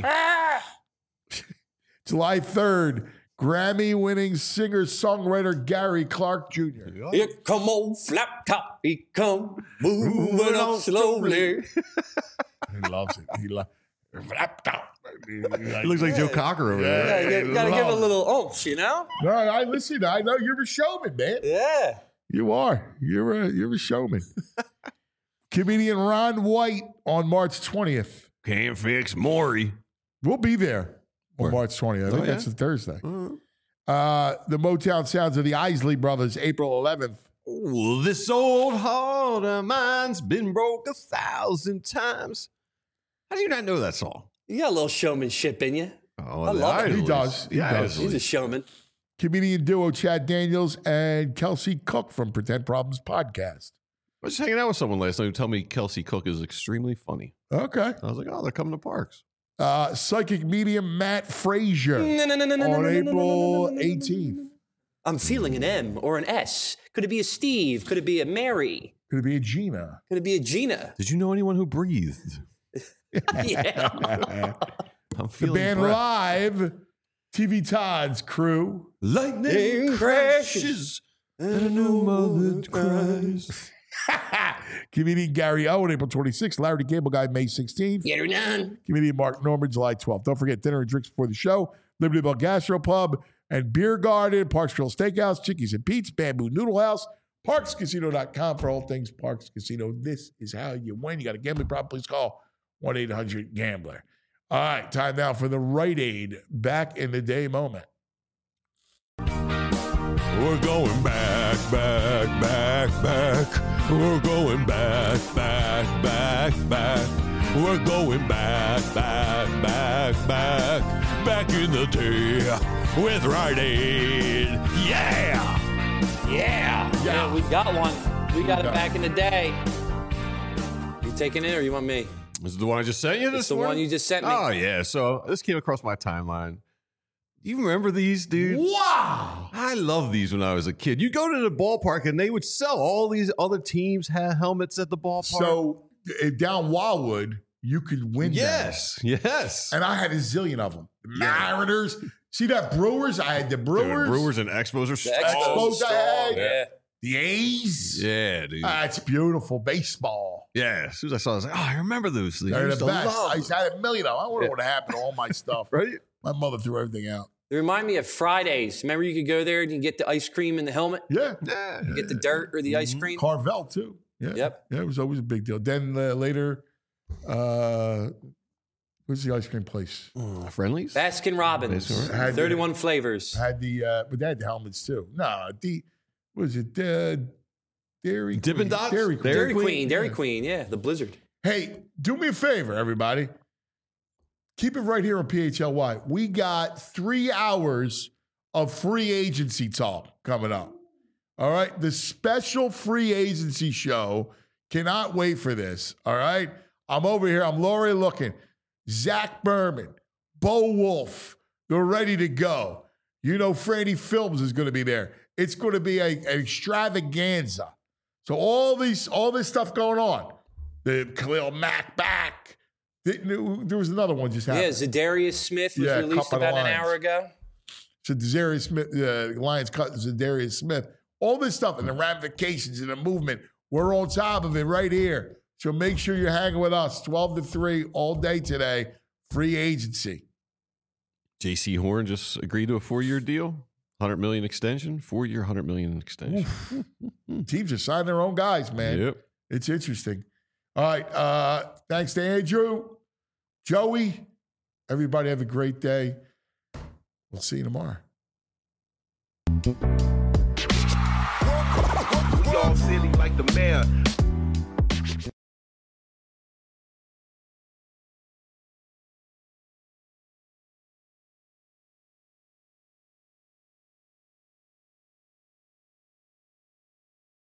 July 3rd, Grammy-winning singer-songwriter Gary Clark Jr. Here come old flap top, he come moving on slowly. He loves it. He flap top. He looks like Joe Cocker over there. Yeah, you gotta give it a little oomph, you know? No, I listen. I know you're a showman, man. Yeah. You are. You're a showman. Comedian Ron White on March 20th. Can't fix Maury. We'll be there on March 20th. I think that's a Thursday. The Motown Sounds of the Isley Brothers, April 11th. Oh, this old heart of mine's been broke 1,000 times. How do you not know that song? You got a little showmanship in you. Oh, I love it. He does. He does. He's a showman. Comedian duo Chad Daniels and Kelsey Cook from Pretend Problems podcast. I was just hanging out with someone last night who told me Kelsey Cook is extremely funny. Okay. I was like, oh, they're coming to Parks. Psychic medium Matt Frazier on April 18th. I'm feeling an M or an S. Could it be a Steve? Could it be a Mary? Could it be a Gina? Could it be a Gina? Did you know anyone who breathed? Yeah. The band live, TV Todd's crew. Lightning crashes and a new mother cries. Comedian Gary Owen, April 26th. Larry the Cable Guy, May 16th. Get her done. Comedian Mark Norman, July 12th. Don't forget dinner and drinks before the show. Liberty Bell Gastropub and Beer Garden, Parks Grill Steakhouse, Chickies and Pete's, Bamboo Noodle House, ParksCasino.com for all things Parks Casino. This is how you win. You got a gambling problem, please call 1-800-GAMBLER. All right, time now for the Rite Aid back in the day moment. We're going back. We're going back. We're going back in the day with Rite Aid. Yeah, we got one. We got it back in the day. You taking it or you want me? This is the one I just sent you this It's the one you just sent me. Oh, yeah. So this came across my timeline. You remember these, dude? Wow. I love these when I was a kid. You go to the ballpark and they would sell all these other teams had helmets at the ballpark. So down Wildwood, you could win. Yes. And I had a zillion of them. The Mariners. See that Brewers? I had the Brewers. Dude, Brewers and Expos are Expos I had. Yeah. The A's. Yeah, dude. That's beautiful. Baseball. Yeah. As soon as I saw it, I was like, oh, I remember those things. They're the best. I used to have a million of them. I wonder what happened to all my stuff. Right? My mother threw everything out. They remind me of Fridays. Remember you could go there and you get the ice cream in the helmet? Yeah. You get the dirt or the ice cream? Carvel, too. Yeah. Yep. Yeah, it was always a big deal. Then later, what's the ice cream place? Friendlies? Baskin Robbins. 31 flavors. Had the, but they had the helmets, too. No, what was it? Dairy Dippin' Dots? Dairy Queen. Dairy Queen, yeah. The Blizzard. Hey, do me a favor, everybody. Keep it right here on PHLY. We got 3 hours of free agency talk coming up. All right? The special free agency show. Cannot wait for this. All right? I'm over here. I'm Laurie looking. Zach Berman, Bo Wolf. They're ready to go. You know, Franny Films is going to be there. It's going to be an extravaganza. So all this stuff going on. The Khalil Mack back. There was another one just happened. Yeah, Zadarius Smith was released about an hour ago. So Zadarius Smith, the Lions cut Zadarius Smith. All this stuff and the ramifications and the movement, we're on top of it right here. So make sure you're hanging with us 12 to 3 all day today. Free agency. J.C. Horn just agreed to a 4-year deal. $100 million extension, 4-year, $100 million extension. Teams are signing their own guys, man. Yep. It's interesting. All right. Thanks to Andrew, Joey. Everybody have a great day. We'll see you tomorrow.